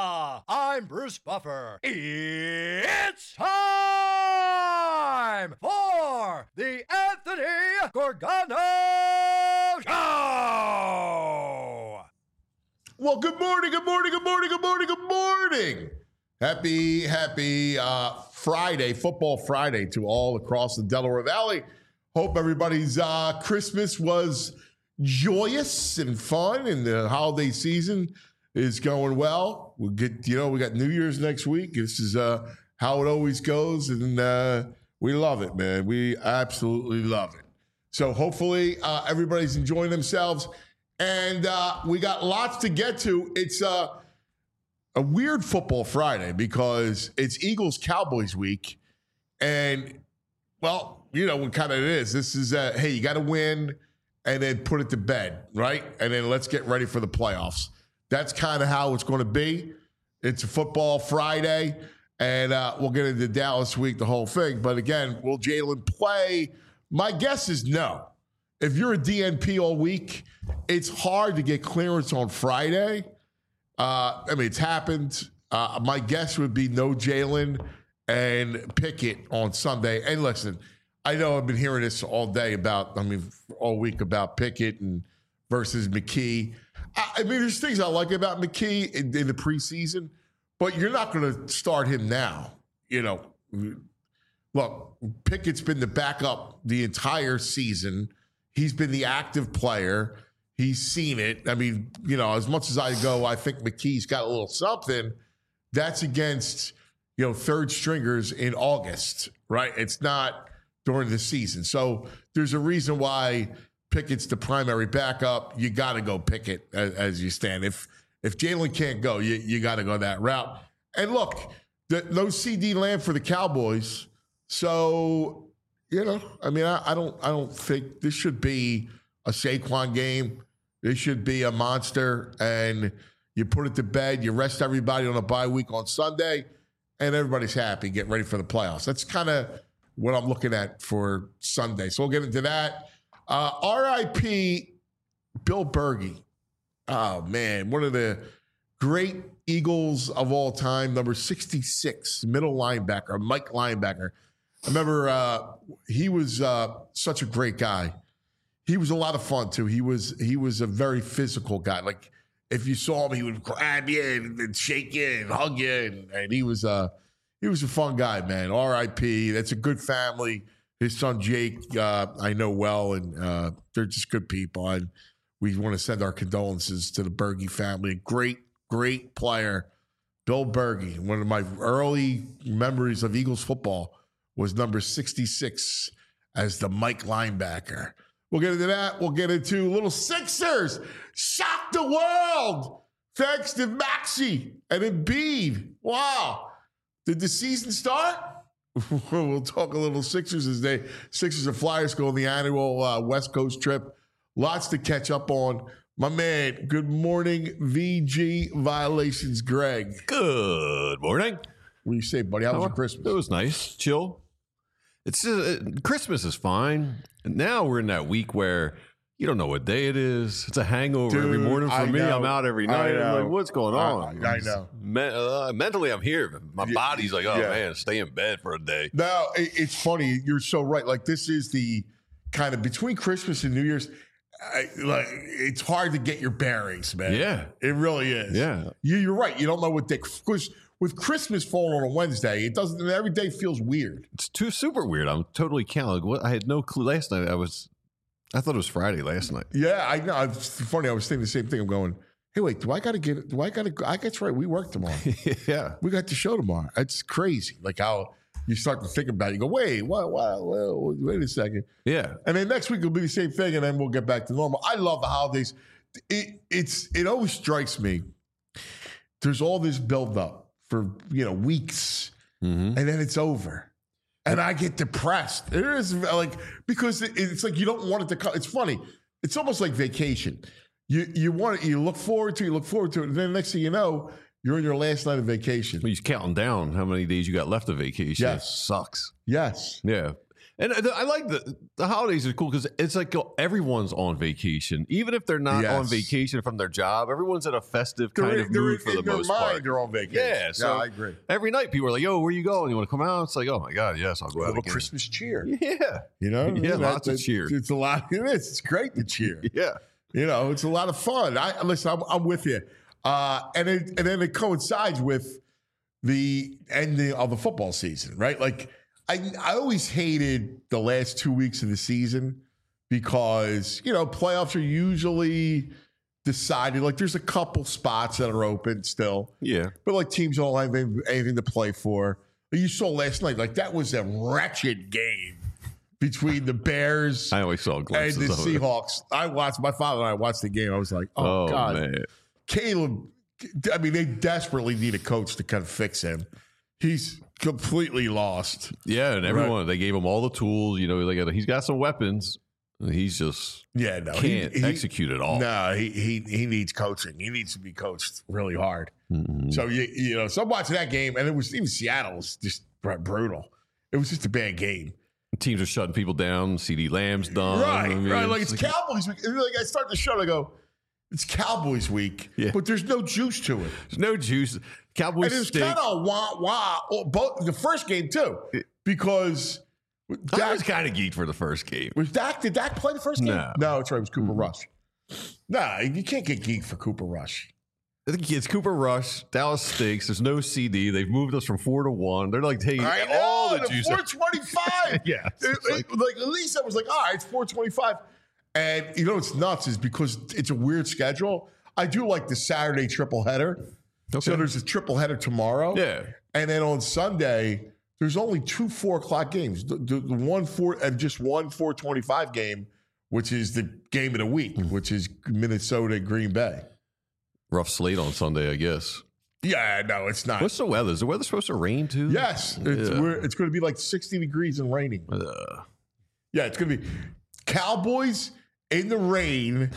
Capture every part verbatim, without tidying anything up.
I'm Bruce Buffer. It's time for the Anthony Gorgano Show! Well, good morning, good morning, good morning, good morning, good morning. Happy, happy uh, Friday, Football Friday to all across the Delaware Valley. Hope everybody's uh, Christmas was joyous and fun, and the holiday season is going well. We'll get, you know, we got New Year's next week. This is uh, how it always goes, and uh, we love it, man. We absolutely love it. So hopefully uh, everybody's enjoying themselves, and uh, we got lots to get to. It's uh, a weird Football Friday because it's Eagles-Cowboys week, and, well, you know what kind of it is. This is, uh, hey, you got to win and then put it to bed, right? And then let's get ready for the playoffs. That's kind of how it's going to be. It's a Football Friday, and uh, we'll get into Dallas week, the whole thing. But again, will Jalen play? My guess is no. If you're a D N P all week, it's hard to get clearance on Friday. Uh, I mean, it's happened. Uh, my guess would be no Jalen and Pickett on Sunday. And listen, I know I've been hearing this all day about, I mean, all week about Pickett and versus McKee. I, I mean, there's things I like about McKee in, in the preseason, but you're not going to start him now. You know, look, Pickett's been the backup the entire season. He's been the active player. He's seen it. I mean, you know, as much as I go, I think McKee's got a little something. That's against, you know, third stringers in August, right? It's not during the season. So there's a reason why Pickett's the primary backup. You got to go Pickett as, as you stand. If if Jalen can't go, you, you got to go that route. And look, the, no C D Lamb for the Cowboys. So, you know, I mean, I, I don't I don't think this should be a Saquon game. This should be a monster. And you put it to bed. You rest everybody on a bye week on Sunday, and everybody's happy, getting ready for the playoffs. That's kind of what I'm looking at for Sunday. So we'll get into that. Uh, R I P Bill Bergey. Oh, man. One of the great Eagles of all time, number sixty-six, middle linebacker, Mike linebacker. I remember uh, he was uh, such a great guy. He was a lot of fun, too. He was he was a very physical guy. Like, if you saw him, he would grab you and, and shake you and hug you. And, and he was uh, he was a fun guy, man. R I P That's a good family. His son, Jake, uh, I know well, and uh, they're just good people. And we want to send our condolences to the Bergey family. Great, great player, Bill Bergey. One of my early memories of Eagles football was number sixty-six as the Mike linebacker. We'll get into that. We'll get into little Sixers. Shock the world. Thanks to Maxey and Embiid. Wow. Did the season start? We'll talk a little Sixers as they Sixers and Flyers go on the annual uh, West Coast trip. Lots to catch up on. My man, good morning, V G Violations, Greg. Good morning. What do you say, buddy? How was your Christmas? It was nice. Chill. It's uh, Christmas is fine. Now we're in that week where you don't know what day it is. It's a hangover Dude, every morning for I me. know. I'm out every night. I'm like, what's going on? I, I know. Me- uh, mentally, I'm here. My Yeah, body's like, oh, yeah. man, stay in bed for a day. No, it, it's funny. You're so right. Like, this is the kind of between Christmas and New Year's, I, like, it's hard to get your bearings, man. Yeah. It really is. Yeah. You, you're right. You don't know what day. Because with Christmas falling on a Wednesday, it doesn't, every day feels weird. It's too super weird. I'm totally counted. What I had no clue last night. I was, I thought it was Friday last night. Yeah, I know. It's funny. I was thinking the same thing. I'm going, hey, wait, do I got to get, do I got to, I guess right. We work tomorrow. Yeah. We got the show tomorrow. It's crazy. Like how you start to think about it. You go, wait, what, what, what, wait a second. Yeah. And then next week will be the same thing, and then we'll get back to normal. I love the holidays. It, it's, it always strikes me. There's all this buildup for, you know, weeks, Mm-hmm. and then it's over. And I get depressed. There is like, because it, it's like you don't want it to come. It's funny. It's almost like vacation. You you want it, you look forward to it, you look forward to it. And then next thing you know, you're in your last night of vacation. He's counting down how many days you got left of vacation. Yes. It sucks. Yes. Yeah. And I like the the holidays are cool because it's like everyone's on vacation, even if they're not Yes. on vacation from their job. Everyone's in a festive kind They're- of they're- mood for the in their most mind, part. They're on vacation. Yeah, so I agree. every night people are like, "Yo, where you going? You want to come out?" It's like, "Oh my god, yes, I'll go A out little again." Christmas cheer. Yeah, You know, Yeah, That- lots of that- cheer. It's a lot. It is. It's great to cheer. yeah. You know, it's a lot of fun. I listen. I'm, I'm with you. Uh, and it, and then it coincides with the ending of the football season, right? Like I, I always hated the last two weeks of the season because you know playoffs are usually decided. Like there's a couple spots that are open still, Yeah. but like teams don't have any- anything to play for. You saw last night, like that was a wretched game between the Bears I always saw and glimpses the of it. Seahawks. I watched my father and I watched the game. I was like, oh, Oh, God. man. Caleb, I mean, they desperately need a coach to kind of fix him. He's completely lost. Yeah, and everyone they gave him all the tools. You know, they got he's got some weapons. He's just Yeah, no. can't he, he- execute at all. No, he, he he needs coaching. He needs to be coached really hard. Mhm. So, you, you know, so I'm watching that game, and it was even Seattle was just brutal. It was just a bad game. Teams are shutting people down. C D Lamb's done. right, I mean, right. Like it's Cowboys week. And like I start the show and I go, it's Cowboys week, Yeah. but there's no juice to it. There's no juice. Cowboys And it was stink. kind of wah wah. oh, Both the first game too, because I Dak, was kind of geeked for the first game. was Dak. Did Dak play the first game? No. no, it's right. It was Cooper Mhm. Rush. Nah, you can't get geeked for Cooper Rush. I think it's Cooper Rush. Dallas stinks. There's no C D. They've moved us from four to one. They're like taking I know, all the the juice. four out- twenty-five. Yeah, It- it's it- like- like, at least I was like, all right, it's four twenty-five. And you know what's nuts is because it's a weird schedule. I do like the Saturday triple header. So Okay. there's a triple header tomorrow. Yeah. And then on Sunday, there's only two four o'clock games. The, the, the one four and just one four twenty five game, which is the game of the week, Mm. which is Minnesota Green Bay. Rough slate on Sunday, I guess. Yeah, no, it's not. What's the weather? Is the weather supposed to rain too? yes, it's Yeah. we're, it's going to be like sixty degrees and raining. Uh, Yeah, it's going to be Cowboys in the rain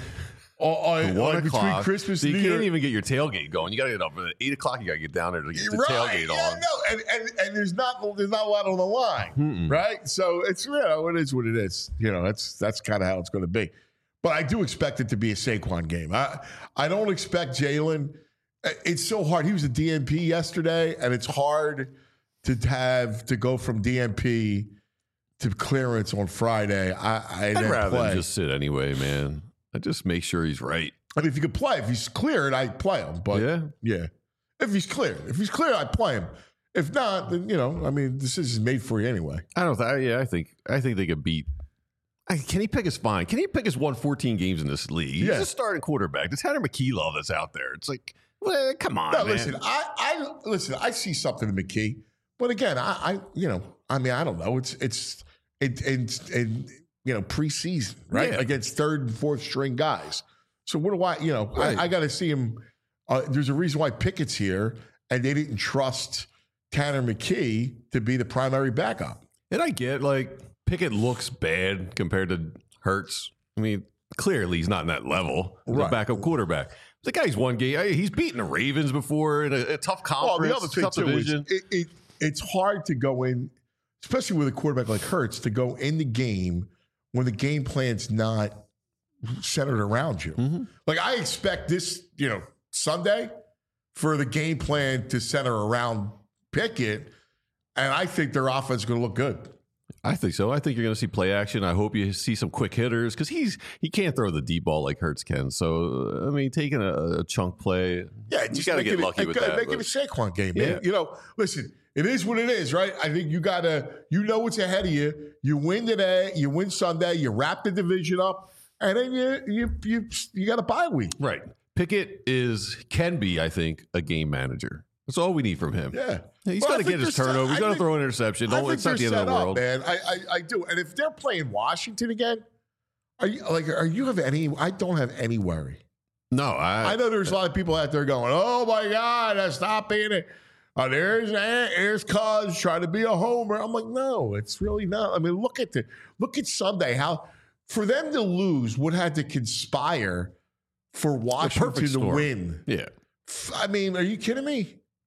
on, one on between o'clock. Christmas So and you New can't Year. even get your tailgate going. You got to get up at eight o'clock. You got to get down there to get the Right, tailgate yeah, on. no, and, and and there's not there's not a lot on the line, Mm-mm. right? So it's you know it is what it is. You know that's that's kind of how it's going to be. But I do expect it to be a Saquon game. I I don't expect Jalen. It's so hard. He was a D N P yesterday, and it's hard to have to go from D N P to clearance on Friday. I I I'd then rather play. him just sit anyway, man. I just make sure he's right. I mean, if you could play, if he's cleared, I play him. But Yeah. yeah, if he's clear, if he's clear, I play him. If not, then you know, I mean, this is made for you anyway. I don't. Th- yeah, I think. I think they could beat. I, Kenny Pick is fine. Kenny Pick has won fourteen games in this league. He's Yeah. a starting quarterback. The Tanner McKee love that's out there. It's like, well, come on, No, man. listen, I, I listen. I see something in McKee, but again, I, I, you know, I mean, I don't know. It's, it's, it, it's, and you know, preseason, right? Yeah. Against third and fourth string guys. So what do I, you know, Right. I, I got to see him. Uh, there's a reason why Pickett's here, and they didn't trust Tanner McKee to be the primary backup. And I get like Pickett looks bad compared to Hurts. I mean, clearly he's not in that level. He's Right. a backup quarterback. The guy's one game. He's beaten the Ravens before in a, a tough Well, conference, the other thing tough too division. is it, it, it's hard to go in, especially with a quarterback like Hurts, to go in the game when the game plan's not centered around you. Mhm. Like I expect this, you know, Sunday for the game plan to center around Pickett, and I think their offense is going to look good. I think so. I think you're going to see play action. I hope you see some quick hitters because he's he can't throw the deep ball like Hurts can. So I mean, taking a, a chunk play, Yeah, you just got to make get it a- lucky with make that. Make it a but- Saquon game, man. Yeah. You know, listen, it is what it is, right? I think you got to, you know what's ahead of you. You win today, you win Sunday, you wrap the division up, and then you you you you got a bye week. Right. Pickett is can be, I think, a game manager. That's all we need from him. Yeah, He's Well, I got to think get his they're set- turnover. He's I got to think- throw an interception. I Don't, think it's not the they're end of set the up, world. man. I, I I do. And if they're playing Washington again, are you like are you have any? I don't have any worry. No, I, I know there's a lot of people out there going, "Oh my God, stop being it." Oh, there's there's Cuz trying to be a homer. I'm like, no, it's really not. I mean, look at the look at Sunday. How for them to lose would have to conspire for Washington to storm. win. yeah. I mean, are you kidding me?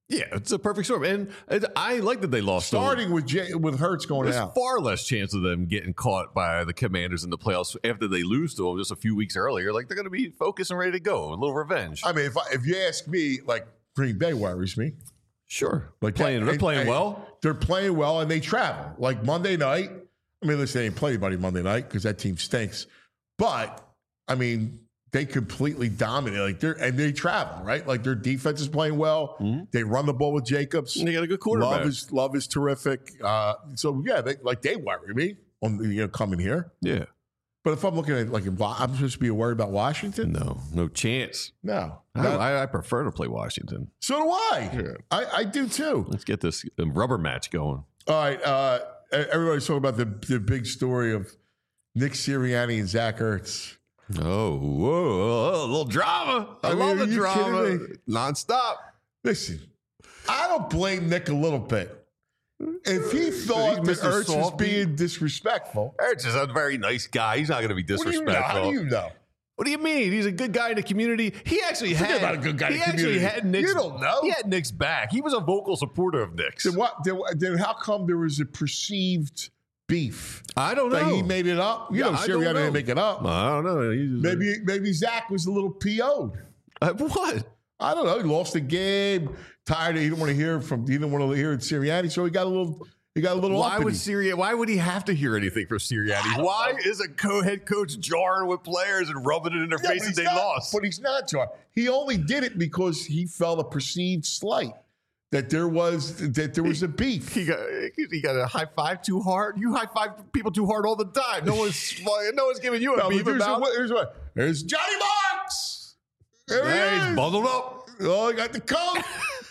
Yeah, it's a perfect storm. And it, I like that they lost. Starting with J- with Hurts going There's out. far less chance of them getting caught by the Commanders in the playoffs after they lose to them just a few weeks earlier. Like, they're going to be focused and ready to go. A little revenge. I mean, if I, if you ask me, like, Green Bay worries me. Sure. Like playing, they're and- playing and well. They're playing well, and they travel. Like Monday night. I mean, listen, they didn't play anybody Monday night because that team stinks. But I mean, they completely dominate. Like they're and they travel, right? Like their defense is playing well. Mm-hmm. They run the ball with Jacobs. And they got a good quarterback. Love is Love is terrific. Uh, so yeah, they, like they worry me on you know coming here. Yeah. But if I'm looking at like in, I'm supposed to be worried about Washington. No, no chance. No, I, Not- I, I prefer to play Washington. so do I. Yeah. I. I do too. Let's get this um, rubber match going. All right. Uh, everybody's talking about the the big story of Nick Sirianni and Zach Ertz. Oh, whoa, a little drama. I, I mean, love are the you drama. kidding me? Nonstop. Listen, I don't blame Nick a little bit. If he thought that Mister Ertz was Softy. being disrespectful, Ertz is a very nice guy. He's not going to be what do you know? How disrespectful. do you know? What do you mean? He's a good guy in the community. He actually Forget had about a good guy in he the actually community. had Nick's. You don't know. He had Nick's back. He was a vocal supporter of Nick's. Then what? Then, then how come there was a perceived beef I don't know. that he made it up? You Yeah, know, I don't Sirianni know. didn't make it up. I don't know. He just- Maybe maybe Zach was a little P O'd. Uh, what? I don't know. He lost the game. Tired. He didn't want to hear from. He didn't want to hear it Sirianni, so he got a little. He got a little. Why would uppity. Sirianni? Why would he have to hear anything from Sirianni? Why is a co-head coach jarring with players and rubbing it in their Yeah, but faces he's they not- lost? But he's not, Jar. He only did it because he felt a perceived slight that there was that there was a beef. He got he got a high five too hard. You high five people too hard all the time. No one's no one's giving you a No, beef but here's, about. what, here's what. There's Johnny Marks. There Yeah, he he's is. bundled up. Oh, I got the coat.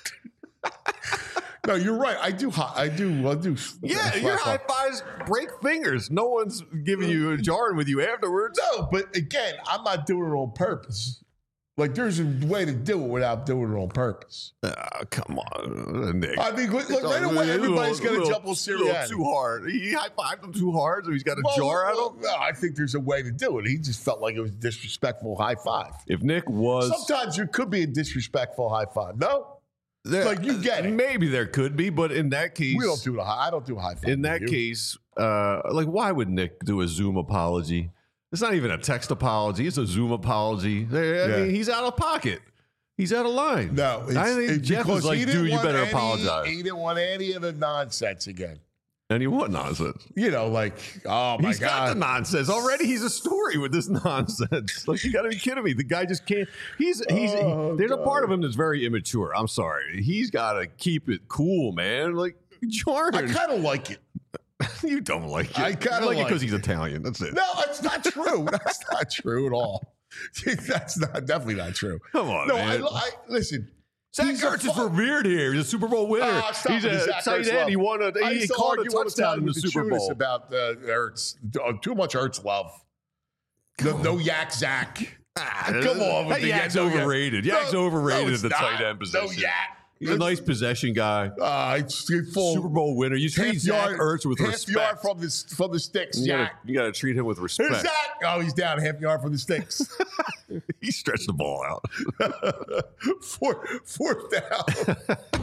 No, you're right. I do. hi- I do. I do. Yeah, slap your up. high fives break fingers. No one's giving you a jarring with you afterwards. No, but again, I'm not doing it on purpose. Like, there's a way to do it without doing it on purpose. Ah, come on, Nick. I mean, look, It's right a away, little- everybody's going to little- jump on little Sirianni. too hard. He high fived him too hard, so he's got a Well, jar at well, him. no, I think there's a way to do it. He just felt like it was a disrespectful high five. If Nick was Sometimes there could be a disrespectful high five. No, there- like, you get it. maybe there could be, but in that case, we don't do the high. I don't do a high five. in that You. case, uh, like, why would Nick do a Zoom apology? It's not even a text apology. It's a Zoom apology. I Yeah. mean, he's out of pocket. He's out of line. no, it's, I think it's Jeff because is like, he didn't dude, you want better any- apologize. He didn't want any of the nonsense again. And he what nonsense? You know, like, oh my He's got god, the nonsense already. He's a story with this nonsense. Like, you got to be kidding me. The guy just can't. He's he's. Oh, he, there's a God. part of him that's very immature. I'm sorry. He's got to keep it cool, man. Like I Jordan, kind of like it. you don't like it. I kinda You like it like because it. he's Italian. That's it. No, that's not true. That's not true at all. That's not definitely not true. Come on, No, man. I, I listen. Zach he's a Ertz is fu- revered here. He's a Super Bowl winner. Ah, stop he's with the a Zach tight Ertz end. love. He won a. I He used to caught a argue all the touchdown time in the with the Super Chunas Bowl. about uh, Ertz. Uh, too much Ertz love. No, no yak Zach. Ah, Come on, with that the Yak's yak- no yak. overrated. No, Yak's overrated no, at it's the not. tight end position. No yak. He's a nice possession guy. Uh, it's it's full Super Bowl winner. You treat half Zach yard, Ertz with half respect. yard from the from the sticks. You gotta, Yak. you gotta treat him with Here's respect. Zach. Oh, he's down half yard from the sticks. He stretched the ball out. fourth, fourth down.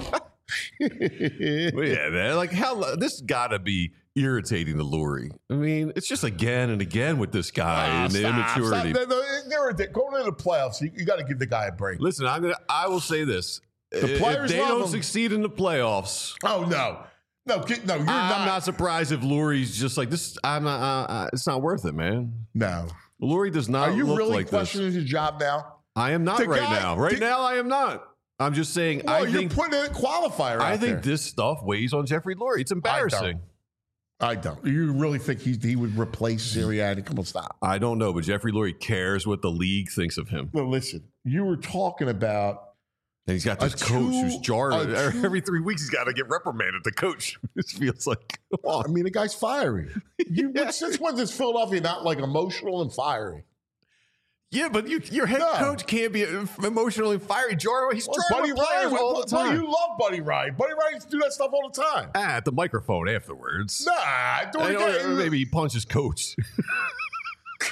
But yeah, man. Like how this gotta be irritating to Lurie. I mean, it's just again and again with this guy Ah, and the stop, immaturity. stop. No, no, they're ridiculous. Going into the playoffs, you, you got to give the guy a break. Listen, I'm gonna. I will say this: The if players they love don't him. succeed in the playoffs, Oh no, no, get- no, you're I'm not. not. surprised if Lurie's just like this. I'm not. Uh, uh, it's not worth it, man. No. Lurie does not. Are you look really like questioning this. his job now? I am not The right guy- now. Right the- now, I am not. I'm just saying. Well, I you're think. putting in a qualifier. I out think there. this stuff weighs on Jeffrey Lurie. It's embarrassing. I don't. You really think he he would replace Sirianni? Come on, stop. I don't know, but Jeffrey Lurie cares what the league thinks of him. Well, listen, you were talking about And he's got A this coach who's two- jarring. a two- Every three weeks, he's got to get reprimanded. The coach. This feels like. Come I on. mean, the guy's fiery. You, Yeah. Since when does Philadelphia not like emotional and fiery? Yeah, but you, your head No. coach can't be emotionally fiery. Jarring. He's Well, jarring Buddy with players Ryan, all well, the time. you love Buddy Ryan. Buddy Ryan used to do that stuff all the time. Ah, at the microphone afterwards. Nah, do I it know, again. maybe he punches coach.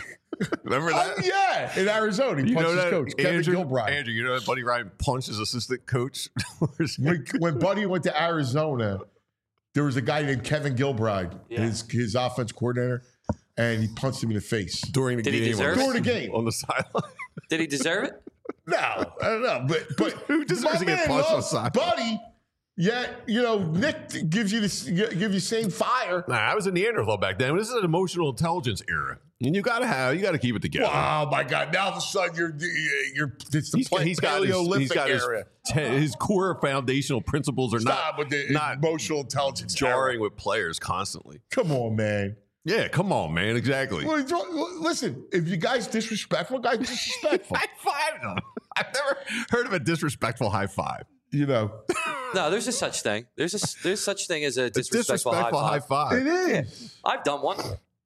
Remember that? Oh, yeah, in Arizona, he You punched know his that, coach, Kevin Andrew, Gilbride. Andrew, you know that Buddy Ryan punched his assistant coach? when, when Buddy went to Arizona, there was a guy named Kevin Gilbride, Yeah. his his offense coordinator, and he punched him in the face During the Did he game. deserve on it? during the game. On the sideline. Did he deserve it? No, I don't know, but but Who deserves my to get man punched on the loves sideline? Buddy. Yet, you know, Nick gives you this, give you same fire. Nah, I was a Neanderthal back then. This is an emotional intelligence era. And you gotta have, you gotta keep it together. Oh my God! Now all of a sudden you're you're it's the He's, got- he's got his, Paleolithic he's got his, area. te- his core foundational principles are Stop not, with the not emotional intelligence jarring era. with players constantly. Come on, man. Yeah, come on, man. Exactly. Well, it's- Listen, if you guys disrespectful, guys disrespectful. High five them. I've never heard of a disrespectful high five. You know, No, there's a such thing. There's a there's such thing as a It's disrespectful, disrespectful high high five. five. it is. I've done one.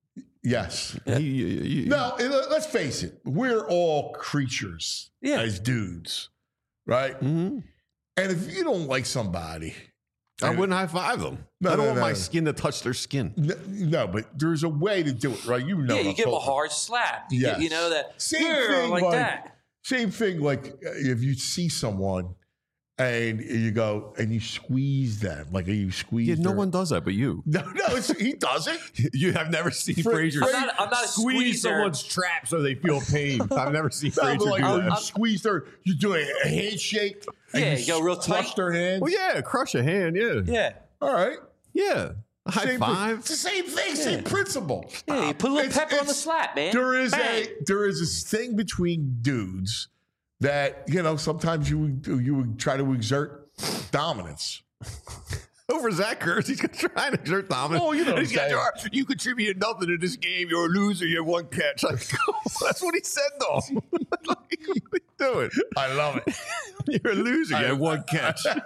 Yes. You- you- you- No, and let- let's face it. We're all creatures Yeah. as dudes, right? Mhm. And if you don't like somebody, I wouldn't high five them. No, I don't no, want no. my skin to touch their skin. n- no, but there's a way to do it, right? You know, Yeah, what you I'm give him a talking hard slap. You, Yes. get- you know that. Same "Here," thing, like, like- that. Same thing, like uh, if you see someone and you go and you squeeze them, like you squeeze. Yeah, no their- one does that but you. No, no, it's, he doesn't. You have never seen Fra- Frazier Fra- I'm not, I'm not a squeeze squeezer. someone's trap so they feel pain. I've never seen No, Frazier but like do oh, that. you squeeze their, you do a handshake. and Yeah, you go real crush tight. their hands. Well, yeah, crush a hand. Yeah, Yeah. All right. yeah. A high Same, five. It's the same thing, same principle. Yeah, you put a little It's- pepper on the it's- slap, man. There is Bang. a there is this thing between dudes that you know sometimes you would you would try to exert dominance. Over Zach Ertz, he's trying to exert dominance. Oh, you know And he's what I'm got your, you contributed nothing to this game. You're a loser. You have one catch. Like, that's what he said, though. Like, what are you doing? I love it. You're a loser. You have one catch. Like,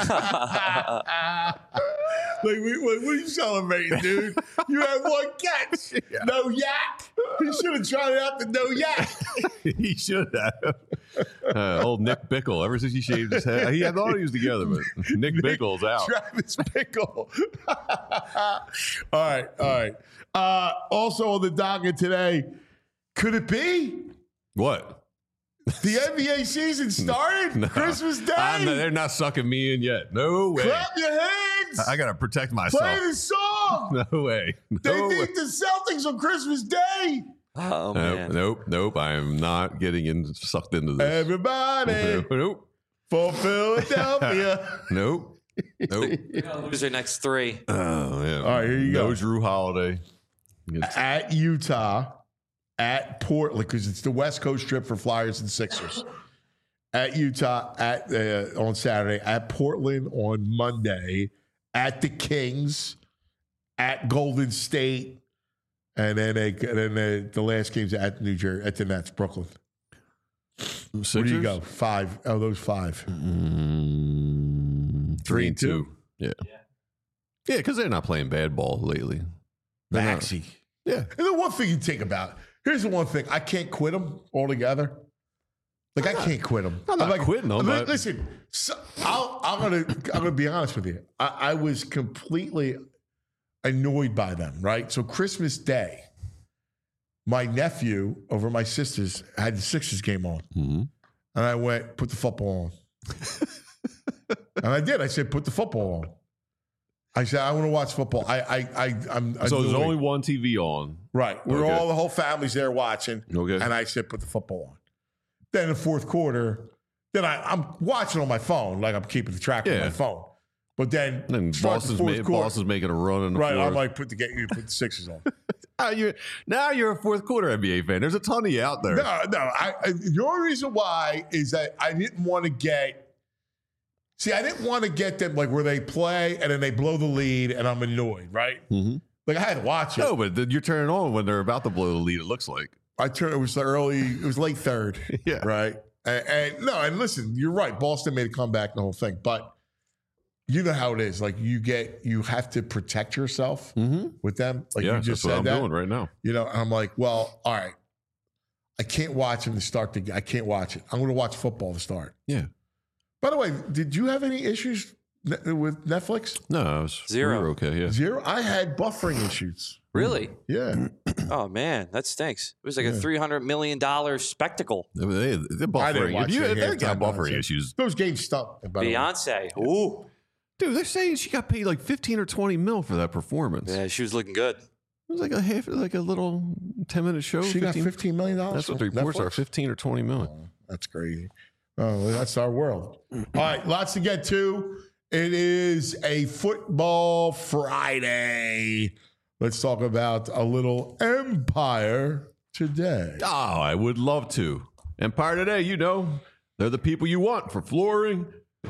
we, what, what are you celebrating, dude? You had one catch. No yak. He should have tried it out the no yak. He should have. Uh, old Nick Bickle. Ever since he shaved his head, he had thought he was together, but Nick Bickle's out. Travis Bickle. all right, all right. Uh, also on the docket today, could it be What? the N B A season started? No. Christmas Day. I'm not- they're not sucking me in yet. No way. Clap your hands. I gotta protect Play myself. the song. No way. They No way. beat the Celtics on Christmas Day. Oh, Nope, man. nope, nope. I am not getting in, sucked into this. Everybody Nope, for Philadelphia. nope, nope. We're gonna lose our next three. Oh yeah. All right, here you no go. Drew Holiday. It's- At Utah, at Portland, because it's the West Coast trip for Flyers and Sixers. At Utah, at uh, on Saturday, at Portland on Monday, at the Kings, at Golden State, and then they, and then the, the last game's at New Jersey, at the Nets, Brooklyn. Sixers? Where do you go? Five. Oh, those five. Mm, three and two. Yeah. Yeah, because they're not playing bad ball lately. They're not- Maxey. Yeah. And the one thing you think about, here's the one thing, I can't quit them altogether. Like, I can't quit them. I'm not like, quitting 'em, li- but- Listen, so I'll, I'm gonna I'm gonna be honest with you. I, I was completely annoyed by them. Right. So Christmas Day, my nephew over my sister's had the Sixers game on, Mhm. and I went put the football on, and I did. I said put the football on. I said I want to watch football. I I I I'm So there's annoyed. only one T V on. Right. We're Okay. all, the whole family's there watching. Okay. And I said, put the football on. Then in the fourth quarter, then I, I'm watching on my phone, like I'm keeping the track on Yeah. my phone. But then, And start the Boston's, fourth ma- quarter, Boston's making a run in the right, fourth. I'm like, put the, get you put the Sixers on. now, you're, now you're a fourth quarter N B A fan. There's a ton of you out there. No, no. I, I, the only reason why is that I didn't want to get, see, I didn't want to get them like where they play and then they blow the lead and I'm annoyed, right? Mhm. Like I had to watch it. No, but then you're turning on when they're about to blow the lead, it looks like. I turned, it was the early, it was late third. Yeah. Right. And, and no, and listen, you're right. Boston made a comeback and the whole thing, but you know how it is. Like you get, you have to protect yourself Mm-hmm. with them. Like Yeah, you just that's what said I'm that. doing right now. You know, and I'm like, well, all right. I can't watch him to start the game. I can't watch it. I'm going to watch football to start. Yeah. By the way, did you have any issues ne- with Netflix? No, I was Zero. we were okay. Yeah. Zero. I had buffering issues. Really? Yeah. Oh man, that stinks. It was like a three hundred million dollar spectacle. They, they're I didn't buffering. watch If you, the if they're got halftime buffering nonsense. issues, Those games stuck. by the way. Beyonce, ooh, dude, they're saying she got paid like fifteen or twenty mil for that performance. yeah, she was looking good. It was like a half, like a little ten minute show. She got fifteen fifteen million dollars. That's what the reports are, fifteen or twenty million. Oh, that's crazy. Oh, that's our world. All right, lots to get to. It is a football Friday. Let's talk about a little Empire today. Oh, I would love to. Empire Today, you know, they're the people you want for flooring.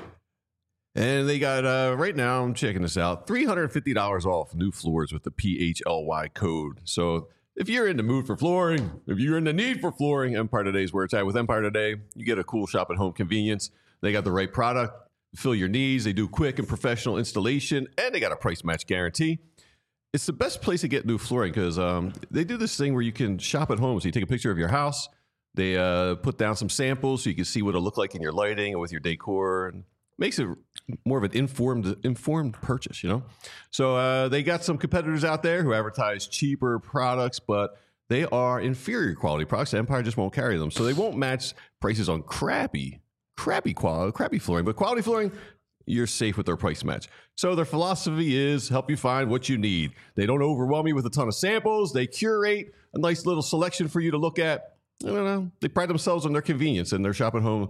And they got, uh, right now, I'm checking this out, three hundred fifty dollars off new floors with the P H L Y code. So if you're in the mood for flooring, if you're in the need for flooring, Empire Today is where it's at. With Empire Today, you get a cool shop at home convenience. They got the right product, fill your needs. They do quick and professional installation, and they got a price match guarantee. It's the best place to get new flooring because um, they do this thing where you can shop at home. So you take a picture of your house. They uh, put down some samples so you can see what it'll look like in your lighting and with your decor. And makes it more of an informed informed purchase, you know? So uh, they got some competitors out there who advertise cheaper products, but they are inferior quality products. Empire just won't carry them. So they won't match prices on crappy, crappy quality, crappy flooring. But quality flooring, you're safe with their price match. So their philosophy is help you find what you need. They don't overwhelm you with a ton of samples. They curate a nice little selection for you to look at. I don't know. They pride themselves on their convenience and their shop at home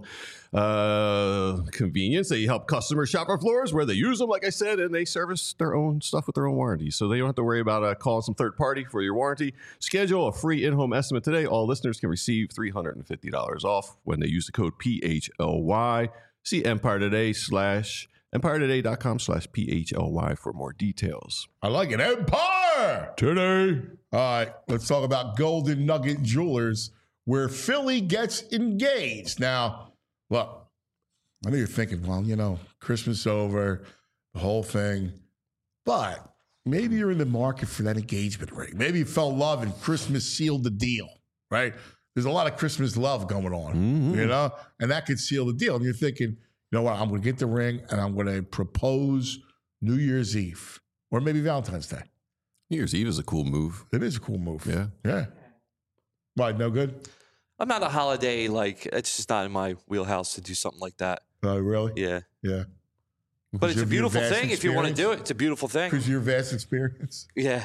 uh, convenience. They help customers shop for floors where they use them, like I said, and they service their own stuff with their own warranty. So they don't have to worry about uh, calling some third party for your warranty. Schedule a free in-home estimate today. All listeners can receive three hundred fifty dollars off when they use the code P H L Y. See Empire Today slash EmpireToday.com slash P H L Y for more details. I like it. Empire Today. All right, let's talk about Golden Nugget Jewelers, where Philly gets engaged. Now, look, I know you're thinking, well, you know, Christmas over, the whole thing. But maybe you're in the market for that engagement ring. Maybe you fell in love and Christmas sealed the deal, right? There's a lot of Christmas love going on, Mm-hmm. you know? And that could seal the deal. And you're thinking, you know what, I'm going to get the ring and I'm going to propose New Year's Eve or maybe Valentine's Day. New Year's Eve is a cool move. It is a cool move. Yeah. Yeah. Why, no good? I'm not a holiday, like, it's just not in my wheelhouse to do something like that. Oh, really? Yeah. Yeah. But it's a beautiful thing if you want to do it. It's a beautiful thing. Because of your vast experience. Yeah.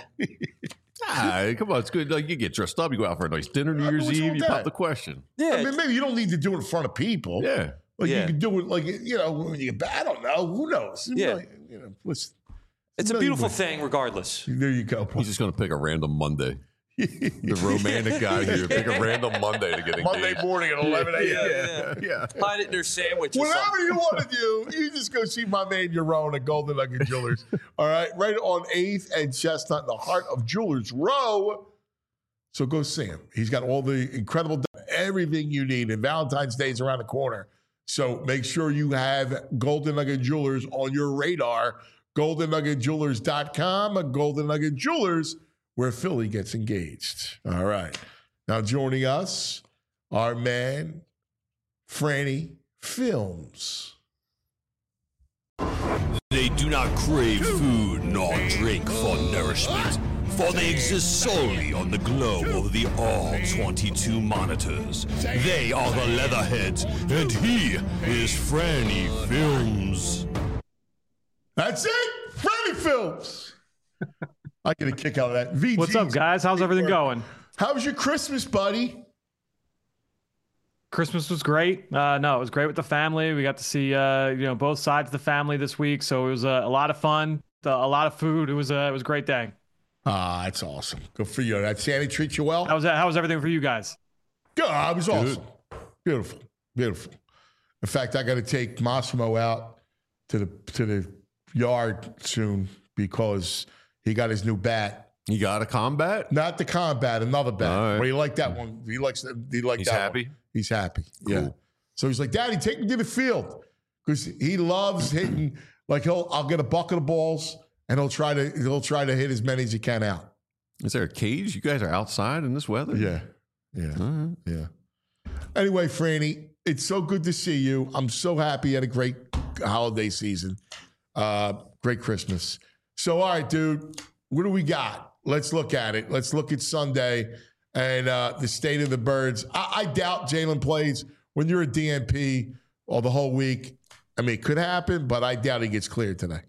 Ah, come on, it's good. Like you get dressed up, you go out for a nice dinner New Uh, Year's what's wrong Eve, with you pop that? the question. Yeah. I mean, maybe you don't need to do it in front of people. Yeah. Like Yeah. you can do it, like, you know, when you get back. I don't know. Who knows? Yeah. Like, you know, listen, It's a million beautiful ways. thing regardless. There you go. He's just going to pick a random Monday. The romantic guy here, pick a random Monday to get engaged. Monday morning at eleven a.m. Yeah, yeah. Hide it in their sandwich or Whatever something. you want to do, you just go see my man Yaron at Golden Nugget Jewelers. All right, right on eighth and Chestnut in the heart of Jewelers Row. So go see him. He's got all the incredible, everything you need. And Valentine's Day is around the corner. So make sure you have Golden Nugget Jewelers on your radar. golden nugget jewelers dot com, Golden Nugget Jewelers, where Philly gets engaged. All right. Now joining us, our man, Franny Films. They do not crave food nor drink for nourishment, for they exist solely on the glow of the all twenty-two monitors. They are the Leatherheads, and he is Franny Films. That's it. Franny Films. I get a kick out of that. V Gs. What's up, guys? How's everything going? How was your Christmas, buddy? Christmas was great. Uh, no, it was great with the family. We got to see, uh, you know, both sides of the family this week, so it was uh, a lot of fun, a lot of food. It was a, it was a great day. Ah, that's awesome. Good for you. That Sandy treat you well? How was that? How was everything for you guys? Good. It was awesome. Beautiful. Beautiful. In fact, I got to take Massimo out to the to the yard soon because he got his new bat. You got a combat? Not the combat, another bat. All right. But he liked that one. He likes that. He liked He's that happy? one. He's happy. Yeah. Cool. So he's like, Daddy, take me to the field because he loves hitting. Like he'll, I'll get a bucket of balls and he'll try to he'll try to hit as many as he can out. Is there a cage? You guys are outside in this weather? Yeah. Yeah. All right. Yeah. Anyway, Franny, it's so good to see you. I'm so happy you had a great holiday season. Uh, great Christmas. So, all right, dude, what do we got? Let's look at it. Let's look at Sunday and uh, the state of the birds. I, I doubt Jalen plays when you're a D N P or the whole week. I mean, it could happen, but I doubt he gets cleared today.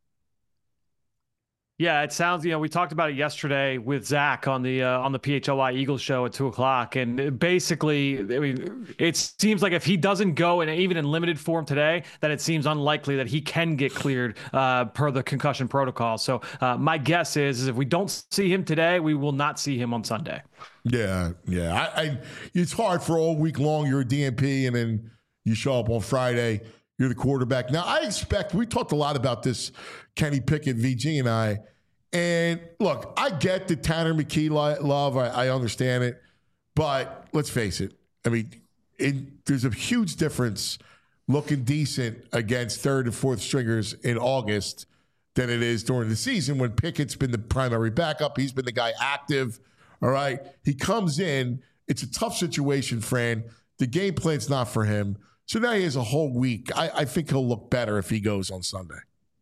Yeah, it sounds, you know, we talked about it yesterday with Zach on the uh, on the P H L Y Eagles show at two o'clock. And basically, I mean, it seems like if he doesn't go, and even in limited form today, that it seems unlikely that he can get cleared uh, per the concussion protocol. So uh, my guess is, is if we don't see him today, we will not see him on Sunday. Yeah, yeah. I, I It's hard for all week long. You're a D N P, and then you show up on Friday. You're the quarterback. Now, I expect, we talked a lot about this, Kenny Pickett, V G, and I. And look, I get the Tanner McKee love. I, I understand it. But let's face it. I mean, it, there's a huge difference looking decent against third and fourth stringers in August than it is during the season when Pickett's been the primary backup. He's been the guy active. All right. He comes in. It's a tough situation, Fran. The game plan's not for him. So now he has a whole week. I, I think he'll look better if he goes on Sunday.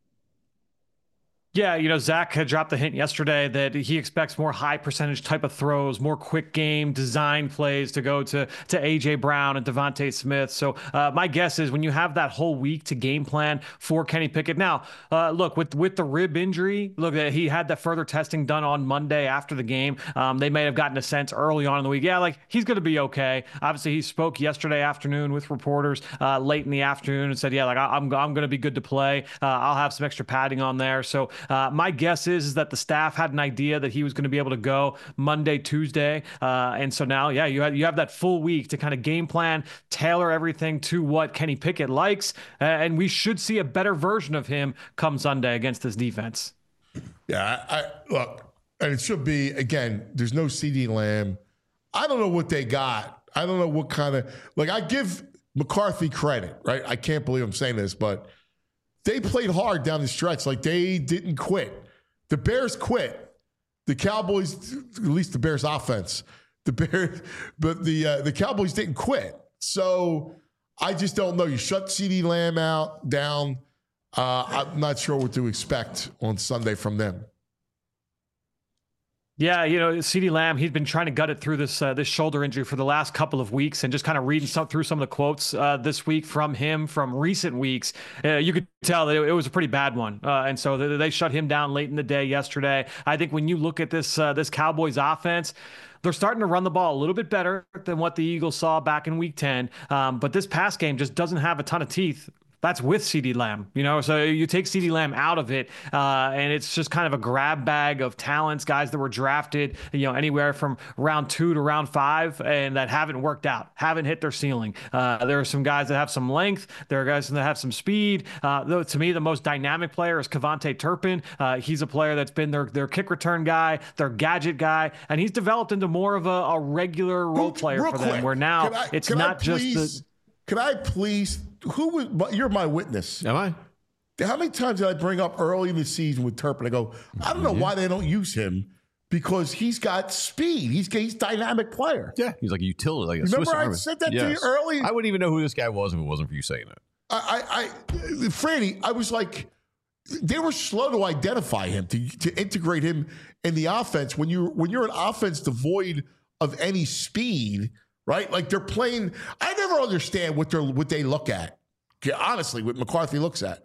Yeah, you know, Zach had dropped the hint yesterday that he expects more high percentage type of throws, more quick game design plays to go to to A J Brown and Devontae Smith. So uh, my guess is when you have that whole week to game plan for Kenny Pickett. Now, uh, look, with with the rib injury, look, he had that further testing done on Monday after the game. Um, they may have gotten a sense early on in the week. Yeah, like he's going to be okay. Obviously, he spoke yesterday afternoon with reporters uh, late in the afternoon and said, yeah, like I, I'm, I'm going to be good to play. Uh, I'll have some extra padding on there. So Uh, my guess is, is that the staff had an idea that he was going to be able to go Monday, Tuesday. Uh, and so now, yeah, you have, you have that full week to kind of game plan, tailor everything to what Kenny Pickett likes. Uh, and we should see a better version of him come Sunday against this defense. Yeah, I, I look, and it should be, again, there's no CeeDee Lamb. I don't know what they got. I don't know what kind of, like, I give McCarthy credit, right? I can't believe I'm saying this, but they played hard down the stretch. Like, they didn't quit. The Bears quit. The Cowboys, at least the Bears offense, the Bears, but the uh, the Cowboys didn't quit. So I just don't know. You shut CeeDee Lamb out, down. Uh, I'm not sure what to expect on Sunday from them. Yeah, you know, CeeDee Lamb, he's been trying to gut it through this uh, this shoulder injury for the last couple of weeks, and just kind of reading some, through some of the quotes uh, this week from him from recent weeks, uh, you could tell that it, it was a pretty bad one. Uh, and so they, they shut him down late in the day yesterday. I think when you look at this uh, this Cowboys offense, they're starting to run the ball a little bit better than what the Eagles saw back in week ten. Um, but this pass game just doesn't have a ton of teeth. That's with CeeDee Lamb, you know, so you take CeeDee Lamb out of it, uh, and it's just kind of a grab bag of talents, guys that were drafted, you know, anywhere from round two to round five, and that haven't worked out, haven't hit their ceiling. Uh, there are some guys that have some length. There are guys that have some speed. Uh, though, to me, the most dynamic player is KaVontae Turpin. Uh, he's a player that's been their, their kick return guy, their gadget guy, and he's developed into more of a, a regular role player Real for quick, them, where now I, it's not please, just the... Can I please... Who was, you're my witness. Am I? How many times did I bring up early in the season with Turpin? I go, I don't know why they don't use him, because he's got speed. He's he's a dynamic player. Yeah, he's like a utility, like a Remember Swiss I Army. said that Yes. to you early? I wouldn't even know who this guy was if it wasn't for you saying it. I, I, I Franny, I was like, they were slow to identify him, to to integrate him in the offense. When you when you're an offense devoid of any speed, right? Like they're playing. I never understand what they're what they look at. Honestly, what McCarthy looks at.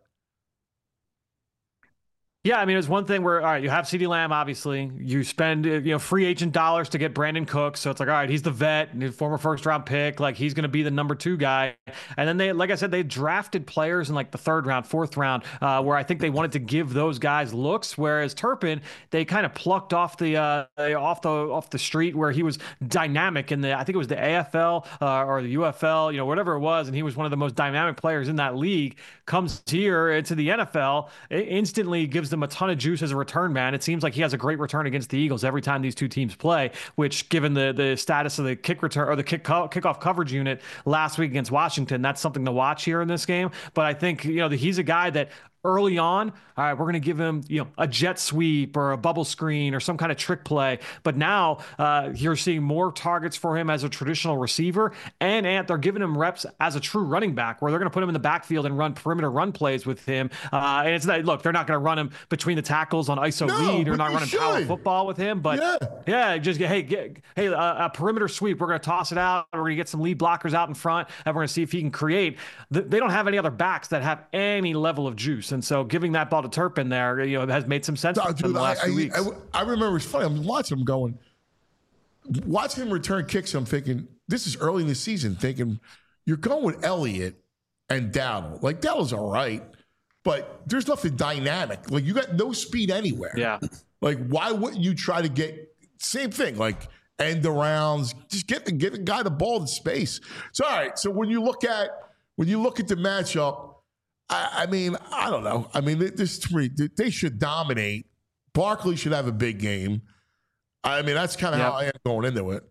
Yeah, I mean, it's one thing where, all right, you have CeeDee Lamb, obviously. You spend, you know, free agent dollars to get Brandon Cooks. So it's like, all right, he's the vet, and former first-round pick. Like, he's going to be the number two guy. And then they, like I said, they drafted players in, like, the third round, fourth round, uh, where I think they wanted to give those guys looks. Whereas Turpin, they kind of plucked off the uh, off the off the street, where he was dynamic in the, I think it was the A F L uh, or the U F L, you know, whatever it was. And he was one of the most dynamic players in that league. Comes here into the N F L, it instantly gives them a ton of juice as a return man. It seems like he has a great return against the Eagles every time these two teams play, which, given the the status of the kick return or the kick co- kickoff coverage unit last week against Washington, that's something to watch here in this game. But I think, you know, he's a guy that early on, all right, we're going to give him, you know, a jet sweep or a bubble screen or some kind of trick play. But now uh, you're seeing more targets for him as a traditional receiver, and Ant, they're giving him reps as a true running back, where they're going to put him in the backfield and run perimeter run plays with him. Uh, and it's not, look, they're not going to run him between the tackles on I S O No, lead. They're but not you running should. power football with him. But Yeah. yeah, just get, hey, get, hey, uh, a perimeter sweep. We're going to toss it out. We're going to get some lead blockers out in front, and we're going to see if he can create. They don't have any other backs that have any level of juice, and so giving that ball to Turpin there, you know, has made some sense No, for dude, the last I, few I, weeks. I, I remember it's funny. I'm watching him going, watching him return kicks. I'm thinking, this is early in the season, thinking, you're going with Elliott and Dowdle. Like, Dowdle's all right, but there's nothing dynamic. Like, you got no speed anywhere. Yeah. Like, why wouldn't you try to get, same thing, like end arounds, just get, get a guy the ball in space. So, all right, so when you look at, when you look at the matchup, I, I mean, I don't know. I mean, there's three. They should dominate. Barkley should have a big game. I mean, that's kind of Yep. how I am going into it.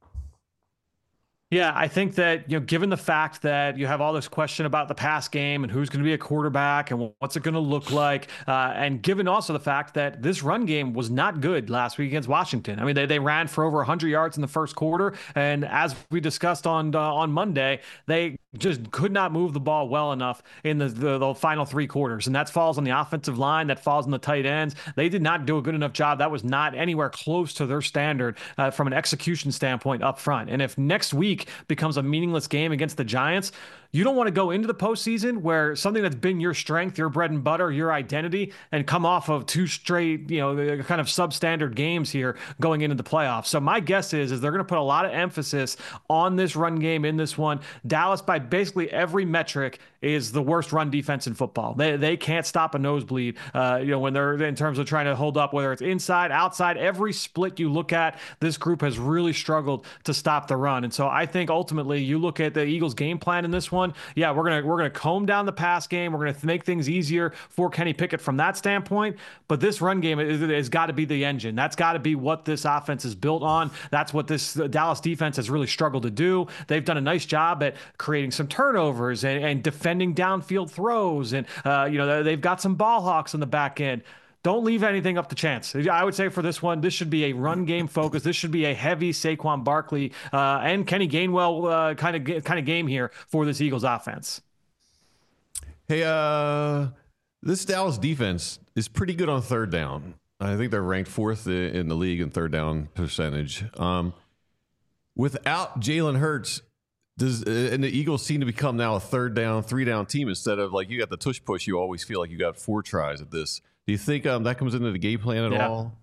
Yeah, I think that, you know, given the fact that you have all this question about the pass game and who's going to be a quarterback and what's it going to look like, uh, and given also the fact that this run game was not good last week against Washington. I mean, they, they ran for over one hundred yards in the first quarter, and as we discussed on uh, on Monday, they just could not move the ball well enough in the, the, the final three quarters, and that falls on the offensive line, that falls on the tight ends. They did not do a good enough job. That was not anywhere close to their standard uh, from an execution standpoint up front. And if next week becomes a meaningless game against the Giants, you don't want to go into the postseason where something that's been your strength, your bread and butter, your identity, and come off of two straight, you know, kind of substandard games here going into the playoffs. So my guess is, is they're going to put a lot of emphasis on this run game in this one. Dallas, by basically every metric, is the worst run defense in football. They they can't stop a nosebleed, uh, you know, when they're in terms of trying to hold up, whether it's inside, outside, every split you look at, this group has really struggled to stop the run. And so I think ultimately you look at the Eagles game plan in this one. Yeah, we're gonna we're gonna comb down the pass game. We're gonna make things easier for Kenny Pickett from that standpoint. But this run game is, has got to be the engine. That's got to be what this offense is built on. That's what this Dallas defense has really struggled to do. They've done a nice job at creating some turnovers and, and defending downfield throws, and uh, you know they've got some ball hawks on the back end. Don't leave anything up to chance. I would say for this one, this should be a run game focus. This should be a heavy Saquon Barkley uh, and Kenny Gainwell uh, kind of kind of game here for this Eagles offense. Hey, uh, this Dallas defense is pretty good on third down. I think they're ranked fourth in the league in third down percentage. Um, without Jalen Hurts, does and the Eagles seem to become now a third down, three down team instead of like you got the tush push. You always feel like you got four tries at this. Do you think um, that comes into the game plan at Yeah. all?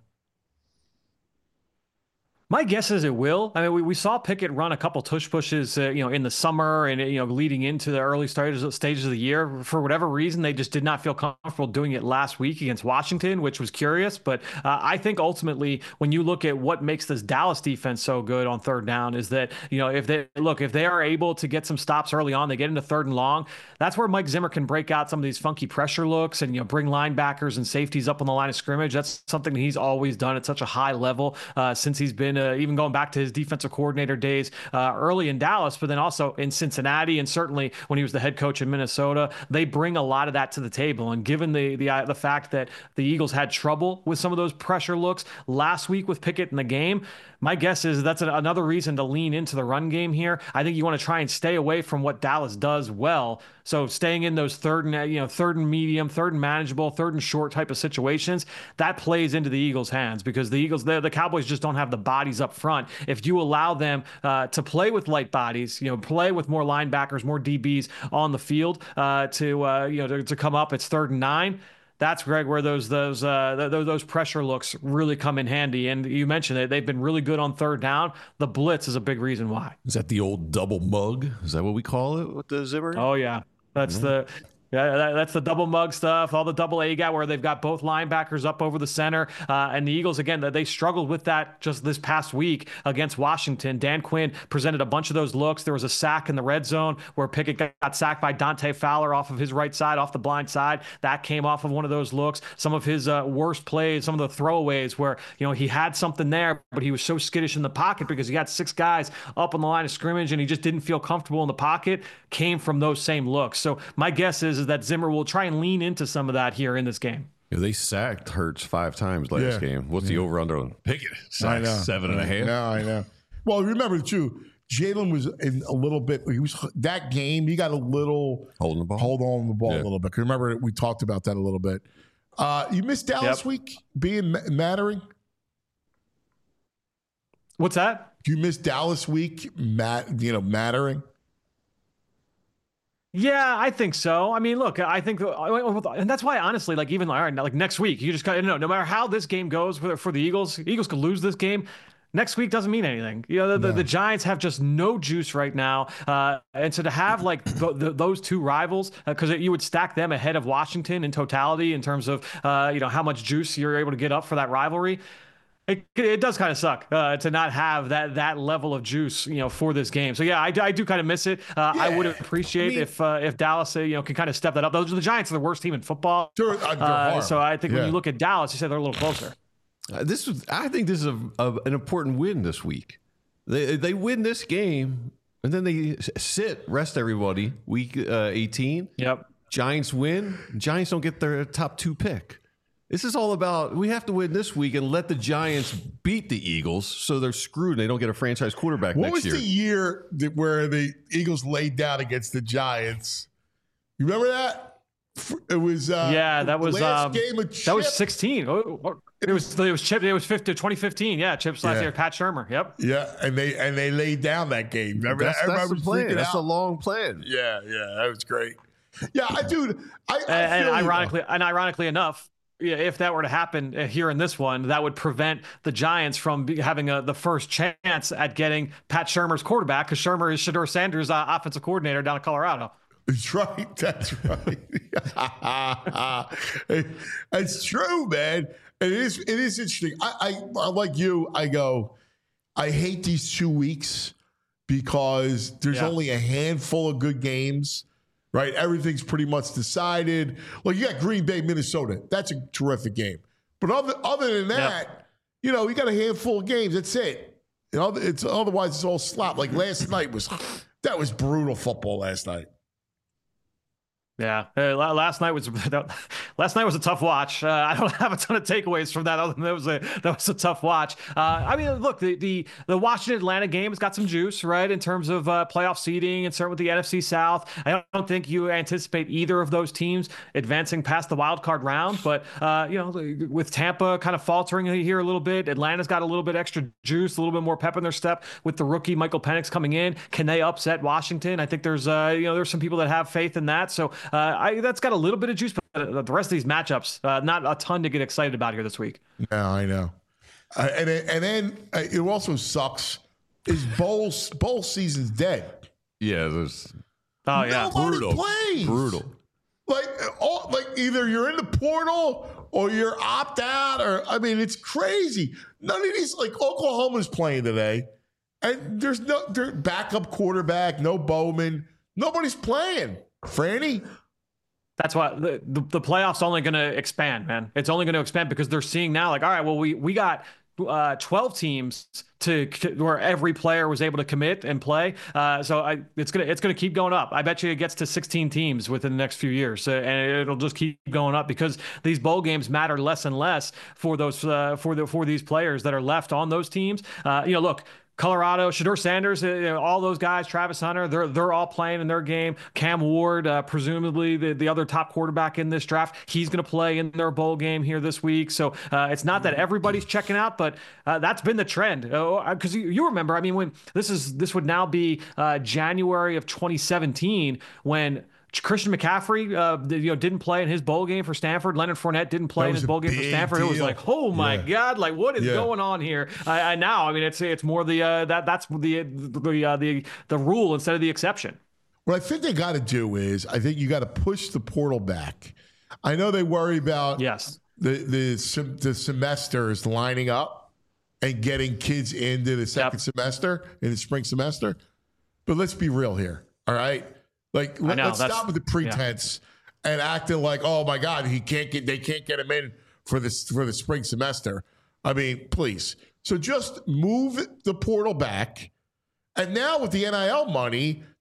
My guess is it will. I mean, we, we saw Pickett run a couple tush pushes, uh, you know, in the summer and, you know, leading into the early stages, stages of the year. For whatever reason, they just did not feel comfortable doing it last week against Washington, which was curious. But uh, I think ultimately, when you look at what makes this Dallas defense so good on third down is that, you know, if they look, if they are able to get some stops early on, they get into third and long, that's where Mike Zimmer can break out some of these funky pressure looks and, you know, bring linebackers and safeties up on the line of scrimmage. That's something that he's always done at such a high level uh, since he's been Uh, even going back to his defensive coordinator days uh, early in Dallas, but then also in Cincinnati, and certainly when he was the head coach in Minnesota. They bring a lot of that to the table. And given the the uh, the fact that the Eagles had trouble with some of those pressure looks last week with Pickett in the game, my guess is that's a, another reason to lean into the run game here. I think you want to try and stay away from what Dallas does well. So staying in those third and, you know, third and medium, third and manageable, third and short type of situations, that plays into the Eagles' hands because the Eagles, the, the Cowboys just don't have the bodies up front. If you allow them uh, to play with light bodies, you know, play with more linebackers, more D Bs on the field uh, to, uh, you know, to, to come up, it's third and nine. That's, Greg, where those those uh, those, those pressure looks really come in handy. And you mentioned it; they've been really good on third down. The blitz is a big reason why. Is that the old double mug? Is that what we call it with the Zimmer? Oh yeah, that's mm-hmm. the. Yeah, that, that's the double mug stuff, all the double A gap where they've got both linebackers up over the center. Uh, and the Eagles, again, they struggled with that just this past week against Washington. Dan Quinn presented a bunch of those looks. There was a sack in the red zone where Pickett got sacked by Dante Fowler off of his right side, off the blind side. That came off of one of those looks. Some of his uh, worst plays, some of the throwaways where, you know, he had something there, but he was so skittish in the pocket because he had six guys up on the line of scrimmage and he just didn't feel comfortable in the pocket, came from those same looks. So my guess is is, is that Zimmer will try and lean into some of that here in this game. Yeah, they sacked Hurts five times last Yeah. game. What's yeah. the over under on Pickett? I know. Seven and a half. No, I know. Well, remember too, Jalen was in a little bit. He was that game. He got a little holding the ball, hold on the ball yeah. a little bit. Remember, we talked about that a little bit. Uh, you missed Dallas yep. week being mattering. What's that? You missed Dallas week, mat, you know, mattering. Yeah, I think so. I mean, look, I think, and that's why, honestly, like even all right, like next week, you just kind of know, no matter how this game goes for, for the Eagles, Eagles could lose this game. Next week doesn't mean anything. You know, the, no. the, the Giants have just no juice right now. Uh, and so to have like the, the, those two rivals, because uh, you would stack them ahead of Washington in totality in terms of, uh, you know, how much juice you're able to get up for that rivalry. It, it does kind of suck uh, to not have that that level of juice, you know, for this game. So yeah, I, I do kind of miss it. Uh, yeah. I would appreciate I mean, if uh, if Dallas, uh, you know, can kind of step that up. Those the Giants are the worst team in football. Sure, uh, so I think yeah. when you look at Dallas, you said they're a little closer. Uh, this was, I think this is a, a, an important win this week. They they win this game and then they sit, rest everybody. Week uh, eighteen. Yep. Giants win. Giants don't get their top two pick. This is all about, we have to win this week and let the Giants beat the Eagles so they're screwed and they don't get a franchise quarterback what next year. What was the year that, where the Eagles laid down against the Giants? You remember that? It was uh, yeah, that was last um, game of Chip. That was sixteen. Oh, it was it was Chip. It was fifty, twenty fifteen. Yeah, Chip's last yeah. year. Pat Shurmur. Yep. Yeah, and they and they laid down that game. Remember that's, that? That's the plan. That's out. a long plan. Yeah, yeah, that was great. Yeah, I dude. I, I and, feel and ironically, you and ironically enough. Yeah, if that were to happen here in this one, that would prevent the Giants from be, having a, the first chance at getting Pat Shurmur's quarterback, because Shurmur is Shedeur Sanders' uh, offensive coordinator down in Colorado. That's right. That's right. It's true, man. It is. It is interesting. I, I, like you. I go. I hate these two weeks because there's yeah. only a handful of good games. Right, everything's pretty much decided. Like you got Green Bay, Minnesota. That's a terrific game. But other other than that, yep. you know, you got a handful of games. That's it. You know, it's otherwise it's all slop. Like last night was that was brutal football last night. Yeah, uh, last night was last night was a tough watch. Uh, I don't have a ton of takeaways from that, other than that was a that was a tough watch. Uh, I mean, look, the the the Washington Atlanta game has got some juice, right, in terms of uh, playoff seeding and certainly with the N F C South. I don't think you anticipate either of those teams advancing past the wild card round, but uh, you know, with Tampa kind of faltering here a little bit, Atlanta's got a little bit extra juice, a little bit more pep in their step with the rookie Michael Penix coming in. Can they upset Washington? I think there's uh, you know there's some people that have faith in that. So. Uh, I, that's got a little bit of juice, but the rest of these matchups, uh, not a ton to get excited about here this week. No, I know. Uh, and, and then uh, it also sucks is bowl, bowl season's dead. Yeah, there's oh, yeah. Nobody brutal. plays. Brutal. Like, all, like either you're in the portal or you're opt out, or, I mean, it's crazy. None of these, like Oklahoma's playing today, and there's no their backup quarterback, no Bowman. Nobody's playing. Franny? That's why the, the, the playoffs only going to expand, man. It's only going to expand because they're seeing now, like, all right, well, we we got uh, twelve teams to, to where every player was able to commit and play. Uh, so I, it's gonna it's gonna keep going up. I bet you it gets to sixteen teams within the next few years, uh, and it'll just keep going up because these bowl games matter less and less for those uh, for the for these players that are left on those teams. Uh, you know, look. Colorado, Shedeur Sanders, you know, all those guys, Travis Hunter, they're they're all playing in their game. Cam Ward, uh, presumably the, the other top quarterback in this draft, he's going to play in their bowl game here this week. So uh, it's not that everybody's checking out, but uh, that's been the trend. Because uh, you, you remember, I mean, when this is this would now be uh, January of twenty seventeen when Christian McCaffrey, uh, you know, didn't play in his bowl game for Stanford. Leonard Fournette didn't play in his bowl game for Stanford. Deal. It was like, oh my yeah. God, like what is yeah. going on here? I, I now, I mean, it's it's more the uh, that that's the the uh, the the rule instead of the exception. What I think they got to do is, I think you got to push the portal back. I know they worry about yes the the the semesters lining up and getting kids into the second yep. semester in the spring semester, but let's be real here, all right. Like, let, know, let's stop with the pretense yeah. and acting like, oh my God, he can't get, they can't get him in for this for the spring semester. I mean, please. So just move the portal back, and now with the N I L money,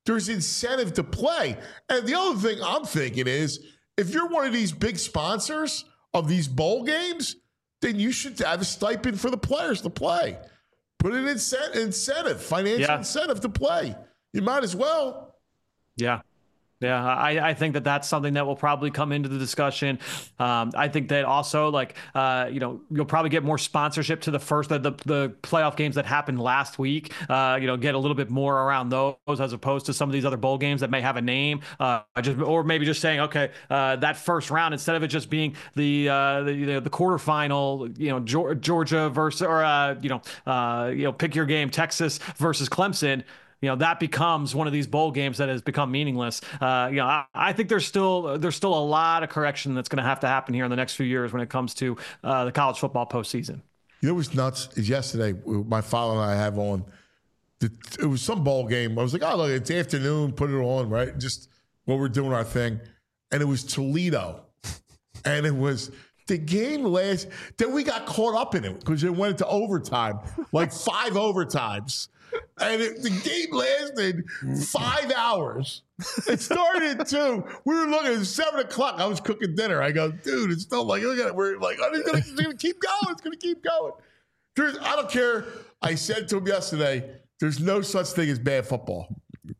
there's incentive to play. And the other thing I'm thinking is, if you're one of these big sponsors of these bowl games, then you should have a stipend for the players to play. Put an incent- incentive, financial Yeah. incentive to play. You might as well. Yeah. Yeah, I, I think that that's something that will probably come into the discussion. Um, I think that also, like, uh, you know, you'll probably get more sponsorship to the first, the, the, the playoff games that happened last week, uh, you know, get a little bit more around those as opposed to some of these other bowl games that may have a name, uh, just, or maybe just saying, okay, uh, that first round, instead of it just being the, uh, the, you know, the quarterfinal, you know, Georgia versus, or, uh, you know, uh, you know, pick your game, Texas versus Clemson. You know, that becomes one of these bowl games that has become meaningless. Uh, you know, I, I think there's still there's still a lot of correction that's going to have to happen here in the next few years when it comes to uh, the college football postseason. You know what's nuts is yesterday, my father and I have on, the, it was some bowl game. I was like, oh, look, it's afternoon, put it on, right? Just while we're doing our thing. And it was Toledo. And it was the game last, then we got caught up in it because it went into overtime, like five overtimes. And it, the game lasted five hours. It started at two. We were looking at seven o'clock. I was cooking dinner. I go, dude, it's still like, look at it. We're like, oh, it's gonna, it's gonna keep going. It's gonna keep going. There's, I don't care. I said to him yesterday, there's no such thing as bad football.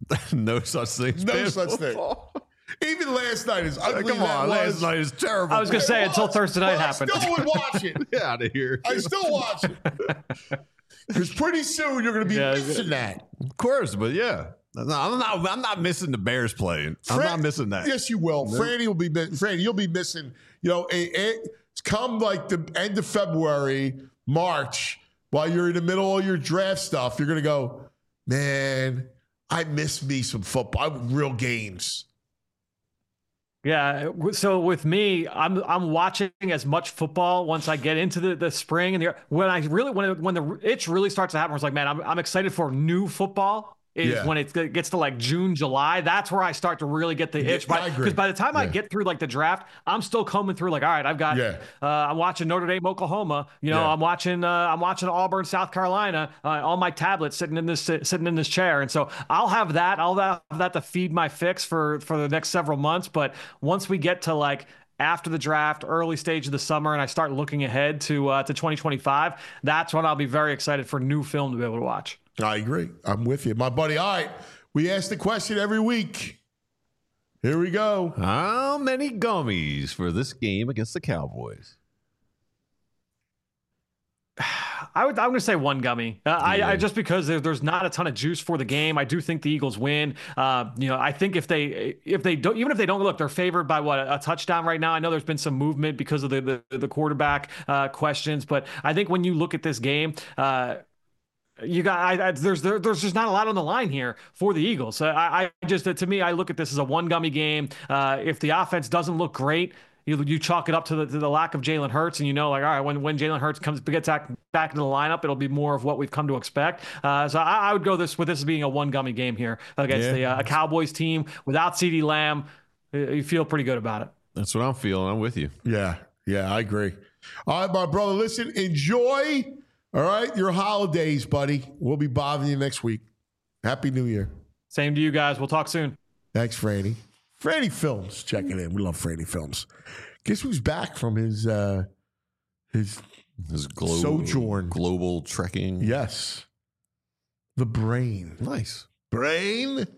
No such thing. As No bad such football. thing. Even last night is ugly. Come on, that was, last night is terrible. I was going to say, until Thursday night but happened. I still would watch it. Get out of here. I still watch it. Because pretty soon you're going to be Yeah, missing that. Of course, but yeah. No, I'm not. I'm not missing the Bears playing. I'm Fran- not missing that. Yes, you will. No. Franny will be. Franny, you'll be missing. You know, it, it, come like the end of February, March, while you're in the middle of your draft stuff, you're gonna go, man. I miss me some football, real games. Yeah. So with me, I'm I'm watching as much football once I get into the, the spring and the when I really when it, when the itch really starts to happen, it's like, man, I'm I'm excited for new football. Is Yeah. when it gets to like June, July. That's where I start to really get the itch. I agree. Because by the time I Yeah. get through like the draft, I'm still combing through like, all right, I've got. Yeah. Uh, I'm watching Notre Dame, Oklahoma. You know, Yeah. I'm watching. Uh, I'm watching Auburn, South Carolina uh, on my tablet, sitting in this sitting in this chair. And so I'll have that. I'll have that to feed my fix for for the next several months. But once we get to like after the draft, early stage of the summer, and I start looking ahead to uh, to twenty twenty-five, that's when I'll be very excited for new film to be able to watch. I agree. I'm with you, my buddy. All right, we ask the question every week. Here we go. How many gummies for this game against the Cowboys? I would. I'm going to say one gummy. Uh, I, Yeah. I just because there, there's not a ton of juice for the game. I do think the Eagles win. Uh, you know, I think if they if they don't even if they don't look, they're favored by what a, a touchdown right now. I know there's been some movement because of the the, the quarterback uh, questions, but I think when you look at this game. Uh, You got I, I, there's there, there's just not a lot on the line here for the Eagles. Uh, I, I just to me I look at this as a one gummy game. Uh, if the offense doesn't look great, you you chalk it up to the to the lack of Jalen Hurts, and you know like all right when when Jalen Hurts comes gets back back into the lineup, it'll be more of what we've come to expect. Uh, so I, I would go this with this being a one gummy game here against Yeah. the uh, a Cowboys team without CeeDee Lamb. You feel pretty good about it. That's what I'm feeling. I'm with you. Yeah, yeah, I agree. All right, my brother. Listen, enjoy. All right, your holidays, buddy. We'll be bothering you next week. Happy New Year. Same to you guys. We'll talk soon. Thanks, Franny. Franny Films checking in. We love Franny Films. Guess who's back from his uh his This global Sojourn. global trekking. yes. The brain. Nice. Brain?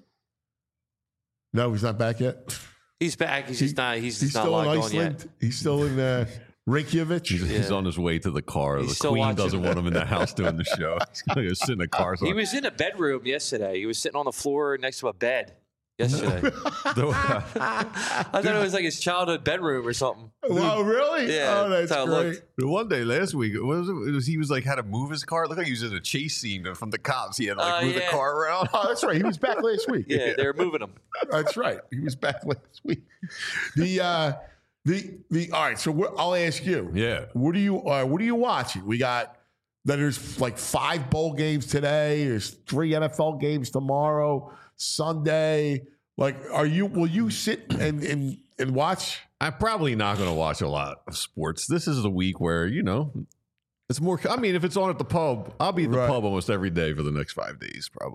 No, he's not back yet. He's back. He's He- just not. He's, He's just not still in logged on Iceland. yet. He's still in uh, Reykjavik. He's, he's Yeah. on his way to the car. He's the still queen watching. doesn't want him in the house doing the show. He's going to go sit in the car. He was in a bedroom yesterday. He was sitting on the floor next to a bed yesterday. I thought it was like his childhood bedroom or something. Wow, really? Yeah, Oh, that's that's how it great. looked. One day last week, what was it? It was, he was like had to move his car. It looked like he was in a chase scene from the cops. He had to like Oh, move the yeah. car around. Oh, that's right. He was back last week. Yeah, they were moving him. That's right. He was back last week. The uh, the the all right. So we're, I'll ask you. Yeah. What are you uh, What are you watching? We got there's like five bowl games today. There's three N F L games tomorrow. Sunday. Like, are you? Will you sit and and and watch? I'm probably not going to watch a lot of sports. This is the week where, you know, it's more. I mean, if it's on at the pub, I'll be at the Right. pub almost every day for the next five days, probably.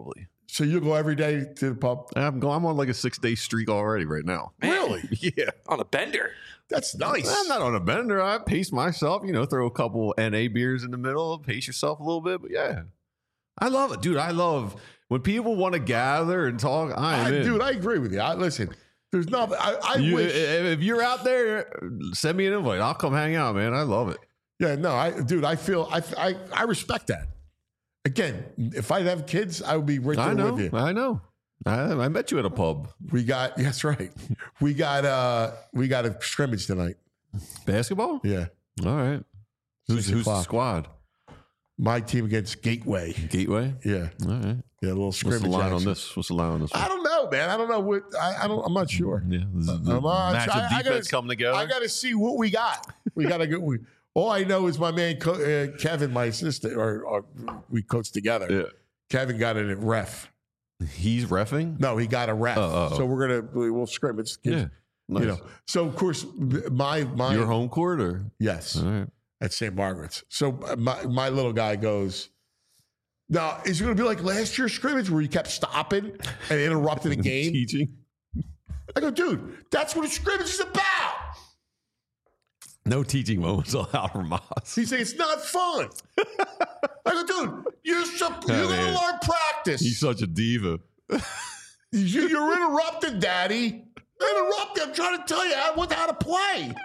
So you go every day to the pub? I'm going. I'm on like a six day streak already right now. Man, Really? Yeah. on a bender. That's nice. I'm not on a bender. I pace myself. You know, throw a couple N A beers in the middle, pace yourself a little bit. But yeah, I love it, dude. I love when people want to gather and talk. I am I, in. dude, I agree with you. I, listen, there's nothing. I, I You- wish. if you're out there, send me an invite. I'll come hang out, man. I love it. Yeah, no, I, dude, I feel, I, I, I respect that. Again, if I have kids, I would be right there I know. with you. I know. I, I met you at a pub. We got, that's right. We got, uh, we got a scrimmage tonight. Basketball? Yeah, All right. Who's, Six who's the o'clock. squad? my team against Gateway. Gateway? Yeah, All right. yeah, a little What's scrimmage. the line action. on this? What's the line on this one? I don't know, man. I don't know what. I, I don't. I'm not sure. Yeah, the, the I'm not match sure. of I- I defense gotta- come together. I got to see what we got. We got to go. We, all I know is my man Co- uh, Kevin, my assistant, or, or we coached together. yeah. Kevin got it at ref. He's reffing? No, he got a ref. Oh, oh, oh. So we're gonna we- we'll scrimmage. Yeah. Nice. You know. So of course, my my Your home court or? yes All right. at Saint Margaret's. So uh, my my little guy goes. Now, is it going to be like last year's scrimmage where you kept stopping and interrupting the game? Teaching? I go, dude, that's what a scrimmage is about. No teaching moments allowed from Moss. He's saying it's not fun. I go, dude, you're so, you're going to man. learn practice. He's such a diva. You, you're interrupted, Daddy. Interrupted. I'm trying to tell you how, what, how to play.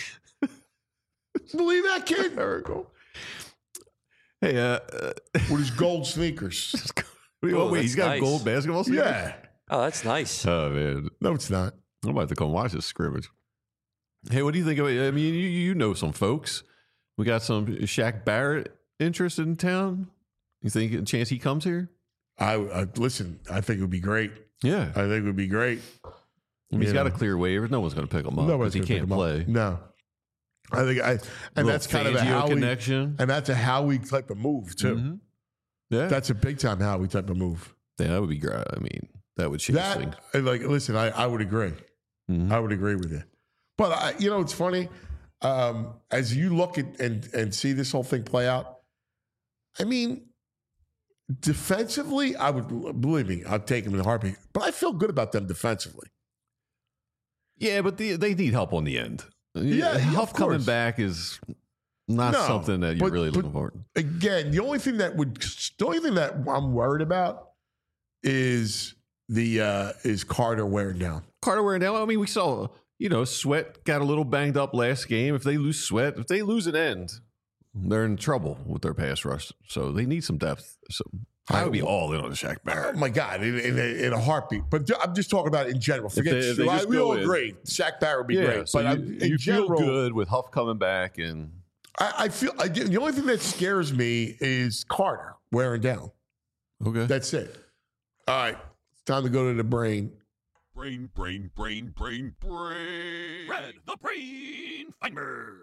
Believe that kid? Hysterical. Hey, uh, uh With his gold sneakers. wait, Oh, wait, he's that's got nice. gold basketball sneakers? Yeah. Oh, that's nice. Oh, man. No, it's not. I'm about to come watch this scrimmage. Hey, what do you think of it? I mean, you, you know some folks. We got some Shaq Barrett interested in town. You think a chance he comes here? I, I listen. I think it would be great. Yeah. I think it would be great. I mean, he's You got know. to clear waivers. No one's going to pick him up Nobody's because he gonna pick can't him up. play. No, I think I, and Little that's kind of a Fangio Howie connection. and that's a Howie type of move too. Mhm. Yeah. That's a big time Howie type of move. yeah, that would be great. I mean, that would change things. That like, listen, I, I would agree. Mhm. I would agree with you. But I, you know, it's funny um, as you look at and and see this whole thing play out. I mean, defensively, I would believe me. I'd take them in a heartbeat. But I feel good about them defensively. Yeah, but the, they need help on the end. Yeah, yeah, Huff of coming course. back is not No, something that you're but- really but- looking for. Again, the only thing that would the only thing that I'm worried about is the uh is Carter wearing down. Carter wearing down. I mean, we saw, you know, Sweat got a little banged up last game. If they lose Sweat, if they lose an end, they're in trouble with their pass rush. So they need some depth. So I would be all in on Shaq Oh Barrett. my God, in, in, a, in a heartbeat. But I'm just talking about it in general. Forget they- if they I- just we go all in. agree. Shaq Barrett would be Yeah, great. so but you, I'm, in you general, feel good with Huff coming back, and I, I feel I, the only thing that scares me is Carter wearing down. okay. That's it. All right, it's time to go to the brain. Brain, brain, brain, brain, brain. Red, the brain finder.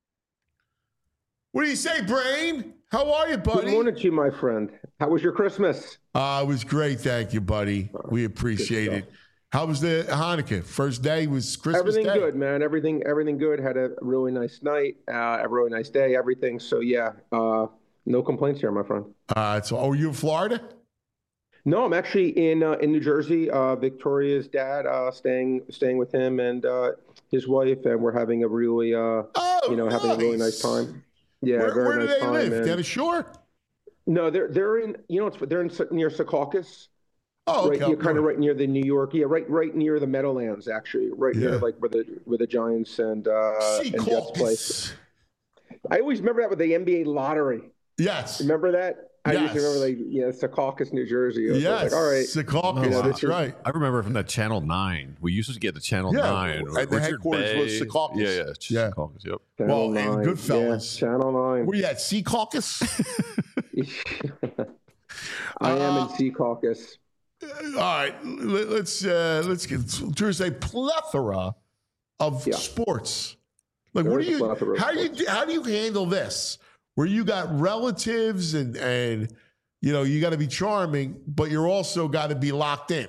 What do you say, Brain? How are you, buddy? Good morning to you, my friend. How was your Christmas? Uh, it was great. Thank you, buddy. We appreciate good it. How was the Hanukkah? First day was Christmas Everything Day? good, man. Everything, everything good. Had a really nice night, uh, a really nice day. Everything. So yeah, uh, no complaints here, my friend. Uh, so, oh, you in Florida? No, I'm actually in uh, in New Jersey. Uh, Victoria's dad, uh, staying staying with him and uh, his wife, and we're having a really, uh, Oh, you know, having a really nice time. Yeah, Where, very where do nice they time. live? and- Down the shore? No, they're they're in. You know, it's they're in near Secaucus. Oh, okay. Right, you're kind of right near the New York, yeah, right, right near the Meadowlands, actually, right Yeah. near like where the where the Giants and uh, and Jets play. Secaucus. I always remember that with the N B A lottery. Yes. Remember that? I Yes. used to remember like you know Secaucus, New Jersey. I was Yes. like, all right, Secaucus. Oh, wow. That's right. I remember from that Channel nine. We used to get the Channel Yeah, nine. and the Richard headquarters was Bay. Secaucus. Yeah, yeah. Yeah. Secaucus, yep. Channel Well, and nine. Goodfellas. Yeah, Channel nine. Where you at? Sea Caucus? I am Uh, in Secaucus. All right, let- let's uh, let's get. There's a plethora of Yeah. sports. Like, There what do is a you? plethora of How do you? How do you handle this? Where you got relatives and and you know you got to be charming, but you're also got to be locked in.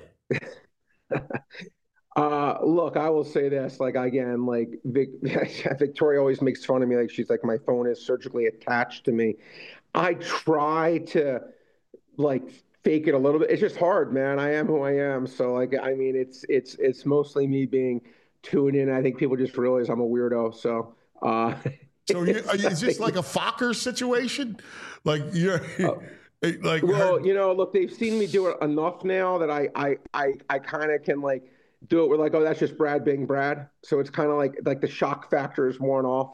Uh, look, I will say this, like, again, like Vic, Victoria always makes fun of me. Like, she's like, my phone is surgically attached to me. I try to like fake it a little bit. It's just hard, man. I am who I am. So like, I mean, it's it's it's mostly me being tuned in. I think people just realize I'm a weirdo. So. Uh, so you, are you, is this like a Fokker situation? Like you're uh, like well, her- you know, look, they've seen me do it enough now that I I I, I kind of can like do it. We're like, oh, that's just Brad being Brad. So it's kind of like like the shock factor is worn off.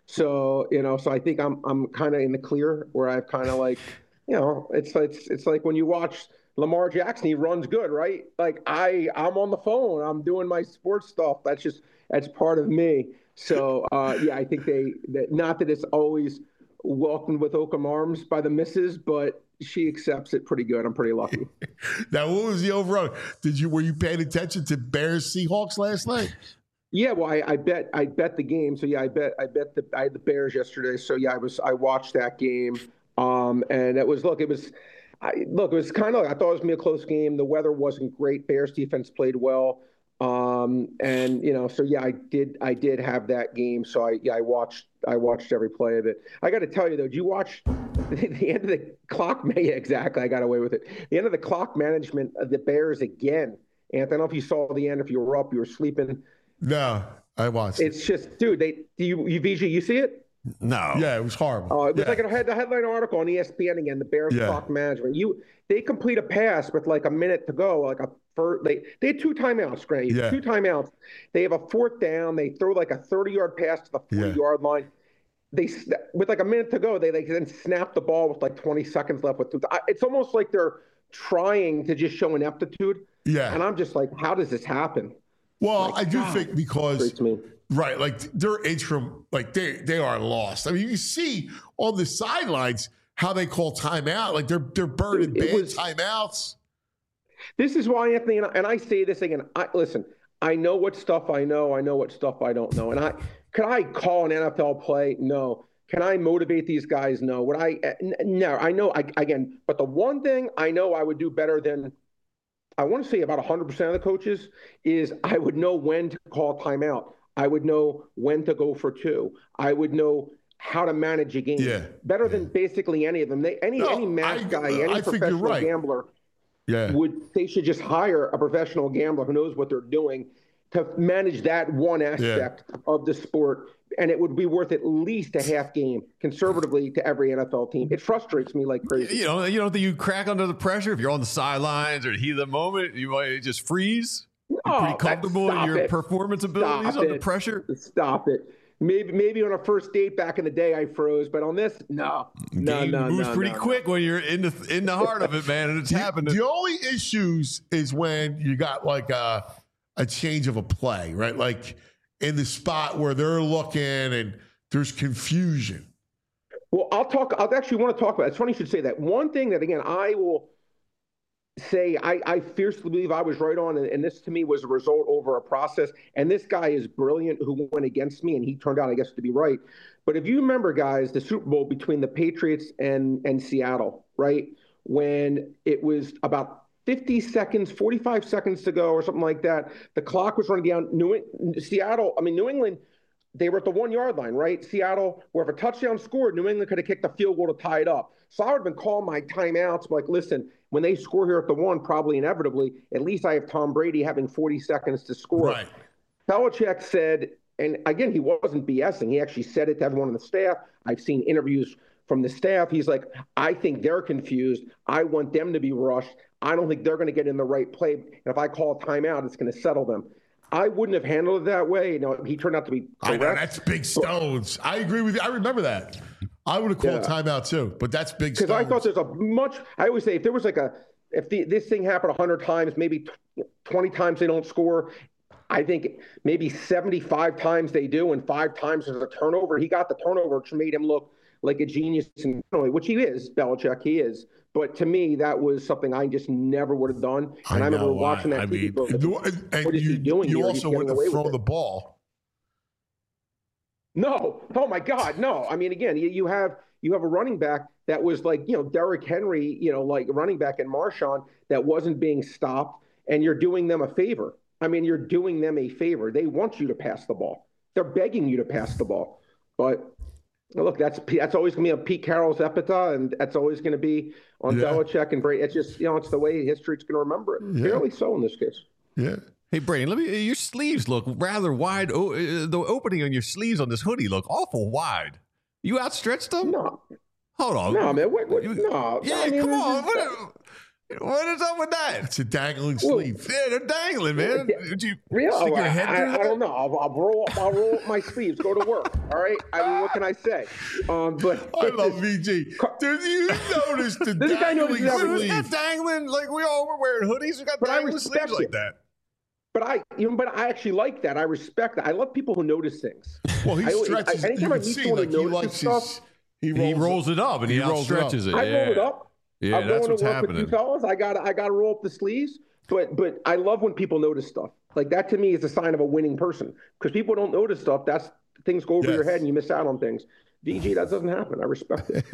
So you know, so I think I'm I'm kind of in the clear where I've kind of like. You know, it's it's it's like when you watch Lamar Jackson, he runs good, right? Like I, I'm on the phone, I'm doing my sports stuff. That's just that's part of me. So uh, yeah, I think they that not that it's always welcomed with open arms by the missus, but she accepts it pretty good. I'm pretty lucky. Now, what was the overall? Did you were you paying attention to Bears Seahawks last night? Yeah, well, I, I bet I bet the game. So yeah, I bet I bet the I had the Bears yesterday. So yeah, I was I watched that game. Um, and it was, look, it was, I, look, it was kind of, like, I thought it was going to be a close game. The weather wasn't great. Bears defense played well. Um, and, you know, so yeah, I did, I did have that game. So I, yeah, I watched, I watched every play of it. I got to tell you though, did you watch the, the end of the clock? Yeah, exactly. I got away with it. The end of the clock management of the Bears again. And I don't know if you saw the end, if you were up, you were sleeping. No, I watched. It's just, dude, they, do you, you, V J, you see it? No. Yeah, it was horrible. Oh, it was yeah. like a head the headline article on E S P N again. The Bears yeah. clock management. You they complete a pass with like a minute to go. Like a first, they they had two timeouts. Grant, yeah. two timeouts. They have a fourth down. They throw like a thirty-yard pass to the forty-yard yeah. line. They with like a minute to go. They they then snap the ball with like twenty seconds left. With two, it's almost like they're trying to just show ineptitude. Yeah, and I'm just like, how does this happen? Well, like, I do God, think because. Me. Right, like their interim, like they they are lost. I mean, you see on the sidelines how they call timeout, like they're they're burning bad was, timeouts. This is why, Anthony, and I, and I say this again. I, listen, I know what stuff I know. I know what stuff I don't know. And I can I call an N F L play? No. Can I motivate these guys? No. Would I? No. I know. I, again, but the one thing I know I would do better than I want to say about one hundred percent of the coaches is I would know when to call timeout. I would know when to go for two. I would know how to manage a game yeah. better yeah. than basically any of them. They, any no, any math I, guy, any I professional right. gambler yeah. would they should just hire a professional gambler who knows what they're doing to manage that one aspect yeah. of the sport, and it would be worth at least a half game conservatively to every N F L team. It frustrates me like crazy. You know, you don't think you crack under the pressure if you're on the sidelines or heat of the moment, you might just freeze. You're pretty oh, comfortable in your it. performance abilities stop under it. pressure. Stop it. Maybe maybe on a first date back in the day I froze, but on this, no, no, Game no, moves no, pretty no, quick no. when you're in the in the heart of it, man, and it's the, happening. The only issues is when you got like a a change of a play, right? Like in the spot where they're looking and there's confusion. Well, I'll talk. I'll actually want to talk about it. It's funny you should say that. One thing that again I will. say I, I fiercely believe I was right on, and, and this to me was a result over a process. And this guy is brilliant who went against me, and he turned out, I guess, to be right. But if you remember, guys, the Super Bowl between the Patriots and, and Seattle, right, when it was about fifty seconds, forty-five seconds to go or something like that, the clock was running down. New Seattle, I mean, New England, they were at the one-yard line, right? Seattle, where if a touchdown scored, New England could have kicked a field goal to tie it up. So I would have been calling my timeouts, like, listen, when they score here at the one, probably inevitably, at least I have Tom Brady having forty seconds to score. Right. Belichick said, and again, he wasn't BSing. He actually said it to everyone on the staff. I've seen interviews from the staff. He's like, I think they're confused. I want them to be rushed. I don't think they're going to get in the right play. And if I call a timeout, it's going to settle them. I wouldn't have handled it that way. You know, he turned out to be correct. I know, that's big stones. I agree with you. I remember that. I would have called yeah. timeout too, but that's big stones. Because I thought there's a much, I always say if there was like a, if the, this thing happened one hundred times, maybe twenty times they don't score, I think maybe seventy-five times they do, and five times there's a turnover. He got the turnover, which made him look like a genius, which he is, Belichick, he is. But to me, that was something I just never would have done. And I, I remember watching that I T V mean, book. And, and what is you, he doing you here? also wouldn't have thrown the ball. No. Oh, my God, no. I mean, again, you, you have you have a running back that was like, you know, Derrick Henry, you know, like running back in Marshawn that wasn't being stopped, and you're doing them a favor. I mean, you're doing them a favor. They want you to pass the ball. They're begging you to pass the ball. But Look, that's that's always going to be on Pete Carroll's epitaph, and that's always going to be on Yeah. Belichick and Brady. It's just, you know, it's the way history's going to remember it. Yeah. Fairly so in this case. Yeah. Hey, Brady, let me. Your sleeves look rather wide. Oh, uh, the opening on your sleeves on this hoodie look awful wide. You outstretched them? No, Hold on. no, man. What, what, You- no. Yeah, I mean, come this on. is- What, what is up with that? It's a dangling Well, sleeve. Yeah, they're dangling, man. Did you Real? stick your head I, through I, that? I don't know. I'll, I'll roll up. I'll roll up my sleeves. Go to work. All right. I mean, what can I say? Um, but I love V G. Dude, you noticed the This guy knows dangling he's Who's sleeve. got dangling? Like we all were wearing hoodies. We got But I dangling respect sleeves like it. that. But I, you know, but I actually like that. I respect that. I love people who notice things. Well, he I always- stretches. I- You anytime I can meet see, someone who like, he notices likes stuff, his... He rolls, He rolls it up and he, he rolls it up. outstretches it. I yeah. roll it up. Yeah, I'm that's going what's to work happening. with you fellas. I got I got to roll up the sleeves. But but I love when people notice stuff. Like that to me is a sign of a winning person. Because people don't notice stuff. That's things go over Yes. your head and you miss out on things. V G, that doesn't happen. I respect it.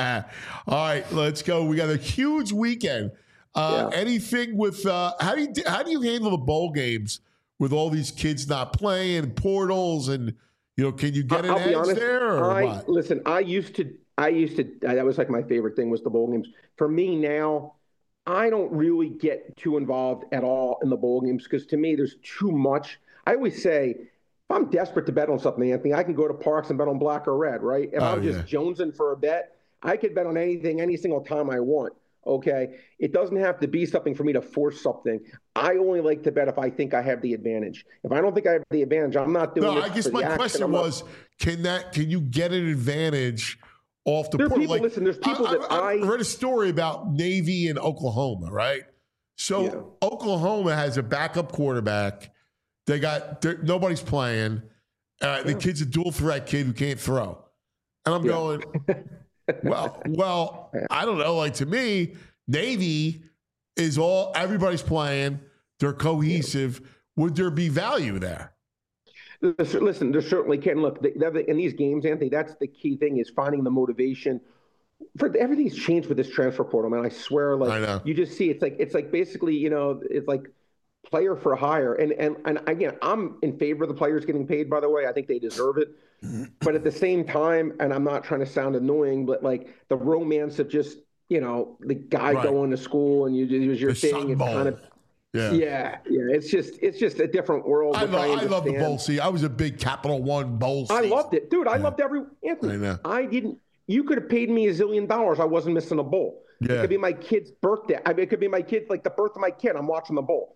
All right, let's go. We got a huge weekend. Uh, Yeah. Anything with uh, how do you how do you handle the bowl games with all these kids not playing, portals, and you know, can you get an I'll be edge honest. there or I what? listen. I used to. I used to. That was like my favorite thing was the bowl games. For me now, I don't really get too involved at all in the bowl games because to me, there's too much. I always say, if I'm desperate to bet on something, Anthony, I can go to Parks and bet on black or red, right? If Oh, I'm just yeah. jonesing for a bet, I could bet on anything, any single time I want. Okay, it doesn't have to be something for me to force something. I only like to bet if I think I have the advantage. If I don't think I have the advantage, I'm not doing No, it. I guess for the my action. question I'm not- was, can that can you get an advantage off the There are portal? people- listen, there's people I, that I, I- read a story about Navy and Oklahoma, right? So Yeah. Oklahoma has a backup quarterback. They got they're- nobody's playing. Uh, The kid's a dual threat kid who can't throw, and I'm Yeah. going, well, well, I don't know. Like to me, Navy is all everybody's playing. They're cohesive. Would there be value there? Listen, listen, there certainly can. Look, the, the, in these games, Anthony, that's the key thing is finding the motivation. For everything's changed with this transfer portal, man. I swear, like I know. you just see, it's like it's like basically, you know, it's like player for hire. And and and again, I'm in favor of the players getting paid. By the way, I think they deserve it. But at the same time, and I'm not trying to sound annoying, but like the romance of just, you know, the guy Right. going to school and you it was your The thing. Sun It's Bowl. kind of Yeah. yeah, yeah. It's just it's just a different world. I, which lo- I love the understand. bowl season. I was a big Capital One bowl I season. loved it, dude. I Yeah. loved every Anthony. I know. I didn't. You could have paid me a zillion dollars. I wasn't missing a bowl. It Yeah. could be my kid's birthday. I mean, it could be my kid, like the birth of my kid. I'm watching the bowl.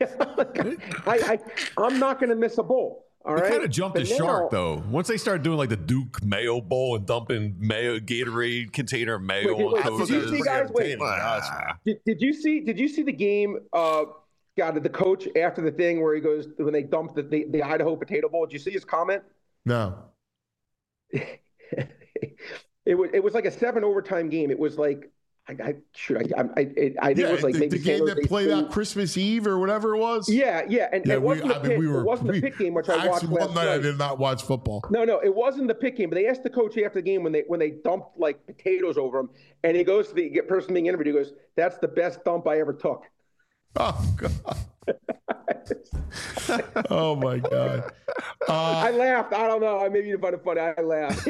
I, I, I'm not going to miss a bowl. All They right. kind of jumped But the shark now- though. Once they started doing like the Duke Mayo Bowl and dumping mayo Gatorade container of mayo Wait, on wait, coaches. did you see, guys? Wait. Ah. Did, did you see? Did you see the game? Uh, God, the coach after the thing where he goes when they dumped the, the, the Idaho Potato Bowl. Did you see his comment? No. It was it was like a seven overtime game. It was like I, I shoot I I, I, I think Yeah, it was like the, maybe the game San that Jose played State. out Christmas Eve or whatever it was. Yeah, yeah, and Yeah, it we, wasn't the I mean, pick. we were. it wasn't we, the pick game, which I watched actually, last one night. I night. did not watch football. No, no, it wasn't the pick game. But they asked the coach after the game when they when they dumped like potatoes over him, and he goes to the person being interviewed. He goes, "That's the best dump I ever took." Oh God. Oh my God. Uh, I laughed. I don't know. I maybe you find it funny. I laughed.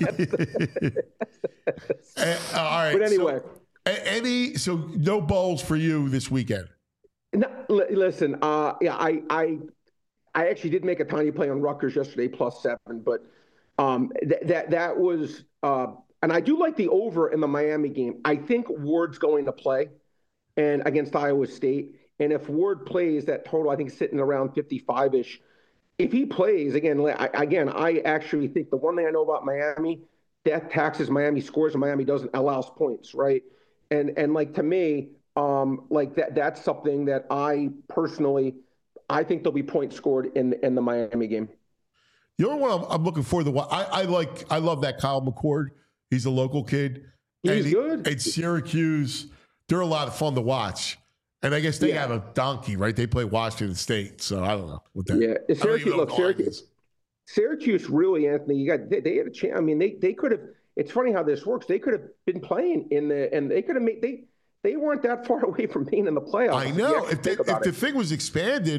eh, all right. But anyway. so, a- any so no bowls for you this weekend. No, li- listen, uh, yeah, I, I, I actually did make a tiny play on Rutgers yesterday, plus seven, but um, th- that that was, uh, and I do like the over in the Miami game. I think Ward's going to play, and against Iowa State, and if Ward plays, that total I think is sitting around fifty-five ish. If he plays again, li- I, again, I actually think the one thing I know about Miami, death taxes Miami scores and Miami doesn't allows points, right? And and like to me. Um, like that, that's something that I personally, I think there'll be points scored in in the Miami game. The only one I'm, I'm looking for the one I, I like. I love that Kyle McCord. He's a local kid. He's and he- good. And Syracuse, they're a lot of fun to watch. And I guess they Yeah. have a donkey, right? They play Washington State, so I don't know what that. Yeah, I don't even Syracuse. know Look, what Oregon Syracuse. is. Syracuse really, Anthony. You got they, they had a chance. I mean, they they could have. It's funny how this works. They could have been playing in the, and they could have made they. They weren't that far away from being in the playoffs. I if you know. actually If, they, think if about the it. thing was expanded,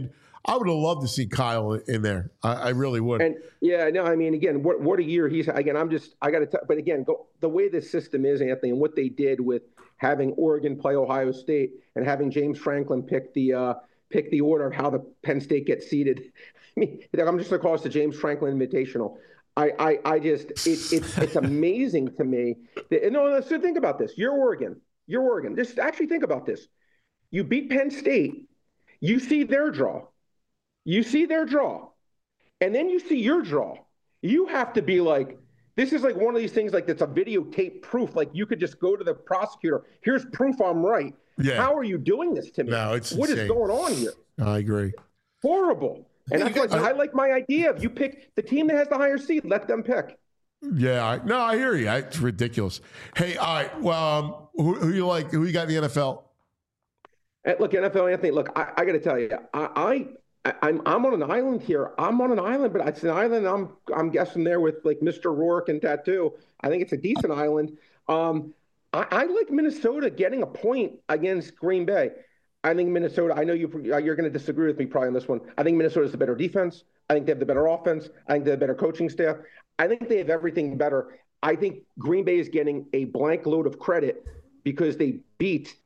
I would have loved to see Kyle in there. I, I really would. And yeah, no, I mean, again, what what a year he's again. I'm just I got to, but again, go the way this system is, Anthony, and what they did with having Oregon play Ohio State and having James Franklin pick the uh, pick the order of how the Penn State gets seeded. I mean, I'm just going to call this the James Franklin Invitational. I, I, I just, it, it's, it's amazing to me. That, no, so think about this. You're Oregon. You're Oregon. Just actually think about this. You beat Penn State. You see their draw. You see their draw. And then you see your draw. You have to be like, this is like one of these things like that's a videotape proof. Like you could just go to the prosecutor. Here's proof I'm right. Yeah. How are you doing this to me? No, it's What insane. is going on here? I agree. Horrible. And that's like, I like my idea of you pick the team that has the higher seed, let them pick. Yeah, I, no, I hear you. I, it's ridiculous. Hey, all right. Well, um, who, who you like? Who you got in the N F L? Hey, look, N F L, Anthony. Look, I, I got to tell you, I, I, I'm, I'm on an island here. I'm on an island, but it's an island. I'm, I'm guessing there with like Mister Rourke and Tattoo. I think it's a decent island. Um, I, I like Minnesota getting a point against Green Bay. I think Minnesota, I know you, you're going to disagree with me probably on this one. I think Minnesota's the better defense. I think they have the better offense. I think they have better coaching staff. I think they have everything better. I think Green Bay is getting a blank load of credit because they beat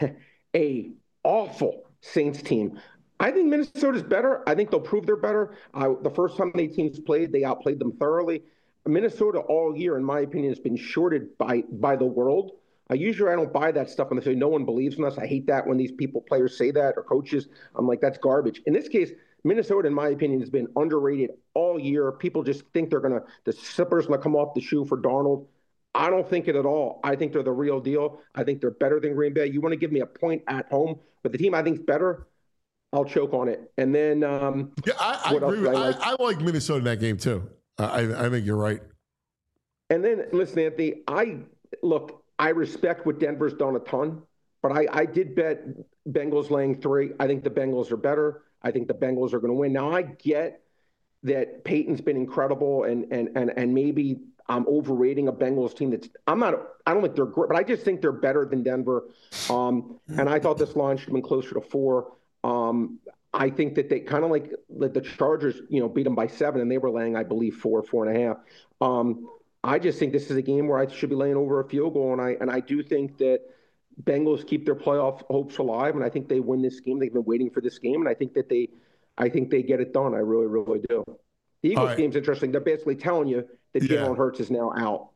a awful Saints team. I think Minnesota's better. I think they'll prove they're better. Uh, the first time they teams played, they outplayed them thoroughly. Minnesota all year, in my opinion, has been shorted by by the world. I usually I don't buy that stuff when they say no one believes in us. I hate that when these people, players say that or coaches. I'm like, that's garbage. In this case, Minnesota, in my opinion, has been underrated all year. People just think they're going to, the slipper's going to come off the shoe for Darnold. I don't think it at all. I think they're the real deal. I think they're better than Green Bay. You want to give me a point at home, but the team I think is better, I'll choke on it. And then um, yeah, I, I agree. With, I, like? I, I like Minnesota in that game too. I, I think you're right. And then listen, Anthony, I look, I respect what Denver's done a ton, but I, I did bet Bengals laying three. I think the Bengals are better. I think the Bengals are going to win. Now I get that Peyton's been incredible, and and and and maybe I'm overrating a Bengals team that's I'm not. I don't think they're great, but I just think they're better than Denver. Um, and I thought this line should have been closer to four. Um, I think that they kind of like, like the Chargers, you know, beat them by seven, and they were laying, I believe, four, four and a half. Um, I just think this is a game where I should be laying over a field goal, and I and I do think that Bengals keep their playoff hopes alive, and I think they win this game. They've been waiting for this game, and I think that they, I think they get it done. I really, really do. The Eagles right. game's interesting. They're basically telling you that yeah. Jalen Hurts is now out.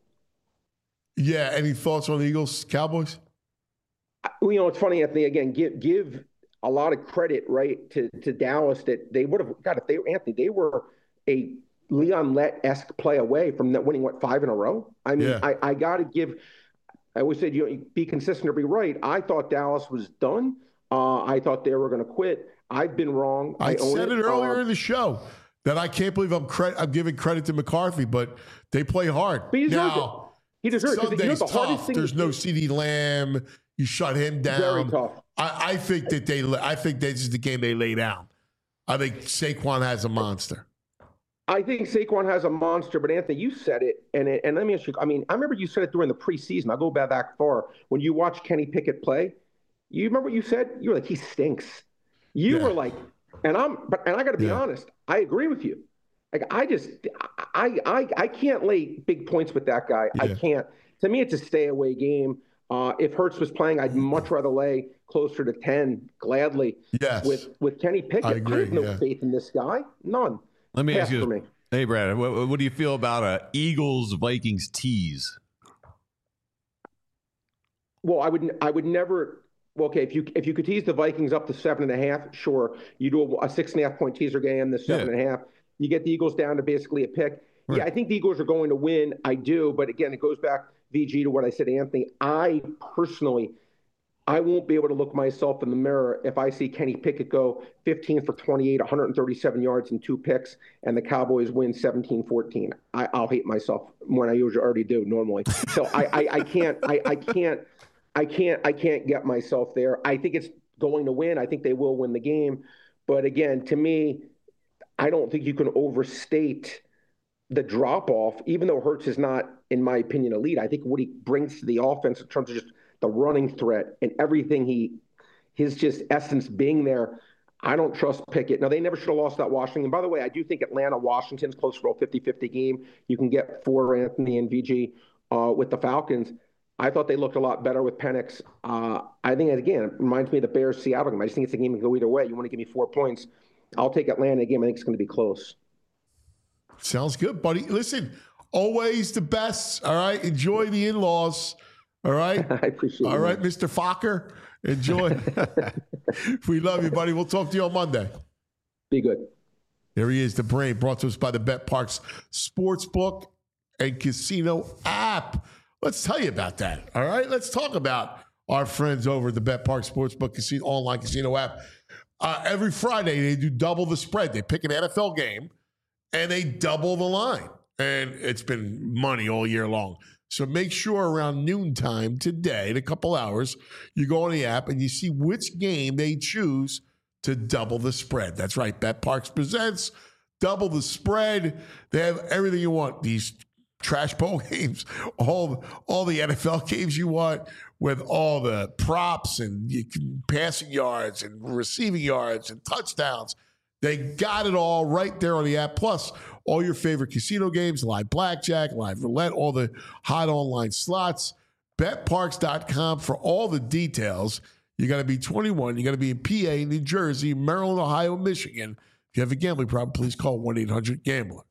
Yeah. Any thoughts on the Eagles, Cowboys? You know, it's funny, Anthony. Again, give give a lot of credit, right, to to Dallas that they would have got if they Anthony. They were a Leon Lett-esque play away from that winning, what, five in a row? I mean, yeah. I, I got to give – I always said, you know, be consistent or be right. I thought Dallas was done. Uh, I thought they were going to quit. I've been wrong. I, I said it, it earlier um, in the show that I can't believe I'm, cre- I'm giving credit to McCarthy, but they play hard. But he deserves now, it. He deserves Sunday's it. You know, the tough. There's no CeeDee Lamb. You shut him down. Very tough. I, I think that they – I think this is the game they lay down. I think Saquon has a monster. I think Saquon has a monster, but Anthony, you said it, and it, and let me ask you. I mean, I remember you said it during the preseason. I'll go back that far. When you watched Kenny Pickett play, you remember what you said? You were like, he stinks. You yeah. were like, and I'm, but and I got to be yeah. honest. I agree with you. Like I just, I, I, I can't lay big points with that guy. Yeah. I can't. To me, it's a stay away game. Uh, if Hurts was playing, I'd much rather lay closer to ten, gladly. Yes. With with Kenny Pickett, I, agree, I have no yeah. faith in this guy. None. Let me Pass ask you, me. Hey, Brad, what, what do you feel about a Eagles-Vikings tease? Well, I would I would never – well, okay, if you if you could tease the Vikings up to seven and a half, sure. You do a, a six and a half point teaser game, the seven yeah. and a half. You get the Eagles down to basically a pick. Right. Yeah, I think the Eagles are going to win. I do. But, again, it goes back, V G, to what I said, Anthony. I personally – I won't be able to look myself in the mirror if I see Kenny Pickett go fifteen for twenty-eight, one hundred thirty-seven yards and two picks, and the Cowboys win seventeen fourteen. I, I'll hate myself more than I usually already do normally. So I, I, I can't, I, I can't, I can't, I can't get myself there. I think it's going to win. I think they will win the game. But again, to me, I don't think you can overstate the drop off, even though Hurts is not, in my opinion, elite. I think what he brings to the offense in terms of just the running threat and everything he, his just essence being there. I don't trust Pickett. Now, they never should have lost that Washington. By the way, I do think Atlanta-Washington's close for a fifty-fifty game. You can get for Anthony and V G uh, with the Falcons. I thought they looked a lot better with Penix. Uh, I think, again, it reminds me of the Bears-Seattle game. I just think it's a game that can go either way. You want to give me four points, I'll take Atlanta game. I think it's going to be close. Sounds good, buddy. Listen, always the best, all right? Enjoy the in-laws, all right? I appreciate it. All right, Mister Fokker, enjoy. We love you, buddy. We'll talk to you on Monday. Be good. There he is, the brain, brought to us by the BetParx Sportsbook and Casino app. Let's tell you about that, all right? Let's talk about our friends over at the BetParx Sportsbook Casino online casino app. Uh, every Friday, they do double the spread. They pick an N F L game, and they double the line. And it's been money all year long. So make sure around noontime today, in a couple hours, you go on the app and you see which game they choose to double the spread. That's right. BetParx presents double the spread. They have everything you want. These trash bowl games, all, all the N F L games you want, with all the props and you can, passing yards and receiving yards and touchdowns. They got it all right there on the app. Plus, all your favorite casino games, live blackjack, live roulette, all the hot online slots. Bet Parx dot com for all the details. You got to be twenty-one. You got to be in P A, New Jersey, Maryland, Ohio, Michigan. If you have a gambling problem, please call one eight hundred gambler.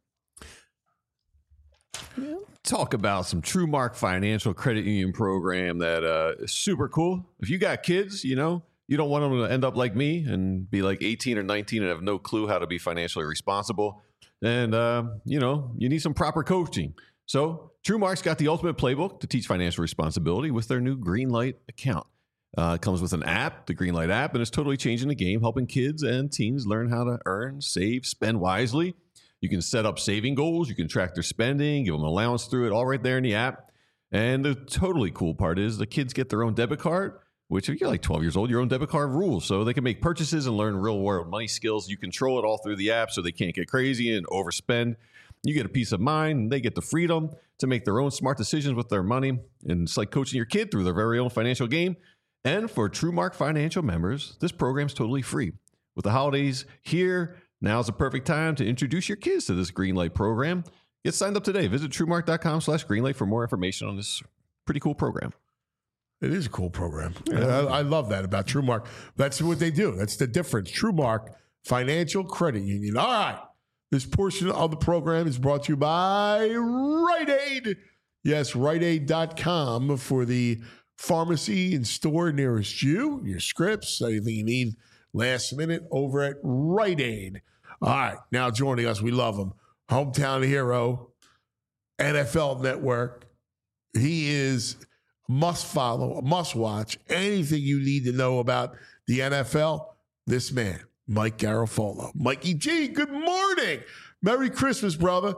Yeah. Talk about some TrueMark Financial Credit Union program that uh, is super cool. If you got kids, you know, you don't want them to end up like me and be like eighteen or nineteen and have no clue how to be financially responsible. And, uh, you know, you need some proper coaching. So TrueMark's got the ultimate playbook to teach financial responsibility with their new Greenlight account. Uh, it comes with an app, the Greenlight app, and it's totally changing the game, helping kids and teens learn how to earn, save, spend wisely. You can set up saving goals. You can track their spending, give them an allowance through it, all right there in the app. And the totally cool part is the kids get their own debit card, which if you're like twelve years old, your own debit card rules. So they can make purchases and learn real world money skills. You control it all through the app so they can't get crazy and overspend. You get a peace of mind and they get the freedom to make their own smart decisions with their money. And it's like coaching your kid through their very own financial game. And for TrueMark Financial members, this program's totally free. With the holidays here, now's the perfect time to introduce your kids to this Greenlight program. Get signed up today. Visit TrueMark dot com slash Greenlight for more information on this pretty cool program. It is a cool program. Yeah. I, I love that about TrueMark. That's what they do. That's the difference. TrueMark Financial Credit Union. All right. This portion of the program is brought to you by Rite Aid. Yes, Rite Aid dot com for the pharmacy and store nearest you. Your scripts, anything you need last minute over at Rite Aid. All right. Now joining us, we love him. Hometown hero, N F L Network. He is must follow, must watch. Anything you need to know about the N F L, this man, Mike Garafolo. Mikey G, good morning. Merry Christmas, brother.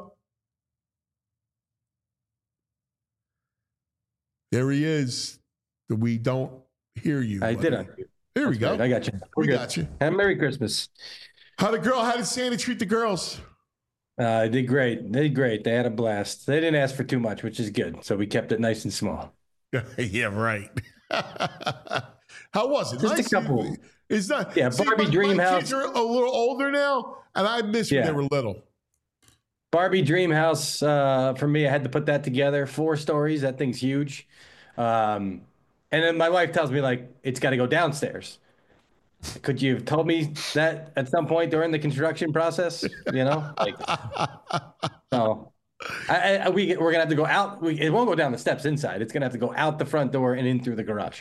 There he is. We don't hear you. I did unmute. Here we go. Great. I got you. We're we good. got you. And Merry Christmas. How the girl, how did Santa treat the girls? Uh, they did great. They did great. They had a blast. They didn't ask for too much, which is good. So we kept it nice and small. Yeah, right. How was it? Just nice. a couple. It's not. Yeah, see, Barbie my, Dream my House. kids are a little older now, and I miss when Yeah. they were little. Barbie Dream House, uh, for me, I had to put that together. Four stories. That thing's huge. Um, and then my wife tells me, like, it's got to go downstairs. Could you have told me that at some point during the construction process? You know, like, so I, I, we, we're going to have to go out. We, it won't go down the steps inside. It's going to have to go out the front door and in through the garage.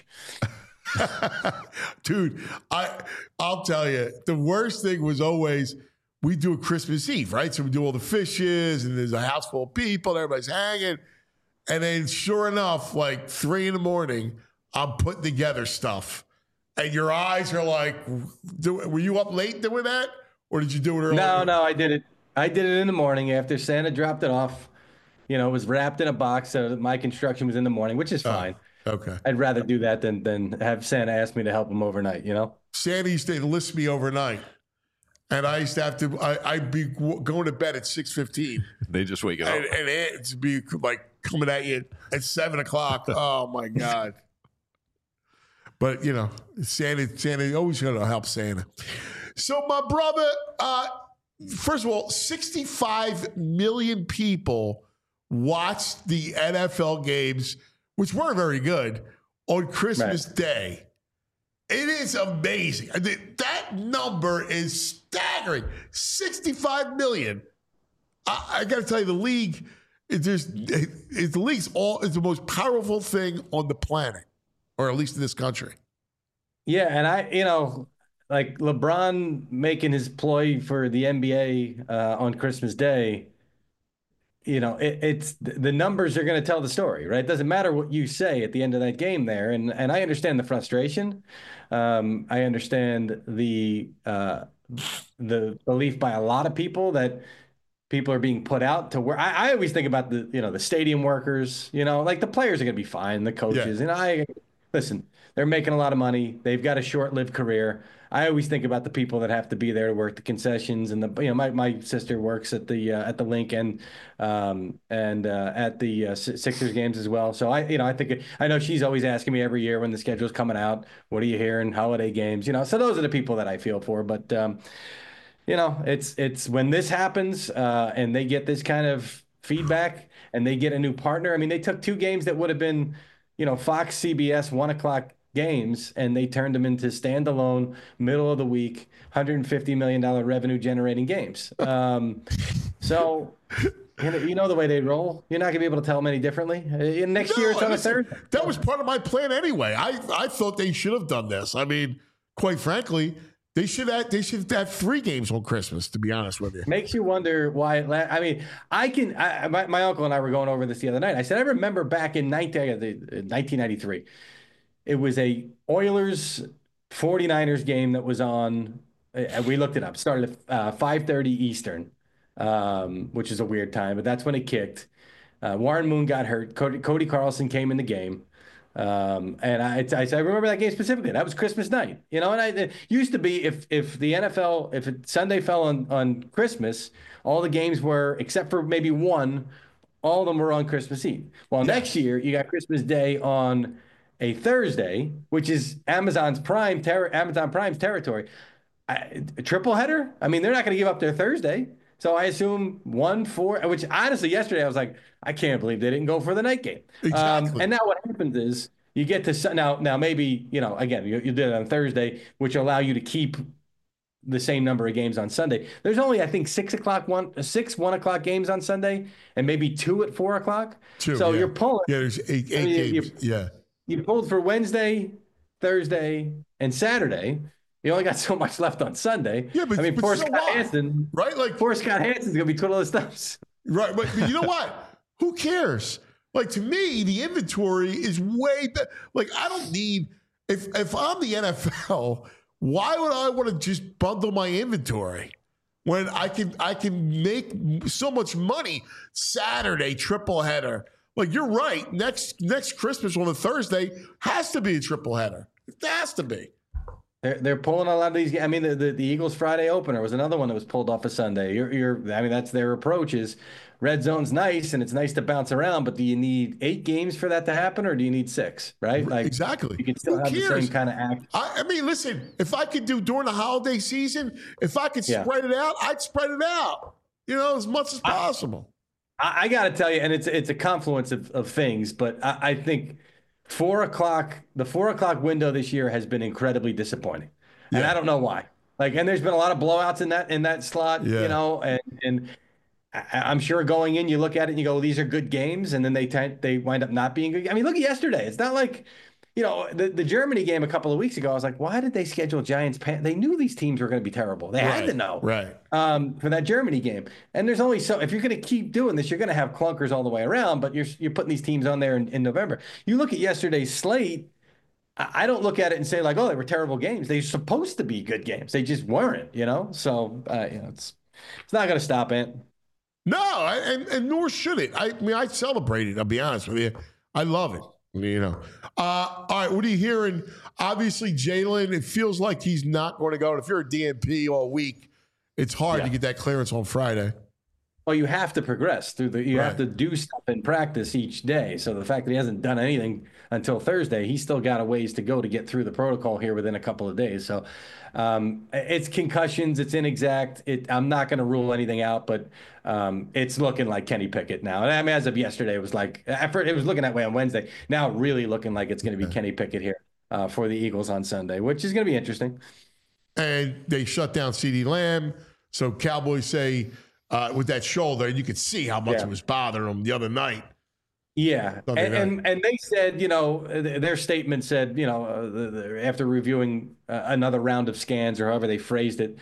Dude, I, I'll tell you, the worst thing was always we do a Christmas Eve, right? So we do all the fishes and there's a house full of people, everybody's hanging. And then sure enough, like three in the morning, I'm putting together stuff. And your eyes are like, do, were you up late doing that? Or did you do it early? No, no, I did it. I did it in the morning after Santa dropped it off. You know, it was wrapped in a box. So my construction was in the morning, which is fine. Oh, okay. I'd rather do that than than have Santa ask me to help him overnight, you know? Santa used to enlist me overnight. And I used to have to, I, I'd be going to bed at six fifteen. They just wake up. And, and it'd be like coming at you at seven o'clock. Oh, my God. But, you know, Santa, Santa, always going to help Santa. So, my brother, uh, first of all, sixty-five million people watched the N F L games, which weren't very good, on Christmas right. Day. It is amazing. I mean, that number is staggering. sixty-five million. I, I got to tell you, the league, it, there's, it, it, the league's all is the most powerful thing on the planet, or at least in this country. Yeah, and I, you know, like LeBron making his ploy for the N B A uh, on Christmas Day. You know, it, it's the numbers are going to tell the story, right? It doesn't matter what you say at the end of that game there. And and I understand the frustration. Um, I understand the uh, the belief by a lot of people that people are being put out to work. I, I always think about the, you know, the stadium workers, you know, like the players are going to be fine, the coaches. Yeah. And I, listen, they're making a lot of money. They've got a short-lived career. I always think about the people that have to be there to work the concessions, and the you know my, my sister works at the uh, at the link and um, and uh, at the uh, Sixers games as well. So I you know I think I know she's always asking me every year when the schedule's coming out, what are you hearing? Holiday games, you know. So those are the people that I feel for. But um, you know, it's it's when this happens uh, and they get this kind of feedback and they get a new partner. I mean, they took two games that would have been, you know, Fox, C B S, one o'clock games, and they turned them into standalone, middle of the week, one hundred fifty million dollars revenue generating games. Um, so, you know, you know the way they roll. You're not going to be able to tell them any differently. Uh, next no, year, it's on listen, a Thursday. That was part of my plan anyway. I, I thought they should have done this. I mean, quite frankly, they should have, they should have three games on Christmas, to be honest with you. Makes you wonder why. It la- I mean, I can. I, my, my uncle and I were going over this the other night. I said, I remember back in nineteen ninety-three. It was a Oilers forty-niners game that was on. Uh, we looked it up. Started at uh, five thirty Eastern, um, which is a weird time, but that's when it kicked. Uh, Warren Moon got hurt. Cody, Cody Carlson came in the game. Um, and I, I, I remember that game specifically. That was Christmas night, you know. And I it used to be if if the N F L if it, Sunday fell on on Christmas, all the games were, except for maybe one, all of them were on Christmas Eve. Well, yeah. Next year you got Christmas Day on a Thursday, which is Amazon's Prime ter- Amazon Prime's territory. I, a triple header? I mean, they're not going to give up their Thursday. So I assume one, four, which honestly, yesterday I was like, I can't believe they didn't go for the night game. Exactly. Um, and now what happens is you get to, now, now maybe, you know, again, you, you did it on Thursday, which allow you to keep the same number of games on Sunday. There's only, I think, six o'clock, one, six one o'clock games on Sunday, and maybe two at four o'clock. Two, so yeah. you're pulling. Yeah, there's eight, eight I mean, games. You, yeah. You pulled for Wednesday, Thursday, and Saturday. You only got so much left on Sunday. Yeah, but I mean, but poor so Scott what? Hansen, right? Like poor Scott Hansen's gonna be twiddling his thumbs. Right, but, but you know what? Who cares? Like, to me, the inventory is way better. Like, I don't need if if I'm the N F L, why would I want to just bundle my inventory when I can I can make so much money Saturday triple header? Like, you're right. Next next Christmas on a Thursday has to be a triple header. It has to be. They're they're pulling a lot of these. I mean, the, the, the Eagles Friday opener was another one that was pulled off a Sunday. You're you're. I mean, that's their approach. Is red zone's nice and it's nice to bounce around, but do you need eight games for that to happen, or do you need six? Right? Like exactly. You can still Who have cares? the same kind of act. I, I mean, listen. If I could do during the holiday season, if I could Yeah. spread it out, I'd spread it out. You know, as much as possible. I, I got to tell you, and it's it's a confluence of, of things, but I, I think four o'clock, the four o'clock window this year has been incredibly disappointing. And Yeah. I don't know why. Like, and there's been a lot of blowouts in that in that slot, Yeah. you know, and and I, I'm sure going in, you look at it and you go, these are good games, and then they t- they wind up not being good. I mean, look at yesterday. It's not like, you know, the, the Germany game a couple of weeks ago. I was like, why did they schedule Giants? Pan- they knew these teams were going to be terrible. They Right, had to know, right. Um, for that Germany game. And there's only so if you're going to keep doing this, you're going to have clunkers all the way around. But you're you're putting these teams on there in, in November. You look at yesterday's slate. I don't look at it and say like, oh, they were terrible games. They're supposed to be good games. They just weren't, you know? So, uh, you know, it's it's not going to stop it. No, I, and, and nor should it. I, I mean, I celebrate it. I'll be honest with you. I love it. You know. Uh, all right, what are you hearing? Obviously, Jalen, it feels like he's not going to go. And if you're a D N P all week, it's hard Yeah. to get that clearance on Friday. Well, you have to progress through the. You Right. have to do stuff in practice each day. So the fact that he hasn't done anything until Thursday, he's still got a ways to go to get through the protocol here within a couple of days. So um, it's concussions. It's inexact. It, I'm not going to rule anything out, but um, it's looking like Kenny Pickett now. And I mean, as of yesterday, it was like effort. It was looking that way on Wednesday. Now, really looking like it's going to be Kenny Pickett here uh, for the Eagles on Sunday, which is going to be interesting. And they shut down CeeDee Lamb. So Cowboys say. Uh, with that shoulder, and you could see how much Yeah. it was bothering him the other night. Yeah, and, Sunday night. and and they said, you know, th- their statement said, you know, uh, the, the, after reviewing uh, another round of scans or however they phrased it,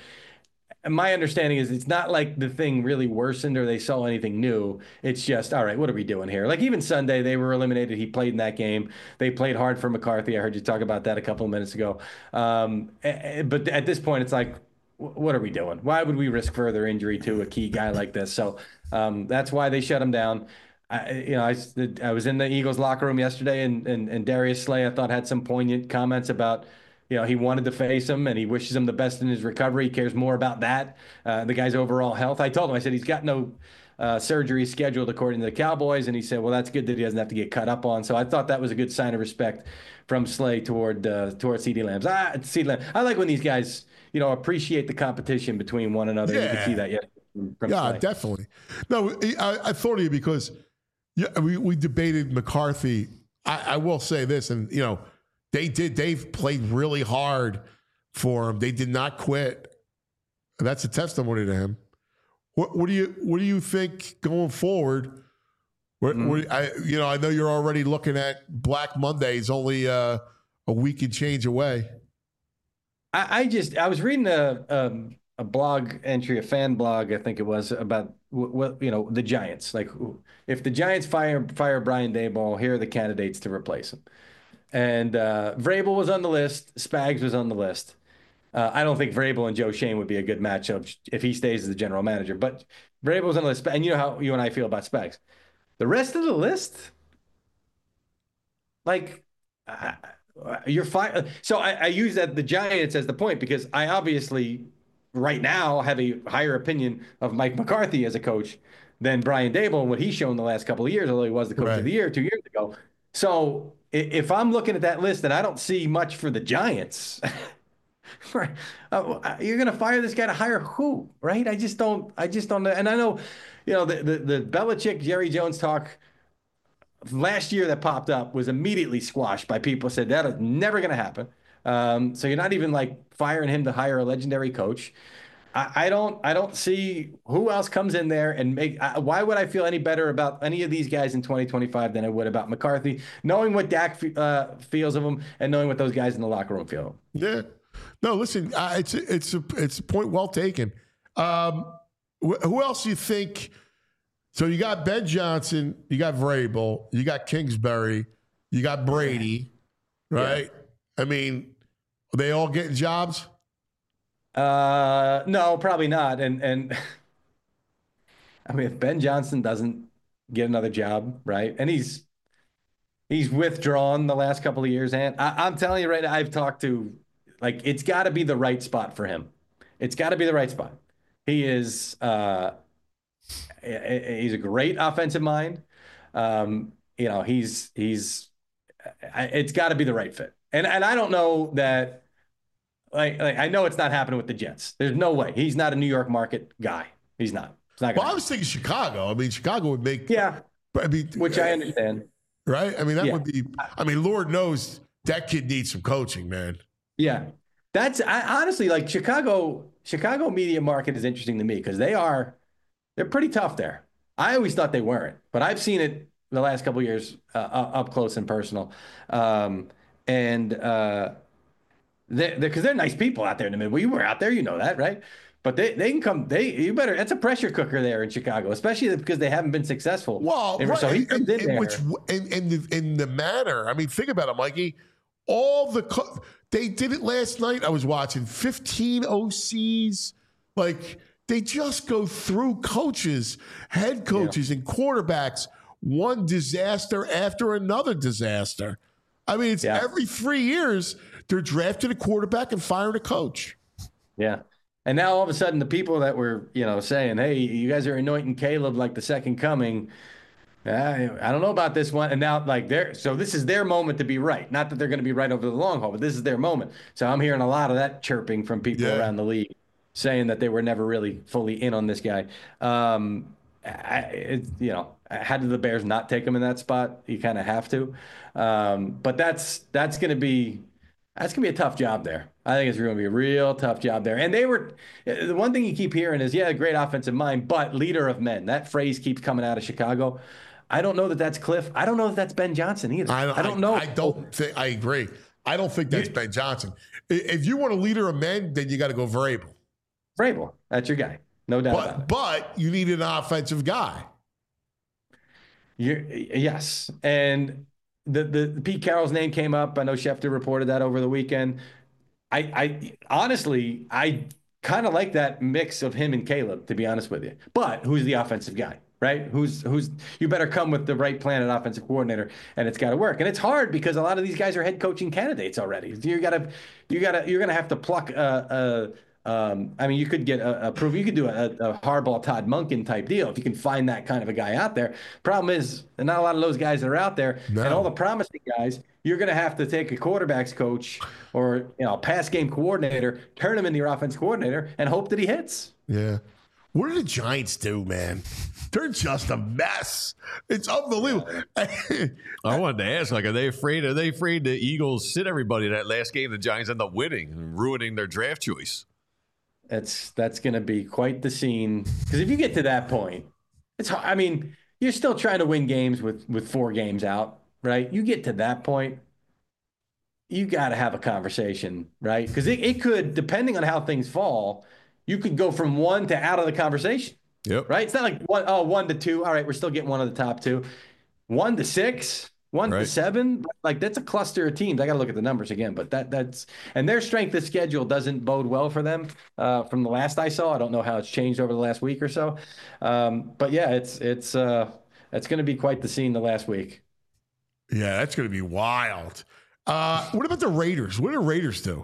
my understanding is it's not like the thing really worsened or they saw anything new. It's just, all right, what are we doing here? Like even Sunday, they were eliminated. He played in that game. They played hard for McCarthy. I heard you talk about that a couple of minutes ago. Um, a- a- but at this point, it's like, what are we doing? Why would we risk further injury to a key guy like this? So um, that's why they shut him down. I, you know, I, I was in the Eagles locker room yesterday, and, and and Darius Slay, I thought, had some poignant comments about, you know, he wanted to face him and he wishes him the best in his recovery. He cares more about that, uh, the guy's overall health. I told him, I said, he's got no uh, surgery scheduled according to the Cowboys, and he said, well, that's good that he doesn't have to get cut up on. So I thought that was a good sign of respect from Slay toward uh, toward CeeDee Lamb. Ah, CeeDee Lamb. I like when these guys, you know, appreciate the competition between one another. You Yeah. can see that, yeah. From Yeah, Slay. definitely. No, I, I thought of you because yeah, we, we debated McCarthy. I, I will say this, and you know, they did. They've played really hard for him. They did not quit. That's a testimony to him. What, what do you What do you think going forward? What, Mm-hmm. what, I, you know, I know you're already looking at Black Mondays, only uh, a week and change away. I, I just I was reading a um, a blog entry, a fan blog, I think it was, about what you know the Giants. Like, if the Giants fire fire Brian Daboll, here are the candidates to replace him. And uh, Vrabel was on the list. Spags was on the list. Uh, I don't think Vrabel and Joe Shane would be a good matchup if he stays as the general manager. But Vrabel was on the list, and you know how you and I feel about Spags. The rest of the list, like. Uh, You're fine. So I, I use that the Giants as the point because I obviously right now have a higher opinion of Mike McCarthy as a coach than Brian Daboll and what he's shown the last couple of years, although he was the coach Right. of the year two years ago. So if I'm looking at that list and I don't see much for the Giants, right, uh, you're going to fire this guy to hire who, right? I just don't. I just don't. And I know, you know, the the, the Belichick Jerry Jones talk last year that popped up was immediately squashed by people who said that is never going to happen. Um, so you're not even like firing him to hire a legendary coach. I, I don't, I don't see who else comes in there and make. I, why would I feel any better about any of these guys in twenty twenty-five than I would about McCarthy, knowing what Dak uh, feels of him and knowing what those guys in the locker room feel. Yeah. No, listen, uh, it's a, it's a, it's a point well taken. Um, wh- who else do you think? So you got Ben Johnson, you got Vrabel, you got Kingsbury, you got Brady, right? Yeah. I mean, are they all getting jobs? Uh, no, probably not. And and I mean, if Ben Johnson doesn't get another job, right, and he's he's withdrawn the last couple of years, and I, I'm telling you right now, I've talked to, like, it's got to be the right spot for him. It's got to be the right spot. He is. Uh, He's a great offensive mind. Um, you know, he's he's. It's got to be the right fit, and and I don't know that. Like, like I know it's not happening with the Jets. There's no way. He's not a New York market guy. He's not. It's not. Well, I was thinking Chicago. I mean, Chicago would make. Yeah. I mean, which I understand. Right. I mean, that yeah. would be. I mean, Lord knows that kid needs some coaching, man. Yeah, that's I, honestly like Chicago. Chicago media market is interesting to me because they are. They're pretty tough there. I always thought they weren't, but I've seen it the last couple of years uh, up close and personal. Um, and uh, they because they're, they're nice people out there in the middle. We were out there, you know that, right? But they, they can come. They you better. It's a pressure cooker there in Chicago, especially because they haven't been successful. Well, and right. so he comes in, in, there. which in, in the in the manner. I mean, think about it, Mikey. All the co- they did it last night. I was watching fifteen O Cs, like. They just go through coaches, head coaches, yeah. and quarterbacks, one disaster after another disaster. I mean, it's yeah. every three years they're drafting a quarterback and firing a coach. Yeah. And now all of a sudden, the people that were, you know, saying, "Hey, you guys are anointing Caleb like the second coming," I, I don't know about this one. And now, like, they're so this is their moment to be right. Not that they're going to be right over the long haul, but this is their moment. So I'm hearing a lot of that chirping from people Yeah. around the league, saying that they were never really fully in on this guy. Um, I, it, you know, how did the Bears not take him in that spot? You kind of have to. Um, but that's that's going to be. That's going to be a tough job there. I think it's going to be a real tough job there. And they were, the one thing you keep hearing is, yeah, great offensive mind, but leader of men. That phrase keeps coming out of Chicago. I don't know that that's Cliff. I don't know if that's Ben Johnson either. I, I don't know. I, I don't think, I agree. I don't think that's you, Ben Johnson. If you want a leader of men, then you got to go Vrabel. Vrabel, that's your guy. No doubt but, about it. But you need an offensive guy. You're, yes. And The, the the Pete Carroll's name came up. I know Schefter reported that over the weekend. I, I honestly, I kind of like that mix of him and Caleb, to be honest with you. But who's the offensive guy, right? Who's who's you better come with the right plan at offensive coordinator, and it's got to work. And it's hard because a lot of these guys are head coaching candidates already. You gotta, you gotta, you're gonna have to pluck a. a Um, I mean, you could get a, a proof. You could do a, a Harbaugh, Todd Monken type deal if you can find that kind of a guy out there. Problem is, there's not a lot of those guys that are out there, no. And all the promising guys, you're going to have to take a quarterbacks coach or you know, pass game coordinator, turn him into your offense coordinator, and hope that he hits. Yeah. What do the Giants do, man? They're just a mess. It's unbelievable. I wanted to ask, like, are they afraid? Are they afraid the Eagles sit everybody that last game? The Giants end up winning and ruining their draft choice. That's that's going to be quite the scene because if you get to that point, it's hard. I mean, you're still trying to win games with with four games out, right? You get to that point, you got to have a conversation, right? Because it, it could, depending on how things fall, you could go from one to out of the conversation. Yep. Right? It's not like one, oh, one to two. All right, we're still getting one of the top two. One to six. One right. to seven, like that's a cluster of teams. I got to look at the numbers again, but that that's and their strength of schedule doesn't bode well for them. Uh, from the last I saw, I don't know how it's changed over the last week or so, um, but yeah, it's it's uh, it's going to be quite the scene the last week. Yeah, that's going to be wild. Uh, what about the Raiders? What do the Raiders do?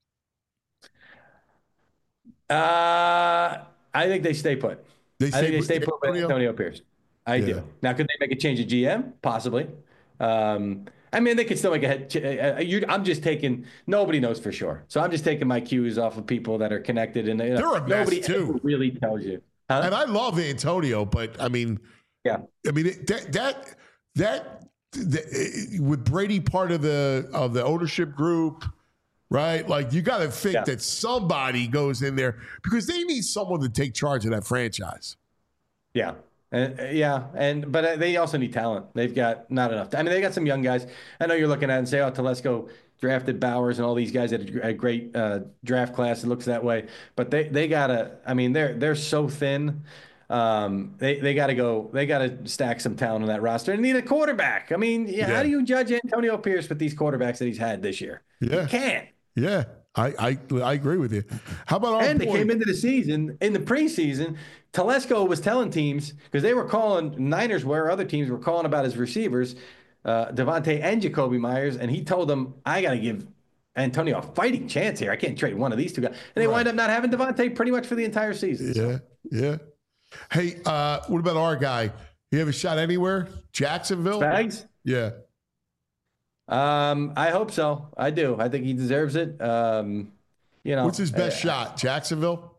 Uh, I think they stay put. They I stay think they put, stay put with Antonio Pierce. I yeah. do. Now, could they make a change at G M? Possibly. Um, I mean, they could still make a head. Uh, you, I'm just taking. Nobody knows for sure, so I'm just taking my cues off of people that are connected, and you know, they're a mess nobody too. Really tells you. Huh? And I love Antonio, but I mean, yeah, I mean that that that, that with Brady part of the of the ownership group, right? Like you got to think yeah. that somebody goes in there because they need someone to take charge of that franchise. Yeah. Uh, yeah, and but uh, they also need talent. They've got not enough. I mean, they got some young guys. I know you're looking at it and say, "Oh, Telesco drafted Bowers and all these guys had a great uh, draft class." It looks that way, but they they gotta. I mean, they're they're so thin. Um, they they got to go. They got to stack some talent on that roster and need a quarterback. I mean, yeah, yeah. How do you judge Antonio Pierce with these quarterbacks that he's had this year? Yeah, you can't. Yeah. I, I I agree with you. How about our and boy? They came into the season in the preseason. Telesco was telling teams because they were calling Niners where other teams were calling about his receivers, uh, Devontae and Jacoby Myers, and he told them, "I got to give Antonio a fighting chance here. I can't trade one of these two guys." And they right. wind up not having Devontae pretty much for the entire season. Yeah, so. yeah. Hey, uh, what about our guy? You have a shot anywhere? Jacksonville? Spags? Yeah. Um, I hope so. I do. I think he deserves it. Um, you know, what's his best uh, shot? Jacksonville?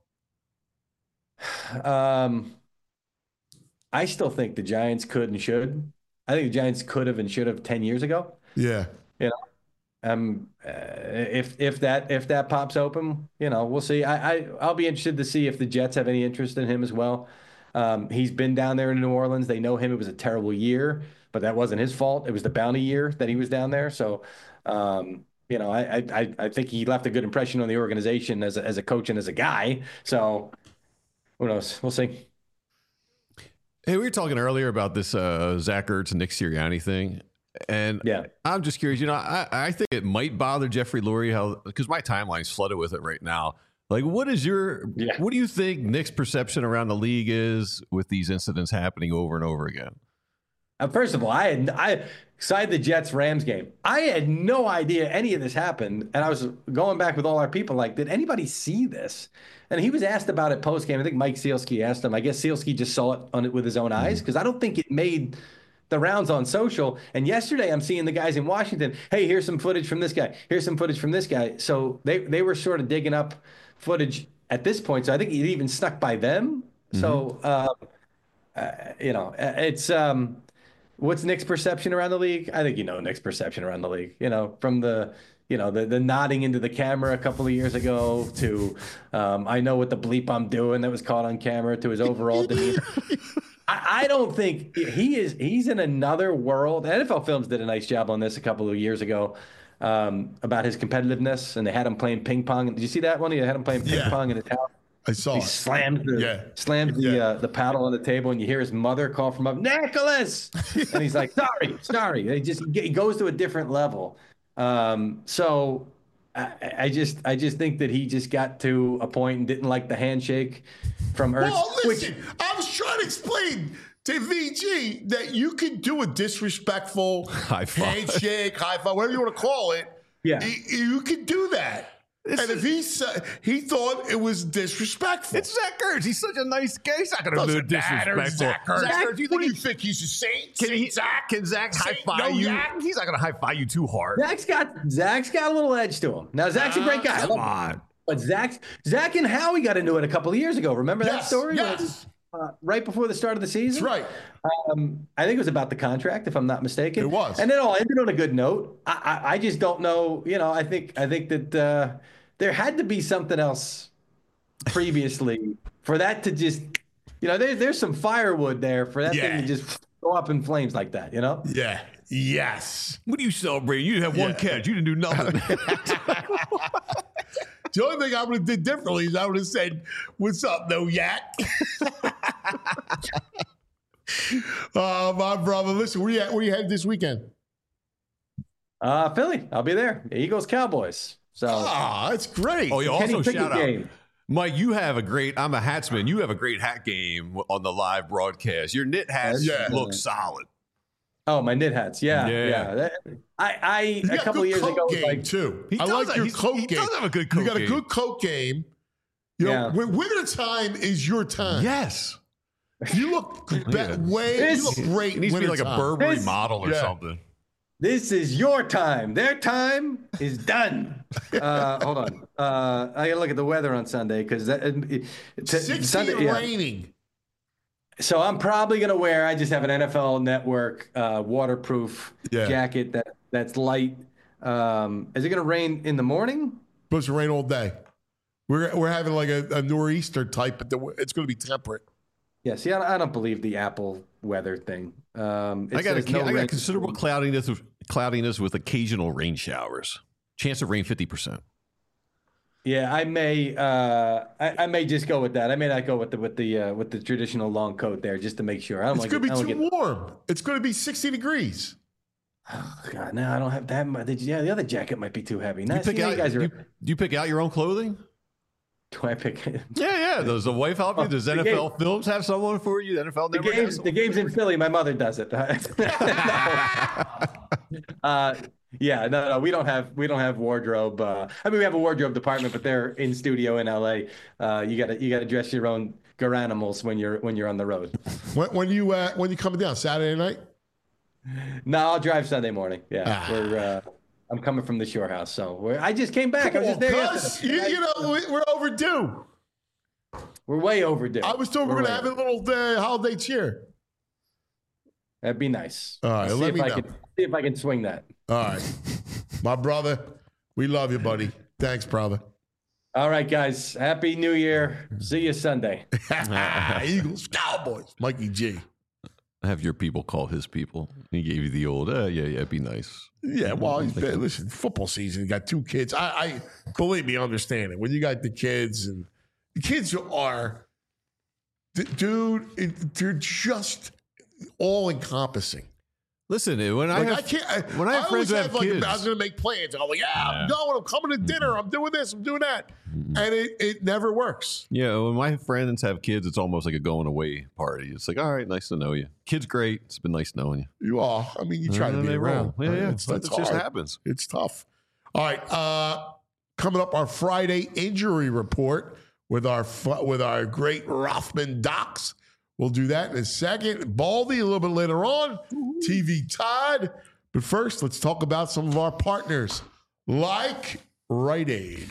Um, I still think the Giants could and should. I think the Giants could have and should have ten years ago. Yeah. You know, um, uh, if if that if that pops open, you know, we'll see. I, I I'll be interested to see if the Jets have any interest in him as well. Um, he's been down there in New Orleans. They know him. It was a terrible year, but that wasn't his fault. It was the bounty year that he was down there. So, um, you know, I, I, I think he left a good impression on the organization as a, as a coach and as a guy. So who knows? We'll see. Hey, we were talking earlier about this uh, Zach Ertz and Nick Sirianni thing. And yeah, I'm just curious, you know, I, I think it might bother Jeffrey Lurie how, because my timeline's flooded with it right now. Like, what is your, yeah. what do you think Nick's perception around the league is with these incidents happening over and over again? Uh, first of all, I had I side the Jets Rams game. I had no idea any of this happened, and I was going back with all our people. Like, did anybody see this? And he was asked about it post game. I think Mike Sealski asked him. I guess Sealski just saw it on it with his own eyes because I don't think it made the rounds on social. And yesterday, I'm seeing the guys in Washington. Hey, here's some footage from this guy. Here's some footage from this guy. So they they were sort of digging up footage at this point. So I think it even snuck by them. Mm-hmm. So uh, uh, you know, it's. Um, What's Nick's perception around the league? I think you know Nick's perception around the league. You know, from the you know the the nodding into the camera a couple of years ago to um, I know what the bleep I'm doing that was caught on camera to his overall demeanor. I, I don't think he is. He's in another world. N F L Films did a nice job on this a couple of years ago um, about his competitiveness, and they had him playing ping pong. Did you see that one? They had him playing ping yeah. pong in his house. I saw he it. slams the yeah. slams the yeah. uh, the paddle on the table, and you hear his mother call from up, Nicholas, and he's like, "Sorry, sorry." He just he goes to a different level. Um, so I, I just I just think that he just got to a point and didn't like the handshake from Ertz. Well, listen, which, I was trying to explain to V G that you could do a disrespectful high five. handshake, high five, whatever you want to call it. Yeah, you, you could do that. It's, and if he said he thought it was disrespectful, it's Zach Ertz. He's such a nice guy. He's not going to do disrespectful. Zach Ertz. Zach Ertz, do you think you think he's a saint? Can saint he, Zach? Can Zach high five no you? Zach? He's not going to high five you too hard. Zach's got Zach's got a little edge to him. Now Zach's uh, a great guy. Come on, but Zach Zach and Howie got into it a couple of years ago. Remember yes, that story? Yes. Uh, right before the start of the season. That's right. Um, I think it was about the contract, if I'm not mistaken. It was, and it all ended on a good note. I, I, I just don't know. You know, I think I think that. Uh, There had to be something else previously for that to just, you know, there, there's some firewood there for that yeah. thing to just go up in flames like that, you know? Yeah. Yes. What are you celebrating? You have yeah. one catch. You didn't do nothing. The only thing I would have did differently is I would have said, "What's up, no yak?" uh, my brother, listen, where you at? Where you headed this weekend? Uh, Philly. I'll be there. Eagles, Cowboys. So ah, that's great. Oh, you Kenny also Pickett shout out, game. Mike. You have a great. I'm a hatsman. You have a great hat game on the live broadcast. Your knit hats yeah. look solid. Oh, my knit hats. Yeah, yeah. yeah. That, I, I a couple of years ago, game like too. He I like have, your coat he game. He does have a good coat You got game. a good coat game. You know, yeah. when winter time is your time. Yes. You look be- yeah. way. This, you look great. It needs to be like time. a Burberry this, model or yeah. something. This is your time. Their time is done. Uh, hold on. Uh, I gotta look at the weather on Sunday because t- sixty Sunday, and yeah. raining. So I'm probably gonna wear. I just have an N F L Network uh, waterproof yeah. jacket that that's light. Um, is it gonna rain in the morning? Supposed to rain all day. We're we're having like a, a nor'easter type, but the, it's going to be temperate. Yeah. See, I, I don't believe the Apple weather thing. Um, I got a, no I rain. got considerable cloudiness with, cloudiness with occasional rain showers. Chance of rain fifty percent. Yeah, I may. Uh, I, I may just go with that. I may not go with the with the uh, with the traditional long coat there, just to make sure. I don't It's like going to be it, too get... warm. It's going to be sixty degrees. Oh God, no, I don't have that much. Yeah, the other jacket might be too heavy. No, You pick see, out, you guys are. you, do you pick out your own clothing? Do I pick? Yeah, yeah. Does the wife help you? Does the N F L game, Films have someone for you? The N F L the never games, has the games in Philly. My mother does it. uh, yeah, no, no, we don't have we don't have wardrobe. Uh, I mean, we have a wardrobe department, but they're in studio in L A. Uh, you gotta you gotta dress your own garanimals when you're when you're on the road. When, when you uh, when you coming down Saturday night? No, I'll drive Sunday morning. Yeah, Ah. we're. Uh, I'm coming from the Shore House, so we're, I just came back. I was just there yesterday. You, you know, we- we're overdue. We're way overdue. I was told we're, We're going to way have a little uh, holiday cheer. That'd be nice. All right, see let if me I know. can see if I can swing that. All right. My brother, we love you, buddy. Thanks, brother. All right, guys. Happy New Year. See you Sunday. Eagles, Cowboys, Mikey G. Have your people call his people. He gave you the old, uh, yeah, yeah, be nice. Yeah, well, he's been, listen, football season, you got two kids. I, I believe me, understand it. When you got the kids, and the kids are, dude, it, they're just all encompassing. Listen, when I Like, have, I can't. I, when I have I friends who always have like, kids, I was going to make plans. I'm like, yeah, I'm going. I'm coming to dinner. I'm doing this. I'm doing that, and it, it never works. yeah, when my friends have kids, it's almost like a going away party. It's like, all right, nice to know you. Kid's great. It's been nice knowing you. You all. I mean, you try And to then be they around. roll. Yeah, yeah. It's, That it's just hard. happens. It's tough. All right. Uh, coming up, our Friday injury report with our fu- with our great Rothman docs. We'll do that in a second. Baldy a little bit later on. T V Todd. But first, let's talk about some of our partners, like Rite Aid.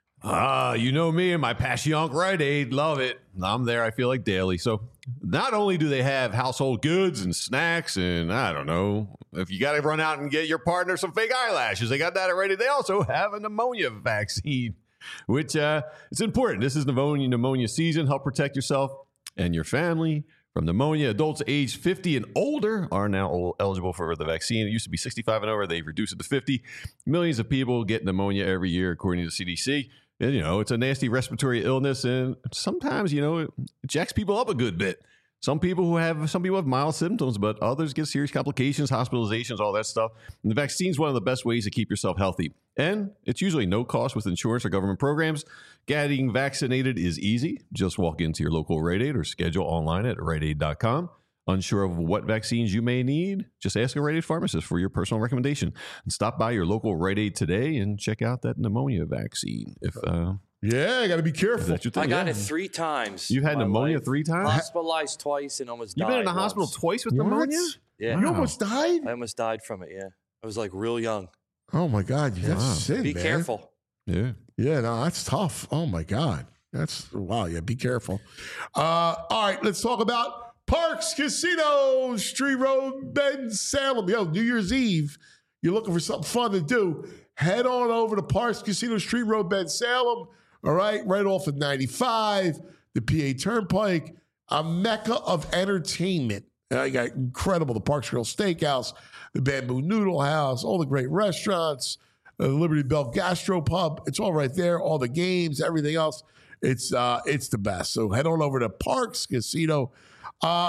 Ah, you know me and my Passyunk Rite Aid. Love it. I'm there, I feel like, daily. So not only do they have household goods and snacks and, I don't know, if you got to run out and get your partner some fake eyelashes, they got that already. They also have a pneumonia vaccine, which uh, it's important. This is pneumonia, pneumonia season. Help protect yourself and your family from pneumonia. Adults aged fifty and older are now eligible for the vaccine. It used to be sixty-five and over. They've reduced it to fifty. Millions of people get pneumonia every year, according to the C D C. And, you know, it's a nasty respiratory illness. And sometimes, you know, it jacks people up a good bit. Some people who have, some people have mild symptoms, but others get serious complications, hospitalizations, all that stuff. And the vaccine is one of the best ways to keep yourself healthy. And it's usually no cost with insurance or government programs. Getting vaccinated is easy. Just walk into your local Rite Aid or schedule online at rite aid dot com. Unsure of what vaccines you may need? Just ask a Rite Aid pharmacist for your personal recommendation. And stop by your local Rite Aid today and check out that pneumonia vaccine. If uh, Yeah, I got to be careful. that's your thing. I got yeah. it three times. You've had in my pneumonia life. three times? Hospitalized twice and almost You've died. been in the hospital once. twice with What? pneumonia? Yeah. You Wow. almost died? I almost died from it. Yeah. I was like real young. Oh, my God. That's Wow. sin, Be man. careful. Yeah. Yeah, no, that's tough. Oh, my God. That's, wow, yeah, be careful. Uh, all right, let's talk about Parks Casino, Street Road, Ben Salem. Yo, New Year's Eve, you're looking for something fun to do, head on over to Parks Casino, Street Road, Ben Salem. All right, right off of ninety-five, the P A Turnpike, a mecca of entertainment. Uh, you got incredible, the Parks Grill Steakhouse, the Bamboo Noodle House, all the great restaurants, the Liberty Bell Gastropub. It's all right there, all the games, everything else. It's uh, it's the best. So head on over to Parks Casino. Uh,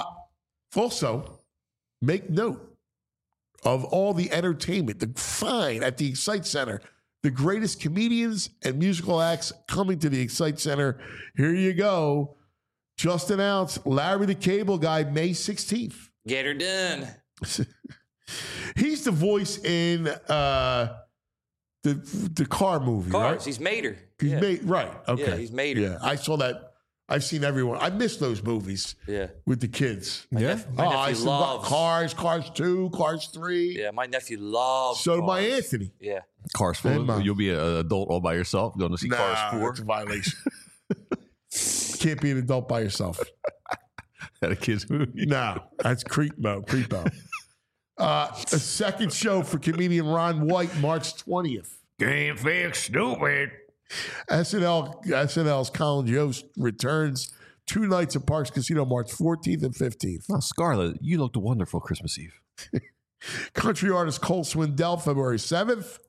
also, make note of all the entertainment, the fine at the Excite Center. The greatest comedians and musical acts coming to the Excite Center. Here you go. Just announced Larry the Cable Guy, May sixteenth. Get her done. He's the voice in uh, the the car movie, Cars. right? He's Mater. He's yeah. made right. Okay, Yeah, he's Mater. Yeah, I saw that. I've seen everyone. I miss those movies. Yeah. with the kids. My Yeah. nep- my Oh, I nephew saw loves. Cars, Cars two, Cars three. Yeah, my nephew loves. So did my cars. Anthony. Yeah. Cars And full. mine. You'll be an adult all by yourself going to see Nah, Cars four. that's a violation. Can't be an adult by yourself. At a kid's movie. No, that's creepo, creepo. Uh, a second show for comedian Ron White, March twentieth. Can't fix stupid. S N L S N L's Colin Jost returns two nights at Parks Casino, March fourteenth and fifteenth. Oh, Scarlett, you looked wonderful Christmas Eve. Country artist Cole Swindell, February seventh.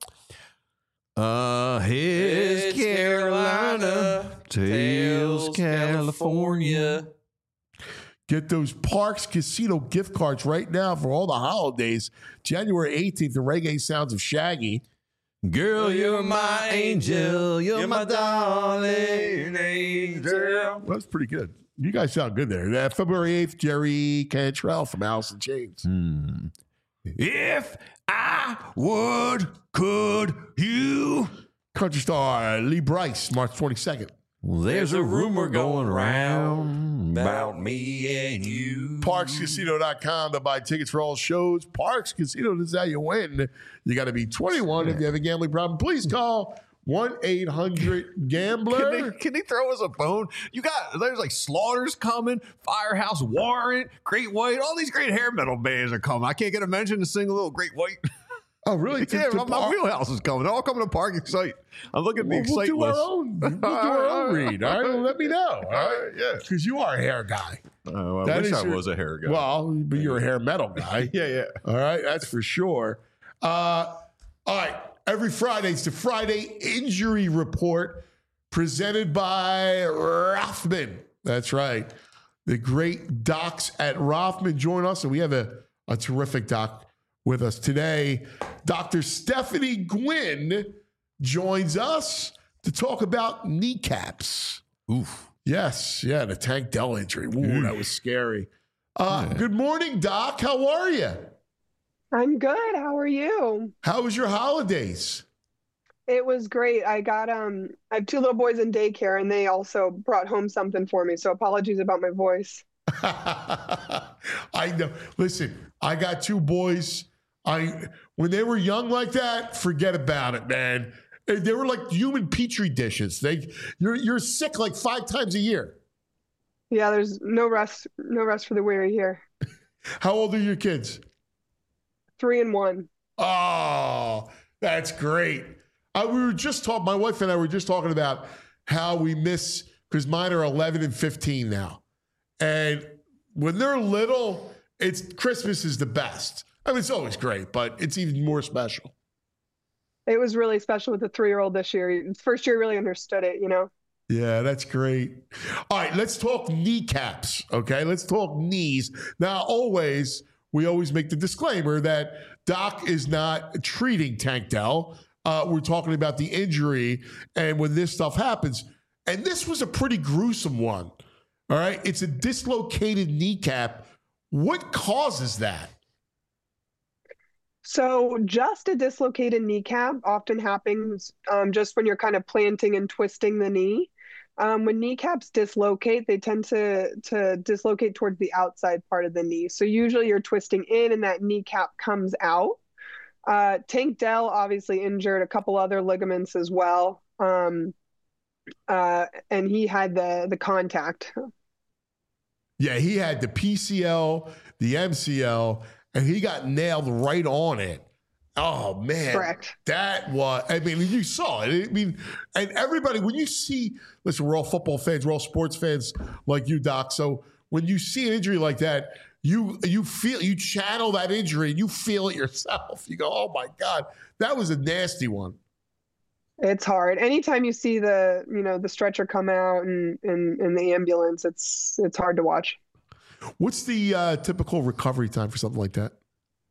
Uh, his It's Carolina, tails California. Get those Parks Casino gift cards right now for all the holidays. January eighteenth, the reggae sounds of Shaggy. Girl, you're my angel. You're, my darling angel. That's pretty good. You guys sound good there. Uh, February eighth, Jerry Cantrell from Alice in Chains. Hmm. If I would, could you? Country star Lee Bryce, March twenty-second. Well, there's a rumor going around about me and you. Parks Casino dot com to buy tickets for all shows. Parks Casino, this is how you win. You got to be twenty-one if you have a gambling problem. Please call one eight hundred gambler. Can they, can they throw us a bone? You got, there's like Slaughters coming, Firehouse Warrant, Great White, all these great hair metal bands are coming. I can't get a mention to sing a little Great White. Oh, really? To- Yeah, to my, my Park- wheelhouse is coming. They're all coming to Park Excite. I'm looking at the We'll, we'll Excite do list. our own. We'll do our own read. All right, well, let me know. All right, yeah. because you are a hair guy. Oh, I That wish is I your- was a hair guy. Well, but you're a hair metal guy. yeah, yeah. All right, that's for sure. Uh, all right, every Friday it's the Friday Injury Report presented by Rothman. That's right. The great docs at Rothman join us, and we have a, a terrific doc with us today. Doctor Stephanie Gwynn joins us to talk about kneecaps. Oof. Yes, yeah, the Tank Dell injury. Ooh, that was scary. Uh, yeah. Good morning, Doc. How are you? I'm good. How are you? How was your holidays? It was great. I got um I have two little boys in daycare and they also brought home something for me. So apologies about my voice. I know. Listen, I got two boys. I when they were young like that, forget about it, man. They were like human petri dishes. They you're you're sick like five times a year. Yeah, there's no rest, no rest for the weary here. How old are your kids? Three and one. Oh, that's great. Uh, we were just talking, my wife and I were just talking about how we miss, because mine are eleven and fifteen now. And when they're little, it's Christmas is the best. I mean, it's always great, but it's even more special. It was really special with the three-year-old this year. First year, really understood it, you know? Yeah, that's great. All right, let's talk kneecaps, okay? Let's talk knees. Now, always, we always make the disclaimer that Doc is not treating Tank Dell. Uh, we're talking about the injury and when this stuff happens. And this was a pretty gruesome one, all right? It's a dislocated kneecap. What causes that? So just a dislocated kneecap often happens um, just when you're kind of planting and twisting the knee. Um, when kneecaps dislocate, they tend to, to dislocate towards the outside part of the knee. So usually you're twisting in and that kneecap comes out. Uh, Tank Dell obviously injured a couple other ligaments as well. Um, uh, and he had the, the contact. Yeah, he had the P C L, the M C L, and he got nailed right on it. Oh, man. Correct. That was, I mean, you saw it. I mean, and everybody, when you see, listen, we're all football fans, we're all sports fans like you, Doc. So when you see an injury like that, you you feel, you channel that injury and you feel it yourself. You go, oh, my God, that was a nasty one. It's hard. Anytime you see the, you know, the stretcher come out and in and, and the ambulance, it's it's hard to watch. What's the uh, typical recovery time for something like that?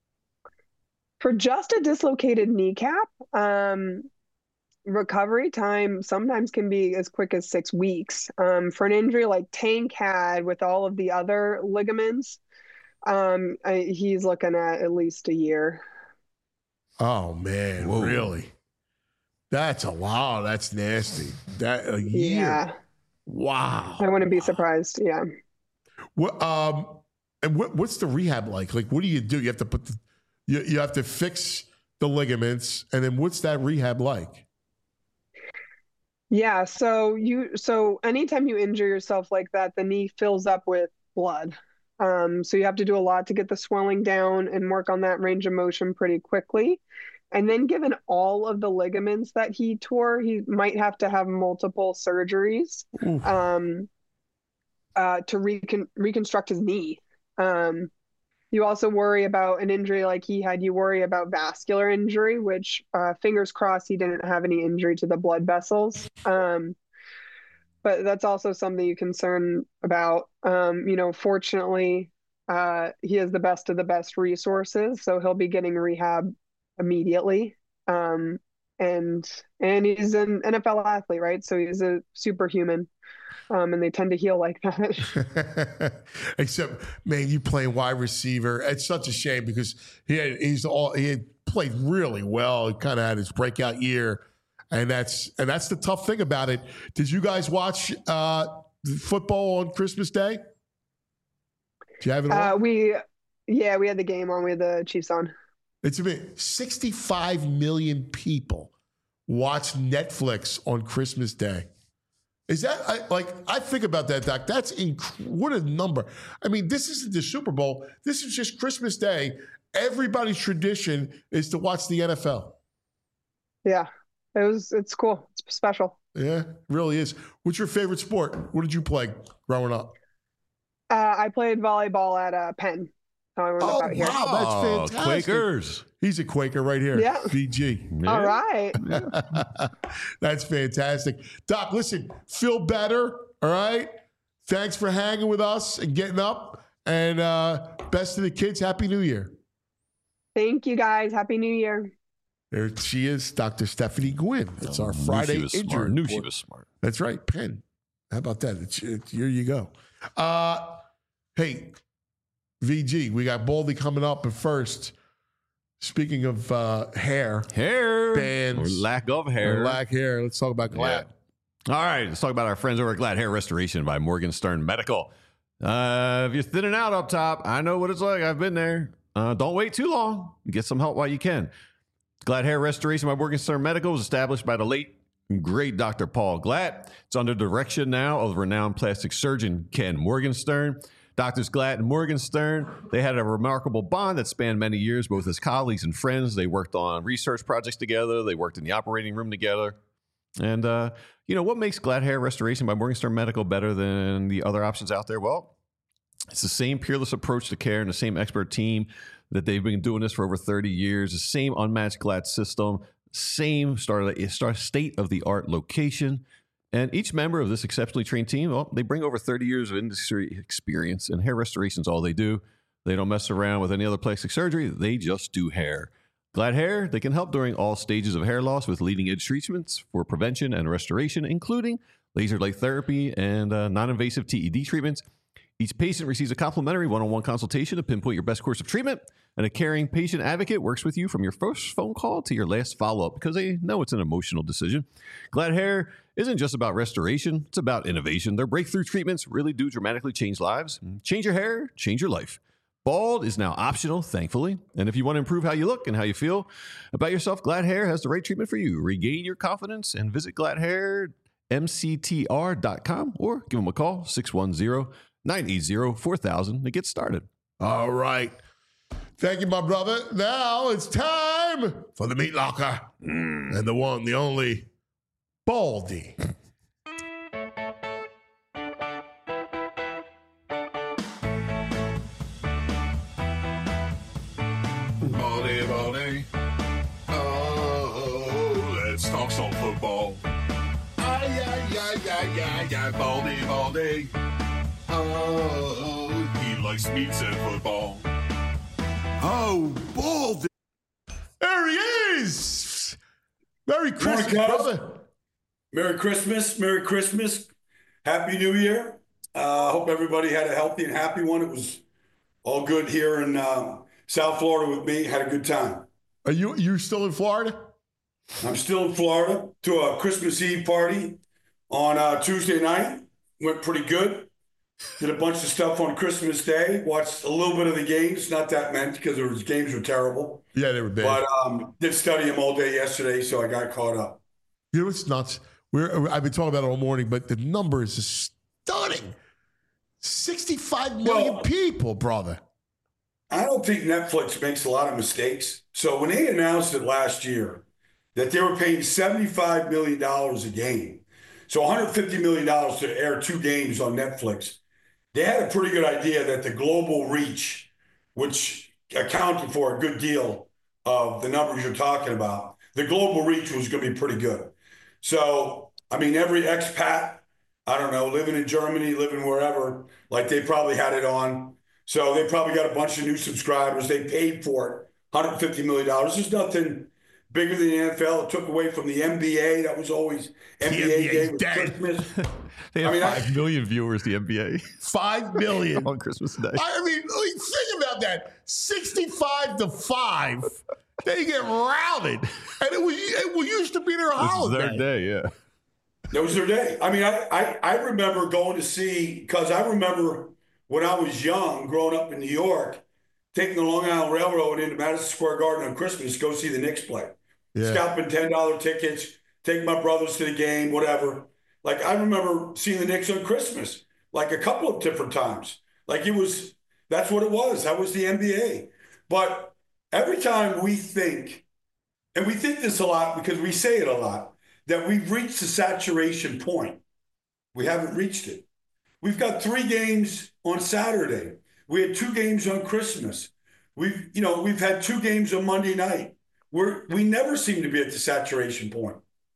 For just a dislocated kneecap, um, recovery time sometimes can be as quick as six weeks. Um, for an injury like Tank had with all of the other ligaments, um, I, he's looking at at least a year. Oh, man, Whoa. Really? That's a lot. That's nasty. That a year. Yeah. Wow. I wouldn't be surprised. Yeah. What um and what what's the rehab like? Like, what do you do? You have to put the you you have to fix the ligaments, and then what's that rehab like? Yeah. So you so anytime you injure yourself like that, the knee fills up with blood. Um, so you have to do a lot to get the swelling down and work on that range of motion pretty quickly. And then given all of the ligaments that he tore, he might have to have multiple surgeries um, uh, to recon- reconstruct his knee. Um, you also worry about an injury like he had. You worry about vascular injury, which uh, fingers crossed he didn't have any injury to the blood vessels. Um, but that's also something you concern about. Um, you know, fortunately, uh, he has the best of the best resources, so he'll be getting rehab immediately. Um, and and he's an N F L athlete, right? So he's a superhuman. Um, and they tend to heal like that. Except, man, you playing wide receiver. It's such a shame because he had, he's all he had played really well. He kind of had his breakout year, and that's and that's the tough thing about it. Did you guys watch uh, football on Christmas Day? Did you have it on? Uh, we, yeah, we had the game on. We had the Chiefs on. It's been sixty-five million people watch Netflix on Christmas Day. Is that I, like I think about that, Doc? That's inc- what a number. I mean, this isn't the Super Bowl. This is just Christmas Day. Everybody's tradition is to watch the N F L. Yeah, it was. It's cool. It's special. Yeah, it really is. What's your favorite sport? What did you play growing up? Uh, I played volleyball at uh, Penn. Oh, wow, here. That's fantastic. Quakers. He's a Quaker right here. Yeah. V G. Yeah. All right. That's fantastic. Doc, listen, feel better, all right? Thanks for hanging with us and getting up. And uh, best to the kids. Happy New Year. Thank you, guys. Happy New Year. There she is, Doctor Stephanie Gwynn. It's our Friday knew she was injury smart. Knew report. she was smart. That's right, Penn. How about that? It's, it's, here you go. Uh, hey, V G, we got Baldy coming up, but first, speaking of uh, hair, hair, bands, or lack of hair, or lack hair, let's talk about Glad. Yeah. All right, let's talk about our friends over at Glad Hair Restoration by Morgenstern Medical. Uh, if you're thinning out up top, I know what it's like. I've been there. Uh, don't wait too long. Get some help while you can. Glad Hair Restoration by Morgenstern Medical was established by the late great Doctor Paul Glad. It's under direction now of renowned plastic surgeon Ken Morgenstern. Doctors Glad and Morgenstern, they had a remarkable bond that spanned many years, both as colleagues and friends. They worked on research projects together. They worked in the operating room together. And, uh, you know, what makes Glad Hair Restoration by Morgenstern Medical better than the other options out there? Well, it's the same peerless approach to care and the same expert team that they've been doing this for over thirty years, the same unmatched Glad system, same state-of-the-art location. And each member of this exceptionally trained team, well, they bring over thirty years of industry experience, and hair restoration is all they do. They don't mess around with any other plastic surgery. They just do hair. Glad Hair, they can help during all stages of hair loss with leading-edge treatments for prevention and restoration, including laser light therapy and uh, non-invasive T E D treatments. Each patient receives a complimentary one-on-one consultation to pinpoint your best course of treatment, and a caring patient advocate works with you from your first phone call to your last follow-up because they know it's an emotional decision. Glad Hair isn't just about restoration, it's about innovation. Their breakthrough treatments really do dramatically change lives. Change your hair, change your life. Bald is now optional, thankfully. And if you want to improve how you look and how you feel about yourself, Glad Hair has the right treatment for you. Regain your confidence and visit glad hair m c t r dot com or give them a call, six one zero, nine eight zero, four thousand to get started. All right. Thank you, my brother. Now it's time for the meat locker. Mm. And the one, the only, Baldy. Baldy, Baldy. Oh, let's talk some football. Ay, ay, ay, ay, ay, ay, Baldy, Baldy. Oh, he likes meats and football. Oh, Baldy. There he is. Merry Christmas, Morning, brother. Merry Christmas. Merry Christmas. Happy New Year. I uh, hope everybody had a healthy and happy one. It was all good here in uh, South Florida with me. Had a good time. Are you you still in Florida? I'm still in Florida to a Christmas Eve party on uh, Tuesday night. Went pretty good. Did a bunch of stuff on Christmas Day. Watched a little bit of the games. Not that many because the games were terrible. Yeah, they were bad. But um, did study them all day yesterday, so I got caught up. You know what's nuts? We're I've been talking about it all morning, but the number is stunning. sixty-five million Well, people, brother. I don't think Netflix makes a lot of mistakes. So when they announced it last year that they were paying seventy-five million dollars a game, so one hundred fifty million dollars to air two games on Netflix, they had a pretty good idea that the global reach, which accounted for a good deal of the numbers you're talking about, the global reach was going to be pretty good. So, I mean, every expat, I don't know, living in Germany, living wherever, like they probably had it on. So they probably got a bunch of new subscribers. They paid for it, one hundred fifty million dollars. There's nothing bigger than the N F L. It took away from the N B A. That was always N B A Day with Christmas. They have I mean, five I- million viewers, the N B A. Five million. On Christmas Day. I mean, like, think about that. sixty-five to five. They get routed. And it was it was used to be their This is holiday. their day, yeah. That was their day. I mean, I, I, I remember going to see, because I remember when I was young, growing up in New York, taking the Long Island Railroad into Madison Square Garden on Christmas to go see the Knicks play. Yeah. Scalping ten dollar tickets, taking my brothers to the game, whatever. Like, I remember seeing the Knicks on Christmas, like a couple of different times. Like, it was, that's what it was. That was the N B A. But every time we think, and we think this a lot because we say it a lot, that we've reached the saturation point. We haven't reached it. We've got three games on Saturday. We had two games on Christmas. We've, you know, we've had two games on Monday night. We're, we never seem to be at the saturation point.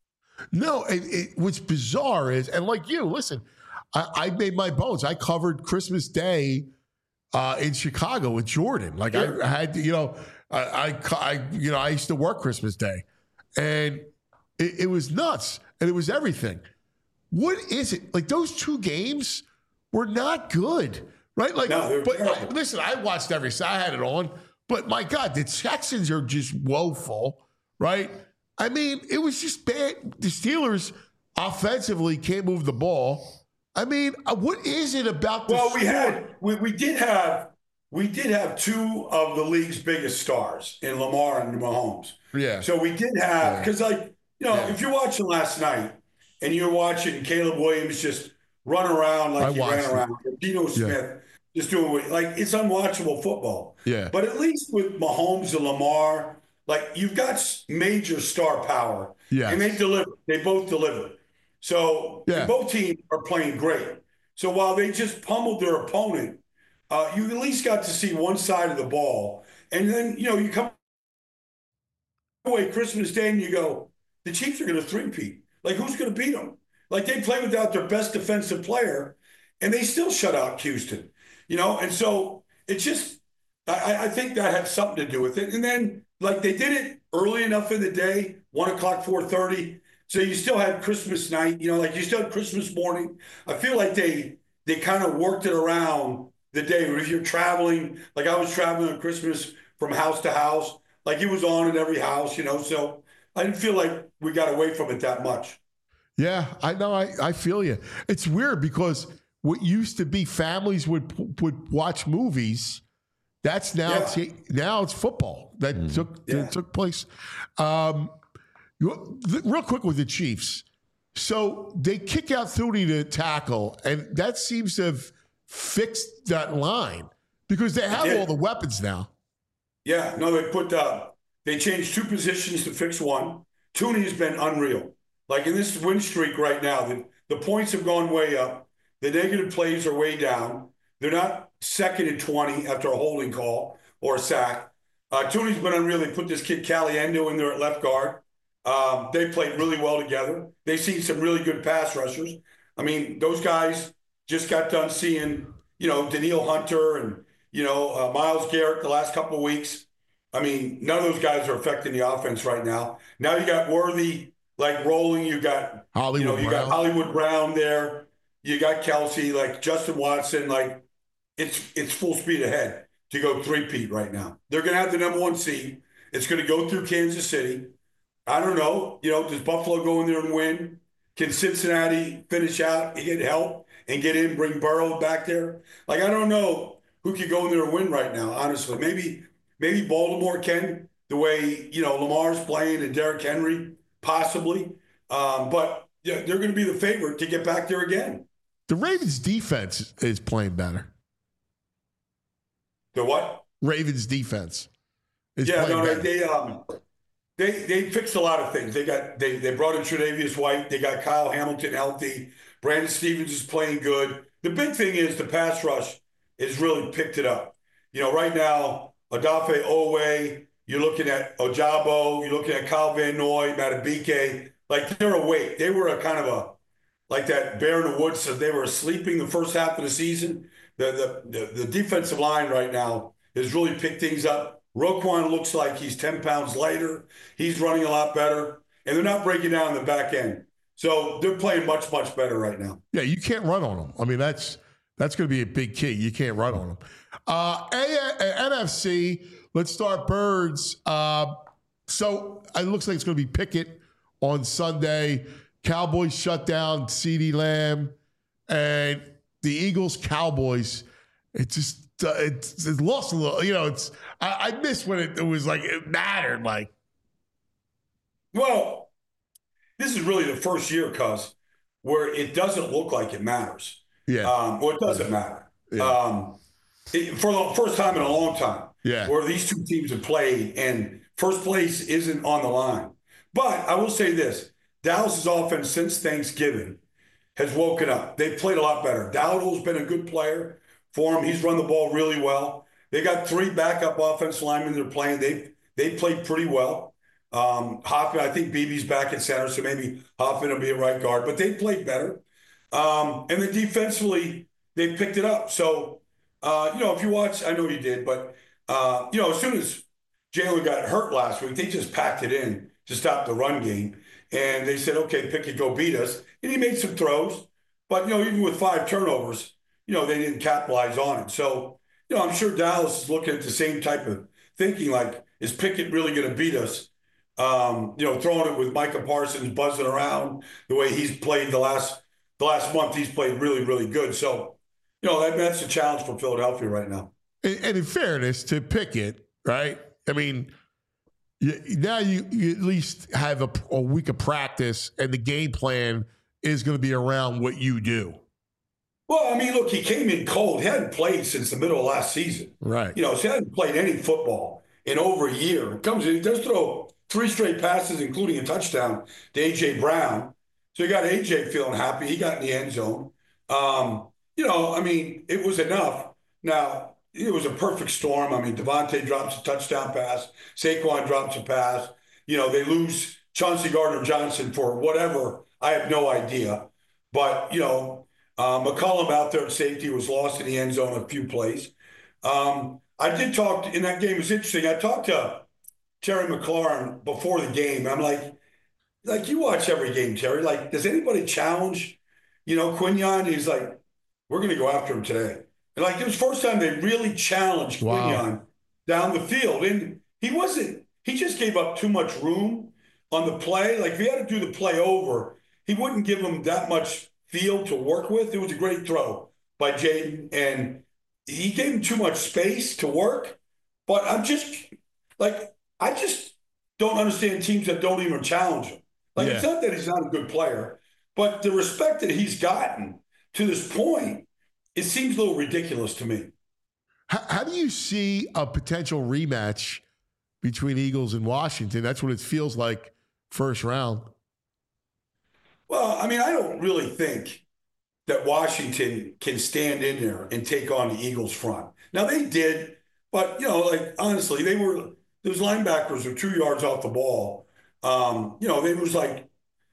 No, it, it, what's bizarre is, and like you, listen, I, I made my bones. I covered Christmas Day uh, in Chicago with Jordan. Like Sure. I, I had, to, you know, I, I, I you know, I used to work Christmas Day, and it, it was nuts, and it was everything. What is it? Like, those two games were not good, right? Like, no, but I, listen, I watched every, I had it on, but my God, the Texans are just woeful, right? I mean, it was just bad. The Steelers offensively can't move the ball. I mean, what is it about the Well, we sport? had, we, we did have, we did have two of the league's biggest stars in Lamar and Mahomes. Yeah. So we did have, because like, you know, Yeah. if you're watching last night and you're watching Caleb Williams just run around like I he watched ran it. around, or Dino Smith just doing what, like, it's unwatchable football. Yeah. But at least with Mahomes and Lamar, like, you've got s- major star power. Yes. And they deliver. They both deliver. So Yeah. both teams are playing great. So while they just pummeled their opponent, uh, you at least got to see one side of the ball. And then, you know, you come away Christmas Day and you go, the Chiefs are going to three-peat. Like, who's going to beat them? Like, they play without their best defensive player, and they still shut out Houston, you know? And so it's just, I, I think that had something to do with it. And then, like, they did it early enough in the day, one o'clock, four thirty. So you still had Christmas night, you know, like you still had Christmas morning. I feel like they they kind of worked it around the day. If you're traveling, like I was traveling on Christmas from house to house, like it was on in every house, you know. So I didn't feel like we got away from it that much. Yeah, I know. I, I feel you. It's weird because what used to be families would would watch movies. That's now Yeah. it's, now it's football that took Yeah. that took place. Um, you- real quick with the Chiefs. So they kick out Thuney to tackle, and that seems to have fixed that line because they have did. all the weapons now. Yeah, no, they put uh, they changed two positions to fix one. Tooney has been unreal. Like in this win streak right now, the, the points have gone way up. The negative plays are way down. They're not second and twenty after a holding call or a sack. Uh, Tooney's been unreal. They put this kid Caliendo in there at left guard. Um, they played really well together. They've seen some really good pass rushers. I mean, those guys just got done seeing, you know, Daniil Hunter and, you know, uh, Myles Garrett the last couple of weeks. I mean, none of those guys are affecting the offense right now. Now you got Worthy like rolling. You got Hollywood you know, you Brown. got Hollywood Brown there. You got Kelsey, like Justin Watson. Like it's it's full speed ahead to go three-peat right now. They're going to have the number one seed. It's going to go through Kansas City. I don't know. You know, does Buffalo go in there and win? Can Cincinnati finish out and get help and get in, bring Burrow back there? Like, I don't know who could go in there and win right now, honestly. Maybe maybe Baltimore can, the way, you know, Lamar's playing and Derrick Henry, possibly. Um, but yeah, they're going to be the favorite to get back there again. The Ravens defense is playing better. The what? Ravens defense is Yeah, playing no, better. they, they um they they fixed a lot of things. They got they they brought in Tre'Davious White. They got Kyle Hamilton healthy. Brandon Stevens is playing good. The big thing is the pass rush has really picked it up. You know, right now, Odafe Owe, you're looking at Ojabo, you're looking at Kyle Van Noy, Matabike. Like they're awake. They were a kind of a like that bear in the woods. So they were sleeping the first half of the season. The the the, the defensive line right now has really picked things up. Roquan looks like he's ten pounds lighter. He's running a lot better. And they're not breaking down the back end. So they're playing much, much better right now. Yeah, you can't run on them. I mean, that's that's going to be a big key. You can't run on them. Uh, A- N F C, let's start Birds. Uh, so it looks like it's going to be Pickett on Sunday. Cowboys shut down CeeDee Lamb. And the Eagles, Cowboys, it just uh, it's, it's lost a little. You know, it's I, I miss when it, it was like it mattered. Like, well, this is really the first year, cuz, where it doesn't look like it matters. yeah, Um, well, it doesn't matter. Yeah. Um, it, for the first time in a long time, Yeah. where these two teams have played and first place isn't on the line. But I will say this, Dallas's offense since Thanksgiving has woken up. They've played a lot better. Dowdle's been a good player for him. He's run the ball really well. They got three backup offensive linemen they're playing. They've, they played pretty well. Um, Hoffman, I think Beebe's back at center, so maybe Hoffman will be a right guard, but they played better. Um, and then defensively, they picked it up. So, uh, you know, if you watch, I know you did, but, uh, you know, as soon as Jalen got hurt last week, they just packed it in to stop the run game. And they said, okay, Pickett, go beat us. And he made some throws. But, you know, even with five turnovers, you know, they didn't capitalize on it. So, you know, I'm sure Dallas is looking at the same type of thinking, like, is Pickett really going to beat us? Um, you know, throwing it with Micah Parsons buzzing around the way he's played the last the last month, he's played really, really good. So, you know, that, that's a challenge for Philadelphia right now. And, and in fairness to Pickett, right? I mean, you, now you, you at least have a, a week of practice, and the game plan is going to be around what you do. Well, I mean, look, he came in cold. He hadn't played since the middle of last season. Right. You know, so he hadn't played any football in over a year. Comes in, he does throw three straight passes, including a touchdown to A J Brown. So you got A J feeling happy. He got in the end zone. Um, you know, I mean, it was enough. Now, it was a perfect storm. I mean, Devontae drops a touchdown pass. Saquon drops a pass. You know, they lose Chauncey Gardner-Johnson for whatever. I have no idea. But, you know, uh, McCollum out there at safety was lost in the end zone a few plays. Um, I did talk to, in that game. It was interesting. I talked to Terry McLaurin before the game. I'm like, like you watch every game, Terry. Like, does anybody challenge, you know, Quinyon? He's like, we're going to go after him today. And like, it was the first time they really challenged wow. Quinyon down the field. And he wasn't, he just gave up too much room on the play. Like, if he had to do the play over, he wouldn't give him that much field to work with. It was a great throw by Jaden, and he gave him too much space to work. But I'm just, like, I just don't understand teams that don't even challenge him. Like, yeah. It's not that he's not a good player, but the respect that he's gotten to this point, it seems a little ridiculous to me. How, how do you see a potential rematch between Eagles and Washington? That's what it feels like first round. Well, I mean, I don't really think that Washington can stand in there and take on the Eagles front. Now, they did, but, you know, like, honestly, they were, those linebackers were two yards off the ball. Um, you know, it was like,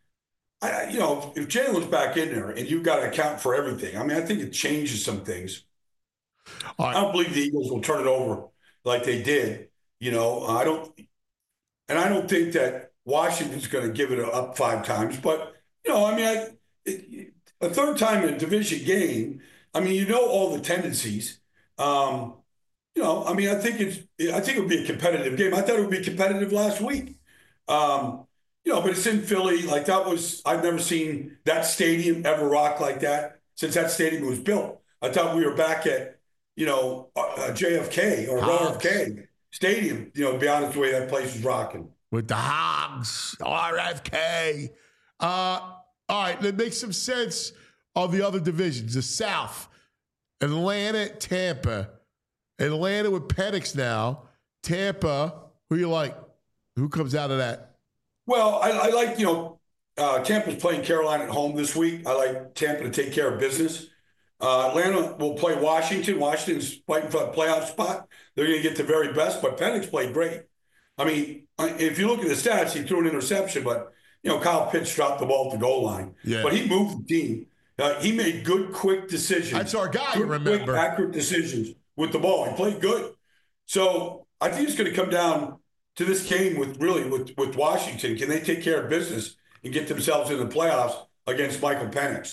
I, you know, if Jalen's back in there and you've got to account for everything, I mean, I think it changes some things. Right. I don't believe the Eagles will turn it over like they did. You know, I don't, and I don't think that Washington's going to give it up five times. But, you know, I mean, I, it, a third time in a division game, I mean, you know all the tendencies. Um, you know, I mean, I think it's, I think it would be a competitive game. I thought it would be competitive last week. Um, You know, but it's in Philly. Like, that was, I've never seen that stadium ever rock like that since that stadium was built. I thought we were back at, you know, uh, J F K or R F K Stadium, you know, to be honest, the way that place was rocking. With the Hogs, R F K. Uh, all right, that makes some sense of the other divisions. The South, Atlanta, Tampa. Atlanta with Penix now. Tampa, who you like? Who comes out of that? Well, I, I like, you know, uh, Tampa's playing Carolina at home this week. I like Tampa to take care of business. Uh, Atlanta will play Washington. Washington's fighting for a playoff spot. They're going to get the very best, but Penix played great. I mean, if you look at the stats, he threw an interception, but, you know, Kyle Pitts dropped the ball at the goal line. Yeah. But he moved the team. Uh, he made good, quick decisions. That's our guy, good, remember. Quick, accurate decisions with the ball. He played good. So I think it's going to come down to this game with really with, with Washington. Can they take care of business and get themselves in the playoffs against Michael Penix?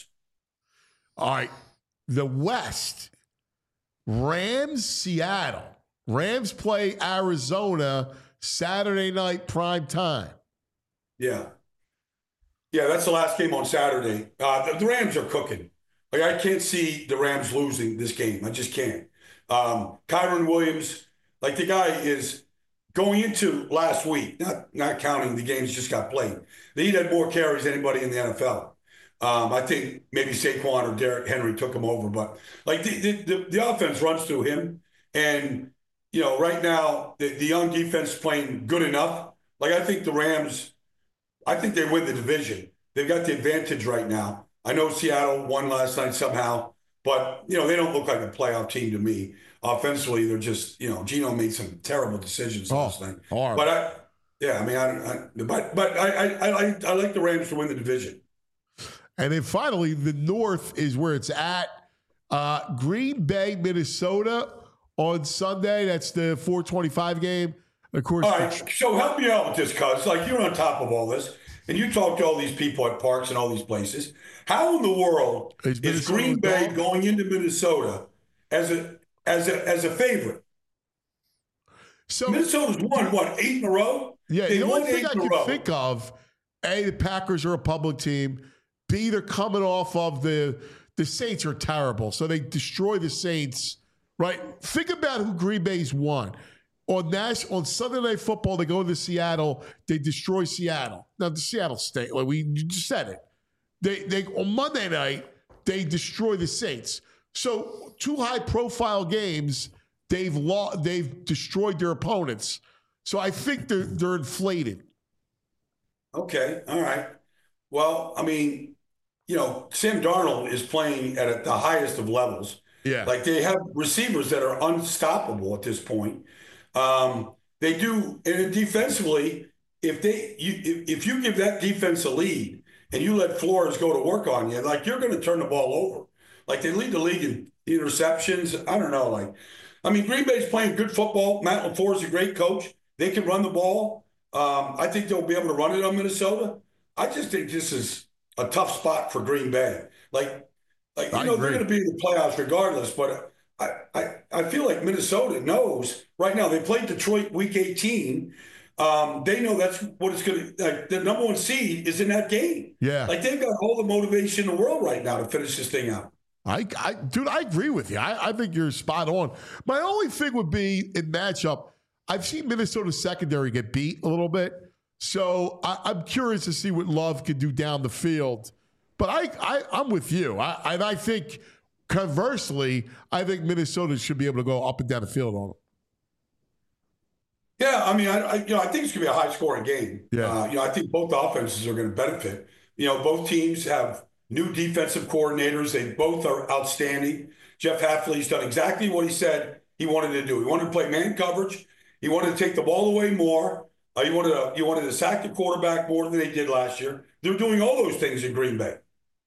All right. The West, Rams, Seattle. Rams play Arizona Saturday night prime time. Yeah. Yeah, that's the last game on Saturday. Uh, the, the Rams are cooking. Like, I can't see the Rams losing this game. I just can't. Um, Kyron Williams, like, the guy is going into last week, not not counting the games just got played. He had more carries than anybody in the N F L. Um, I think maybe Saquon or Derrick Henry took him over, but like the, the, the, the offense runs through him. And, you know, right now the, the young defense is playing good enough. Like, I think the Rams, I think they win the division. They've got the advantage right now. I know Seattle won last night somehow, but, you know, they don't look like a playoff team to me. Offensively, they're just, you know, Geno made some terrible decisions oh, last night. Horrible. But I, yeah, I mean, I, I but but I, I I like I like the Rams to win the division. And then finally, the North is where it's at. Uh, Green Bay, Minnesota on Sunday. That's the four twenty-five game. Of course. All right. So help me out with this, cuz. Like, you're on top of all this, and you talk to all these people at parks and all these places. How in the world is, is Green Bay going into Minnesota as a as a as a favorite? So Minnesota's won what eight in a row. Yeah, they the won only thing eight I in a can row. think of, A, the Packers are a public team. B, they're coming off of the the Saints are terrible, so they destroy the Saints. Right? Think about who Green Bay's won. On Nash, on Sunday Night Football, they go to Seattle. They destroy Seattle. Now the Seattle State, like we just said it. They they on Monday night they destroy the Saints. So two high profile games, they've lost, they've destroyed their opponents. So I think they're they're inflated. Okay, all right. Well, I mean, you know, Sam Darnold is playing at the highest of levels. Yeah, like they have receivers that are unstoppable at this point. Um, they do, and defensively, if they you if, if you give that defense a lead and you let Flores go to work on you, like you're going to turn the ball over. Like they lead the league in interceptions. I don't know. Like, I mean, Green Bay's playing good football. Matt LaFleur is a great coach. They can run the ball. Um, I think they'll be able to run it on Minnesota. I just think this is a tough spot for Green Bay. Like, like you I know, agree. They're going to be in the playoffs regardless, but I, I, I feel like Minnesota knows right now. They played Detroit week eighteen. Um, they know that's what it's going to, like the number one seed is in that game. Yeah. Like they've got all the motivation in the world right now to finish this thing out. I, I dude, I agree with you. I, I think you're spot on. My only thing would be in matchup, I've seen Minnesota's secondary get beat a little bit. So I, I'm curious to see what Love can do down the field. But I, I, I'm with you. I, and I think, conversely, I think Minnesota should be able to go up and down the field on them. Yeah, I mean, I, I you know I think it's going to be a high-scoring game. Yeah, uh, you know, I think both offenses are going to benefit. You know, both teams have new defensive coordinators. They both are outstanding. Jeff Hafley's done exactly what he said he wanted to do. He wanted to play man coverage. He wanted to take the ball away more. Uh, he wanted to, he wanted to sack the quarterback more than they did last year. They're doing all those things in Green Bay.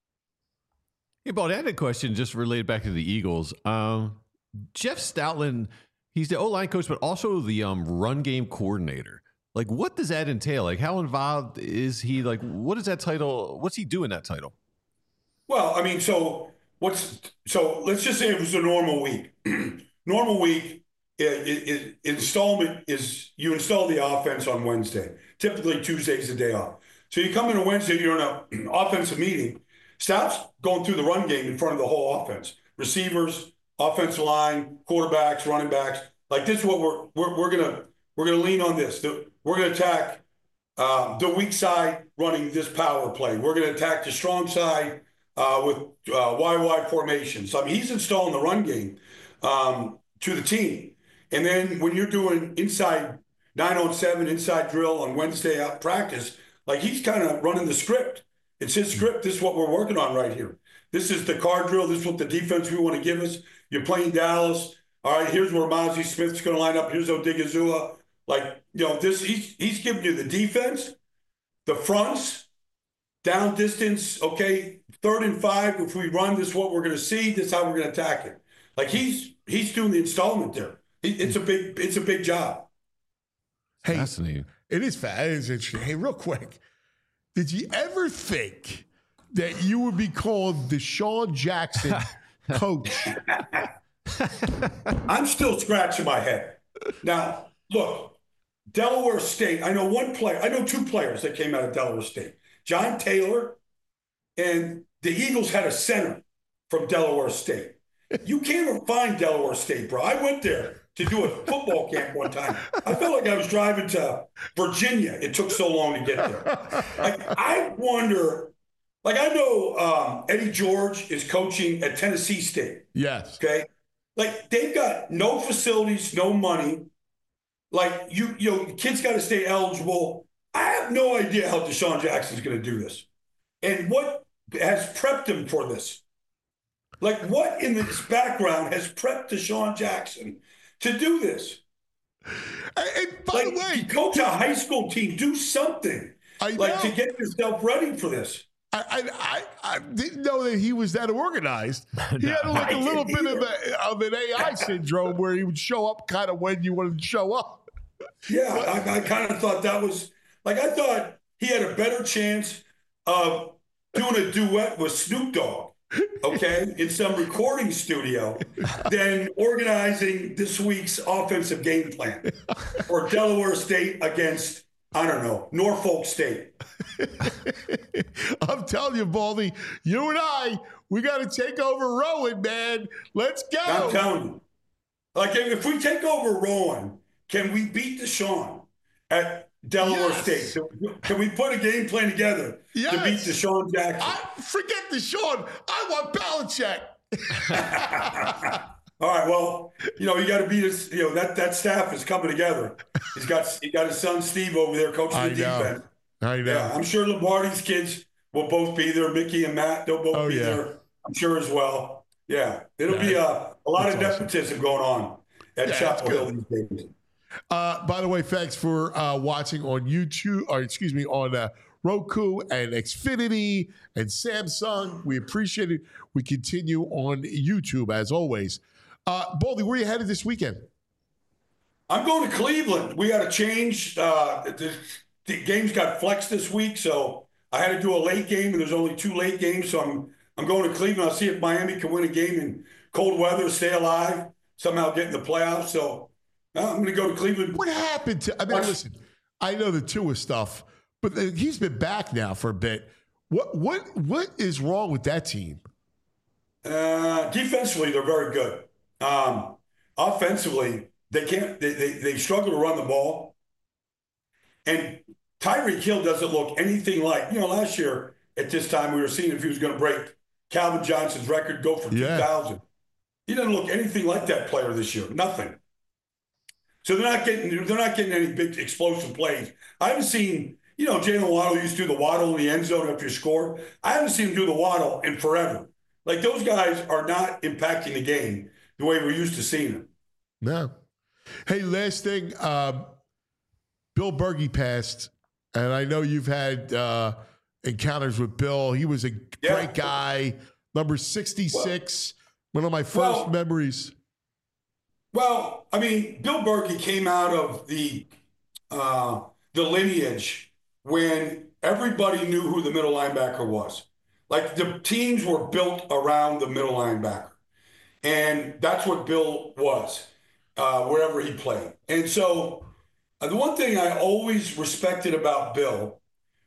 Hey, Bald, I had a question just related back to the Eagles. Um, Jeff Stoutland, he's the O-line coach, but also the um, run game coordinator. Like, what does that entail? Like, how involved is he? Like, what is that title? What's he doing that title? Well, I mean, so what's so? Let's just say it was a normal week. Normal week, it, it, it, installment is you install the offense on Wednesday. Typically, Tuesday's the day off. So you come in on Wednesday, you're in an offensive meeting. Stout's going through the run game in front of the whole offense. Receivers, offensive line, quarterbacks, running backs. Like this is what we're we're we're gonna we're gonna lean on this. We're gonna attack uh, the weak side running this power play. We're gonna attack the strong side uh, with uh, Y Y formations. So, I mean, he's installing the run game um, to the team. And then when you're doing inside nine on seven inside drill on Wednesday out practice, like he's kind of running the script. It's his script. This is what we're working on right here. This is the card drill. This is what the defense we want to give us. You're playing Dallas. All right, here's where Mozzie Smith's going to line up. Here's Odigizua. Like, you know, this he's, he's giving you the defense, the fronts, down distance, okay, third and five. If we run, this is what we're going to see. This is how we're going to attack it. Like he's he's doing the installment there. It's a big it's a big job. Hey, fascinating. It is fast. It is interesting. Hey, real quick, did you ever think that you would be called the Sean Jackson coach? I'm still scratching my head. Now, look, Delaware State, I know one player, I know two players that came out of Delaware State. John Taylor, and the Eagles had a center from Delaware State. You can't even find Delaware State, bro. I went there to do a football camp one time. I felt like I was driving to Virginia. It took so long to get there. Like, I wonder, like I know um, Eddie George is coaching at Tennessee State. Yes. Okay. Like they've got no facilities, no money. Like you, you know, kids got to stay eligible. I have no idea how Deshaun Jackson's going to do this, and what has prepped him for this. Like what in this background has prepped Deshaun Jackson to do this? And by like, the way, coach a high school team, do something I like know. to get yourself ready for this. I, I I didn't know that he was that organized. He No, had like I a little bit didn't of, a, of an A I syndrome where he would show up kind of when you wanted to show up. Yeah, I, I kind of thought that was like I thought he had a better chance of doing a duet with Snoop Dogg, okay, in some recording studio than organizing this week's offensive game plan for Delaware State against, I don't know, Norfolk State. I'm telling you, Baldy, you and I, we got to take over Rowan, man. Let's go. I'm telling you. Like, if we take over Rowan, can we beat Deshaun at Delaware yes. State? Can we put a game plan together yes. to beat Deshaun Jackson? I, forget Deshaun. I want Belichick. All right. Well, you know, you got to beat his. You know that that staff is coming together. He's got he got his son Steve over there coaching I the know. defense. I know. Yeah, I'm sure Lombardi's kids will both be there. Mickey and Matt, they'll both oh, be yeah. there. I'm sure as well. Yeah, it'll yeah, be a, a lot of awesome. nepotism going on at yeah, Chapel Hill these days. Uh, by the way, thanks for uh, watching on YouTube, or excuse me, on uh, Roku and Xfinity and Samsung. We appreciate it. We continue on YouTube as always. Uh, Baldy, where are you headed this weekend? I'm going to Cleveland. We had a change. Uh, the, the games got flexed this week, so I had to do a late game, and there's only two late games. So I'm I'm going to Cleveland. I'll see if Miami can win a game in cold weather, stay alive, somehow get in the playoffs. So uh, I'm going to go to Cleveland. What happened to? I mean, listen, I know the Tua stuff, but the, he's been back now for a bit. What what what is wrong with that team? Uh, defensively, they're very good. Um, offensively, they can't. They, they they struggle to run the ball. And Tyreek Hill doesn't look anything like, you know, last year at this time we were seeing if he was going to break Calvin Johnson's record, go from yeah. two thousand. He doesn't look anything like that player this year. Nothing. So they're not getting they're not getting any big explosive plays. I haven't seen, you know, Jalen Waddle used to do the waddle in the end zone after you score. I haven't seen him do the waddle in forever. Like, those guys are not impacting the game the way we're used to seeing them. No. Hey, last thing, um, Bill Bergey passed, and I know you've had uh, encounters with Bill. He was a yeah. great guy, number sixty-six, well, one of my first well, memories. Well, I mean, Bill Bergey came out of the uh, the lineage when everybody knew who the middle linebacker was. Like, the teams were built around the middle linebacker. And that's what Bill was, uh, wherever he played. And so uh, the one thing I always respected about Bill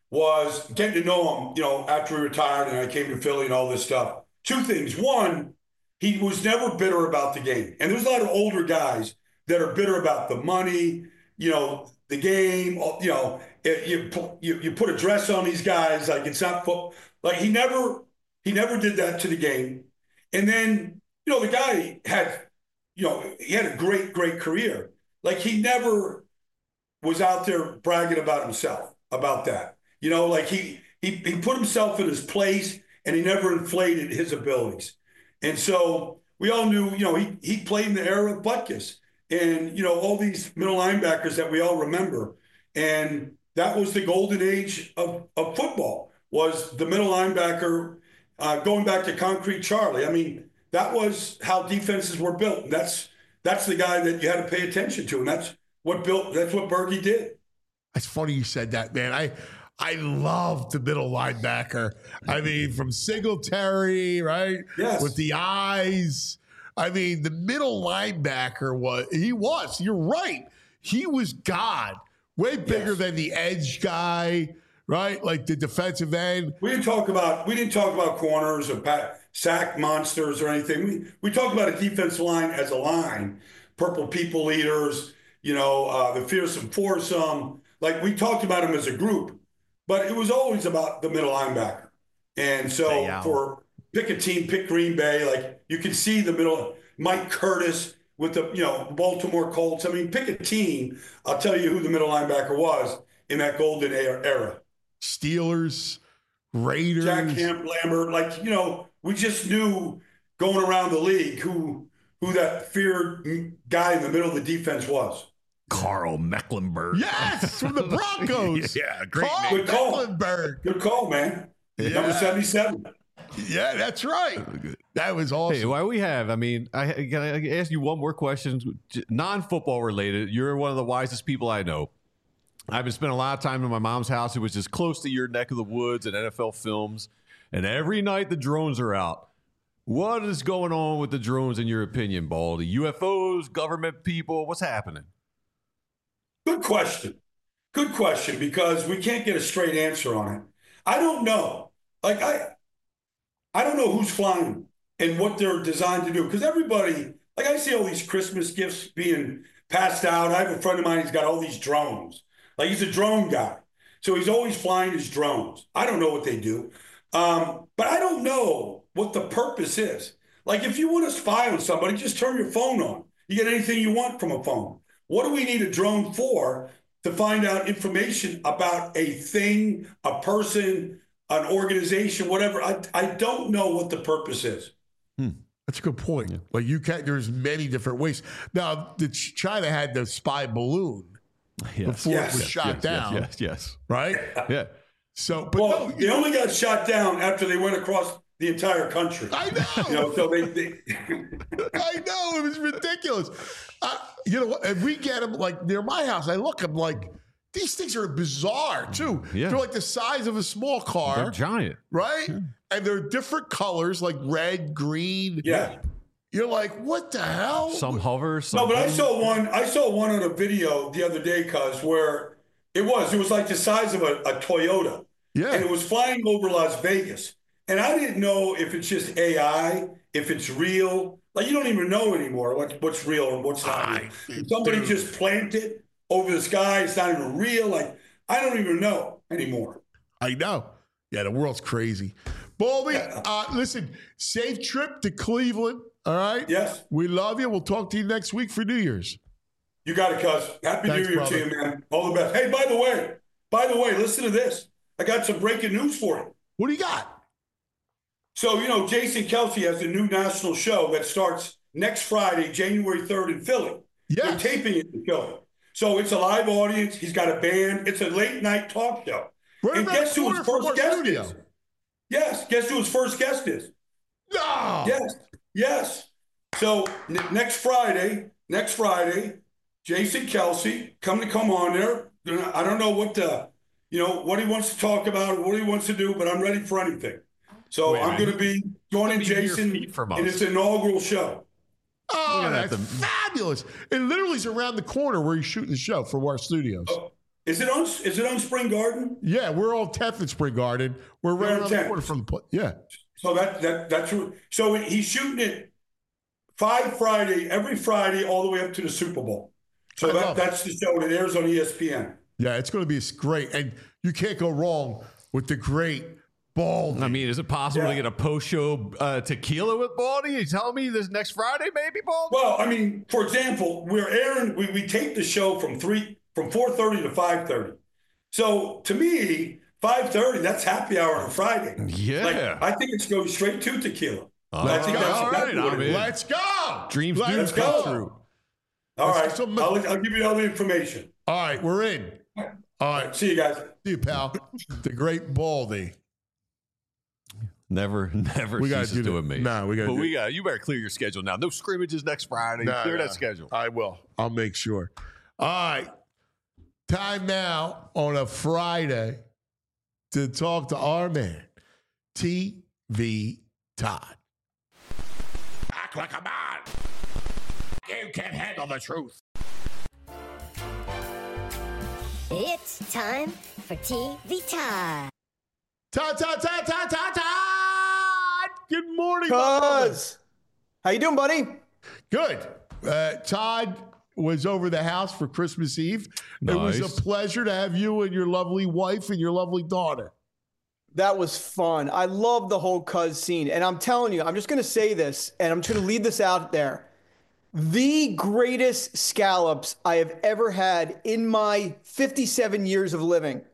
was getting to know him, you know, after he retired and I came to Philly and all this stuff. Two things. One, he was never bitter about the game. And there's a lot of older guys that are bitter about the money, you know, the game, you know, it, you, you you put a dress on these guys, like it's not football. Like, he never, he never did that to the game. And then, you know, the guy had, you know, he had a great, great career. Like, he never was out there bragging about himself, about that. You know, like he, he, he put himself in his place and he never inflated his abilities. And so we all knew, you know, he, he played in the era of Butkus and, you know, all these middle linebackers that we all remember. And that was the golden age of, of football. Was the middle linebacker, uh, going back to Concrete Charlie. I mean, that was how defenses were built. That's that's the guy that you had to pay attention to, and that's what built. That's what Bergey did. It's funny you said that, man. I I love the middle linebacker. I mean, from Singletary, right? Yes. With the eyes. I mean, the middle linebacker was he was. You're right. He was God. Way bigger yes. than the edge guy. Right, like the defensive end. We didn't talk about we didn't talk about corners or pat, sack monsters or anything. We we talked about a defensive line as a line, purple people eaters, you know, uh, the fearsome foursome. Like, we talked about them as a group, but it was always about the middle linebacker. And so for pick a team, pick Green Bay. Like, you can see the middle. Mike Curtis with the you know Baltimore Colts. I mean, pick a team. I'll tell you who the middle linebacker was in that golden era. Steelers, Raiders. Jack Hamp, Lambert, like, you know, we just knew going around the league who who that feared guy in the middle of the defense was. Carl Mecklenburg. Yes, from the Broncos. yeah, great Carl name. Good call. Mecklenburg. Good call, man. Yeah. Number seventy-seven. Yeah, that's right. That was awesome. Hey, why we have? I mean, I can I ask you one more question, non-football related. You're one of the wisest people I know. I've been spending a lot of time in my mom's house. It was just close to your neck of the woods and N F L films. And every night the drones are out. What is going on with the drones, in your opinion, Baldy? U F Os, government people, what's happening? Good question. Good question, because we can't get a straight answer on it. I don't know. Like, I, I don't know who's flying them and what they're designed to do. Because everybody, like, I see all these Christmas gifts being passed out. I have a friend of mine, he's got all these drones. Like, he's a drone guy. So he's always flying his drones. I don't know what they do. Um, but I don't know what the purpose is. Like, if you want to spy on somebody, just turn your phone on. You get anything you want from a phone. What do we need a drone for? To find out information about a thing, a person, an organization, whatever. I, I don't know what the purpose is. Hmm. That's a good point. Yeah. Like, you can't, there's many different ways. Now, the China had the spy balloon yes. before yes. it was yes. shot yes. down. Yes, yes, yes. Right? Yeah. So, but well, no, they only got shot down after they went across the entire country. I know. You know, so they, they I know, it was ridiculous. Uh, you know, and we get them like near my house. I look, I'm like, these things are bizarre too. Yeah. They're like the size of a small car. They're giant, right? Yeah. And they're different colors, like red, green. Yeah. You're like, what the hell? Some hover. Some no, but I saw one. I saw one on a video the other day, cuz where it was. It was like the size of a, a Toyota. Yeah. And it was flying over Las Vegas. And I didn't know if it's just A I, if it's real. Like, you don't even know anymore what, what's real and what's not real. If somebody dude. just planted over the sky, it's not even real. Like, I don't even know anymore. I know. Yeah, the world's crazy. Baldy, yeah. uh, listen, safe trip to Cleveland. All right? Yes. We love you. We'll talk to you next week for New Year's. You got it, cuz. Happy Thanks, New Year brother. to you, man. All the best. Hey, by the way, by the way, listen to this. I got some breaking news for you. What do you got? So, you know, Jason Kelce has a new national show that starts next Friday, January third in Philly. Yeah. They're taping it in Philly. So it's a live audience. He's got a band. It's a late night talk show. Right, and guess who his first guest studio. is? Yes. Guess who his first guest is? No. Yes. Yes. So n- next Friday, next Friday, Jason Kelce, come to come on there. I don't know what the, you know, what he wants to talk about, or what he wants to do, but I'm ready for anything. So Wait, I'm going to be joining Jason in his inaugural show. Oh, that's the... fabulous. It literally is around the corner where he's shooting the show from our studios. Oh, is it on Is it on Spring Garden? Yeah, we're on tenth at Spring Garden. We're right around the corner from the place. Yeah. So that that that's so he's shooting it five Friday, every Friday, all the way up to the Super Bowl. So that, that's the show that airs on E S P N. Yeah, it's going to be great. And you can't go wrong with the great Baldy. I mean, is it possible yeah. to get a post-show uh, tequila with Baldy? You telling me this next Friday, maybe, Baldy? Well, I mean, for example, we're airing, we, we tape the show from three, from four thirty to five thirty. So to me, five thirty, that's happy hour on Friday. Yeah. Like, I think it's going straight to tequila. Uh, Let's I think go. that's, All that's right, I mean, let's go. Dreams let's do go. come true. All let's right. some... I'll, I'll give you all the information. All right, we're in. All right. See you guys. See you, pal. The great Baldy. Never, never we ceases do to that. amaze. No, we got. But we got. You better clear your schedule now. No scrimmages next Friday. No, clear no. that schedule. I will. I'll make sure. All right. Time now on a Friday to talk to our man, T V Todd. Act like a man. You can't handle the truth. It's time for T V Todd. Todd, Todd, Todd, Todd, Todd, Todd. Good morning, Cuz. How you doing, buddy? Good. Uh, Todd was over the house for Christmas Eve. Nice. It was a pleasure to have you and your lovely wife and your lovely daughter. That was fun. I love the whole Cuz scene. And I'm telling you, I'm just going to say this, and I'm just going to leave this out there. The greatest scallops I have ever had in my fifty-seven years of living.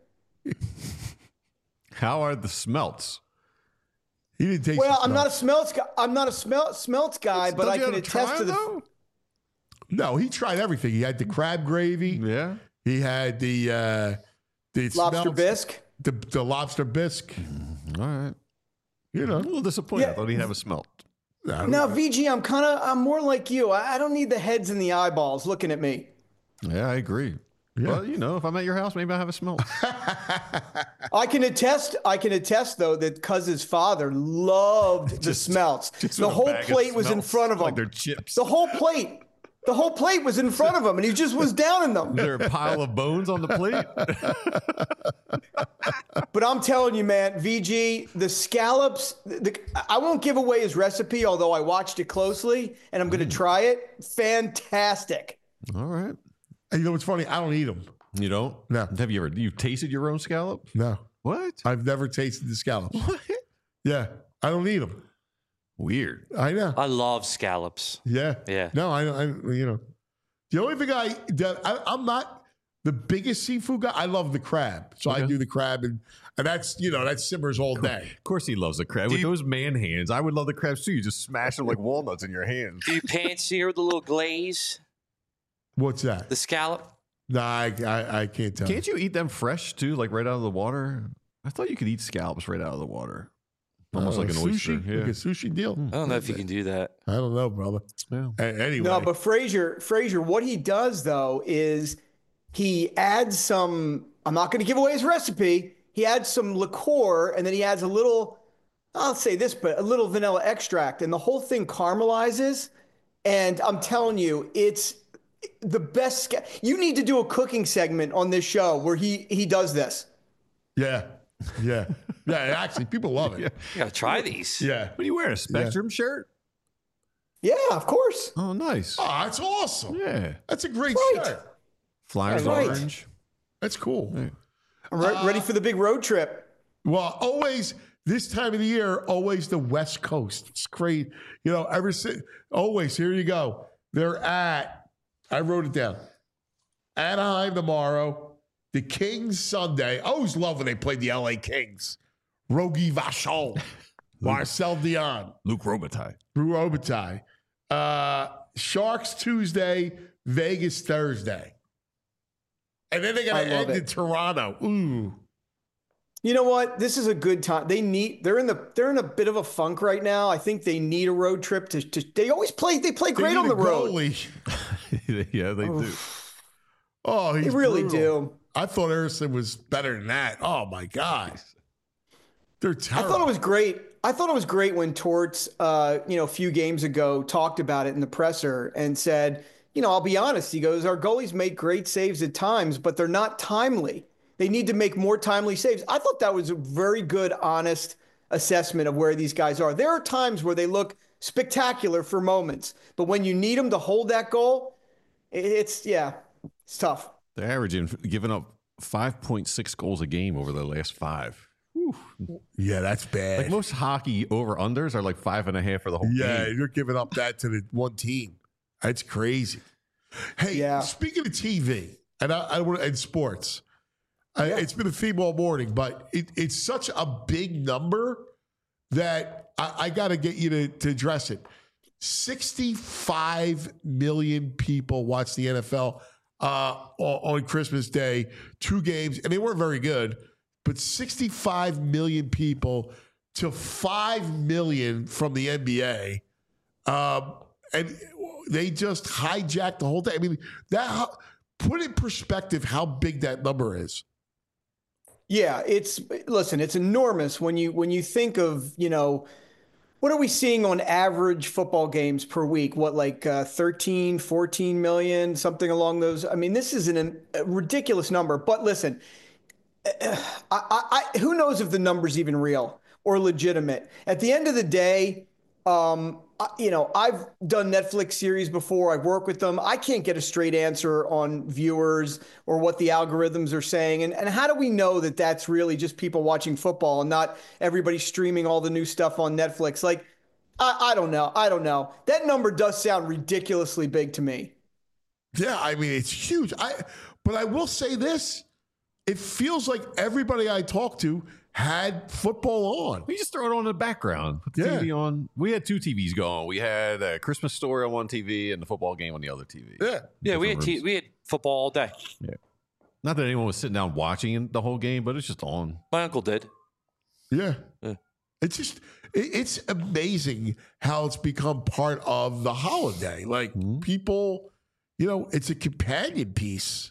How are the smelts? He didn't taste. Well, I'm not a smelts guy. I'm not a smel- smelts guy, but I can attest to the. Though? No, he tried everything. He had the crab gravy. Yeah. He had the uh, the lobster smelts, bisque. The the lobster bisque. Mm, all right. You know, a little disappointed. Yeah. I thought he'd have a smelt. Now, V G, I'm kind of, I'm more like you. I, I don't need the heads and the eyeballs looking at me. Yeah, I agree. Yeah. Well, you know, if I'm at your house, maybe I have a smell. I can attest. I can attest though that Cuz's father loved the Just- smelts. just The with a whole bag of plate was in smelts, front of him. like they're chips. The whole plate. The whole plate was in front of him, and he just was downing them. Is there a pile of bones on the plate? But I'm telling you, man, V G, the scallops. The, I won't give away his recipe, although I watched it closely, and I'm going to try it. Fantastic. All right. And you know what's funny? I don't eat them. You don't? No. Have you ever? You've tasted your own scallop? No. What? I've never tasted the scallops. What? Yeah, I don't eat them. Weird. I know. I love scallops. Yeah. Yeah. No, I, I you know, the only thing I, that I I'm not the biggest seafood guy. I love the crab, so I Okay. do the crab, and and that's you know that simmers all day. Of course, he loves the crab. With those man hands, I would love the crabs too. You just smash them like walnuts in your hands. Do you pan sear with a little glaze? What's that? The scallop? No, I, I I can't tell. Can't you eat them fresh too, like right out of the water? I thought you could eat scallops right out of the water, almost Uh, like an sushi, oyster. Yeah. like a sushi deal. I don't know if you can do that. I don't know, brother. Yeah. A- anyway, No, but Frazier, Frazier, what he does though is he adds some. I'm not going to give away his recipe. He adds some liqueur, and then he adds a little. I'll say this, but a little vanilla extract, and the whole thing caramelizes. And I'm telling you, it's the best. Sca- you need to do a cooking segment on this show where he he does this. yeah, yeah, yeah. Actually, people love it. Yeah. You gotta try these. Yeah. What are you wearing? A Spectrum shirt? Yeah, of course. Oh, nice. Oh, that's awesome. Yeah. That's a great Right. shirt. Flyers Right. orange. That's cool. I'm re- ready for the big road trip. Well, always this time of the year, always the West Coast. It's great. You know, ever since, always, here you go. They're at, I wrote it down, Anaheim tomorrow, the Kings Sunday. I always love when they played the L A Kings. Rogie Vachon, Marcel Dion, Luke Robitaille. Drew Robitaille. Uh, Sharks Tuesday, Vegas Thursday. And then they're I going to love end it. in Toronto. Ooh. You know what? This is a good time. They need. They're in the. They're in a bit of a funk right now. I think they need a road trip to. to they always play. They play They great need on a the road. goalie. Yeah, they do. Oh, he's They really brutal. do. I thought Harrison was better than that. Oh my God, they're I terrible. thought it was great. I thought it was great when Torts, uh, you know, a few games ago talked about it in the presser and said, you know, I'll be honest. He goes, our goalies make great saves at times, but they're not timely. They need to make more timely saves. I thought that was a very good, honest assessment of where these guys are. There are times where they look spectacular for moments, but when you need them to hold that goal, it's, yeah, it's tough. They're averaging, giving up five point six goals a game over the last five. Whew. Yeah, that's bad. Like most hockey over-unders are like five and a half for the whole yeah, game. you're giving up that to the one team. That's crazy. Hey, Yeah. speaking of T V and I, I want and sports, I, it's been a theme all morning, but it, it's such a big number that I, I got to get you to, to address it. sixty-five million people watch the N F L uh, on Christmas Day, two games, and they weren't very good, but sixty-five million people to five million from the N B A. Um, and they just hijacked the whole thing. I mean, that put in perspective how big that number is. Yeah, it's listen, it's enormous when you when you think of, you know, what are we seeing on average football games per week? What, like uh, thirteen, fourteen million, something along those? I mean, this is an, a ridiculous number. But listen, I, I, I, who knows if the number's even real or legitimate? At the end of the day, um, I, you know, I've done Netflix series before. I've worked with them. I can't get a straight answer on viewers or what the algorithms are saying. And, and how do we know that that's really just people watching football and not everybody streaming all the new stuff on Netflix? Like, I, I don't know. I don't know. That number does sound ridiculously big to me. Yeah, I mean, it's huge. I, but I will say this. It feels like everybody I talk to had football on. We just throw it on in the background. Put the Yeah. T V on. We had two T Vs going. We had a Christmas Story on one T V and the football game on the other T V. Yeah. Yeah, we had Different t- rooms. we had football all day. Yeah. Not that anyone was sitting down watching the whole game, but it's just on. My uncle did. Yeah. Yeah. It's just, it, it's amazing how it's become part of the holiday. Like mm-hmm. people, you know, it's a companion piece.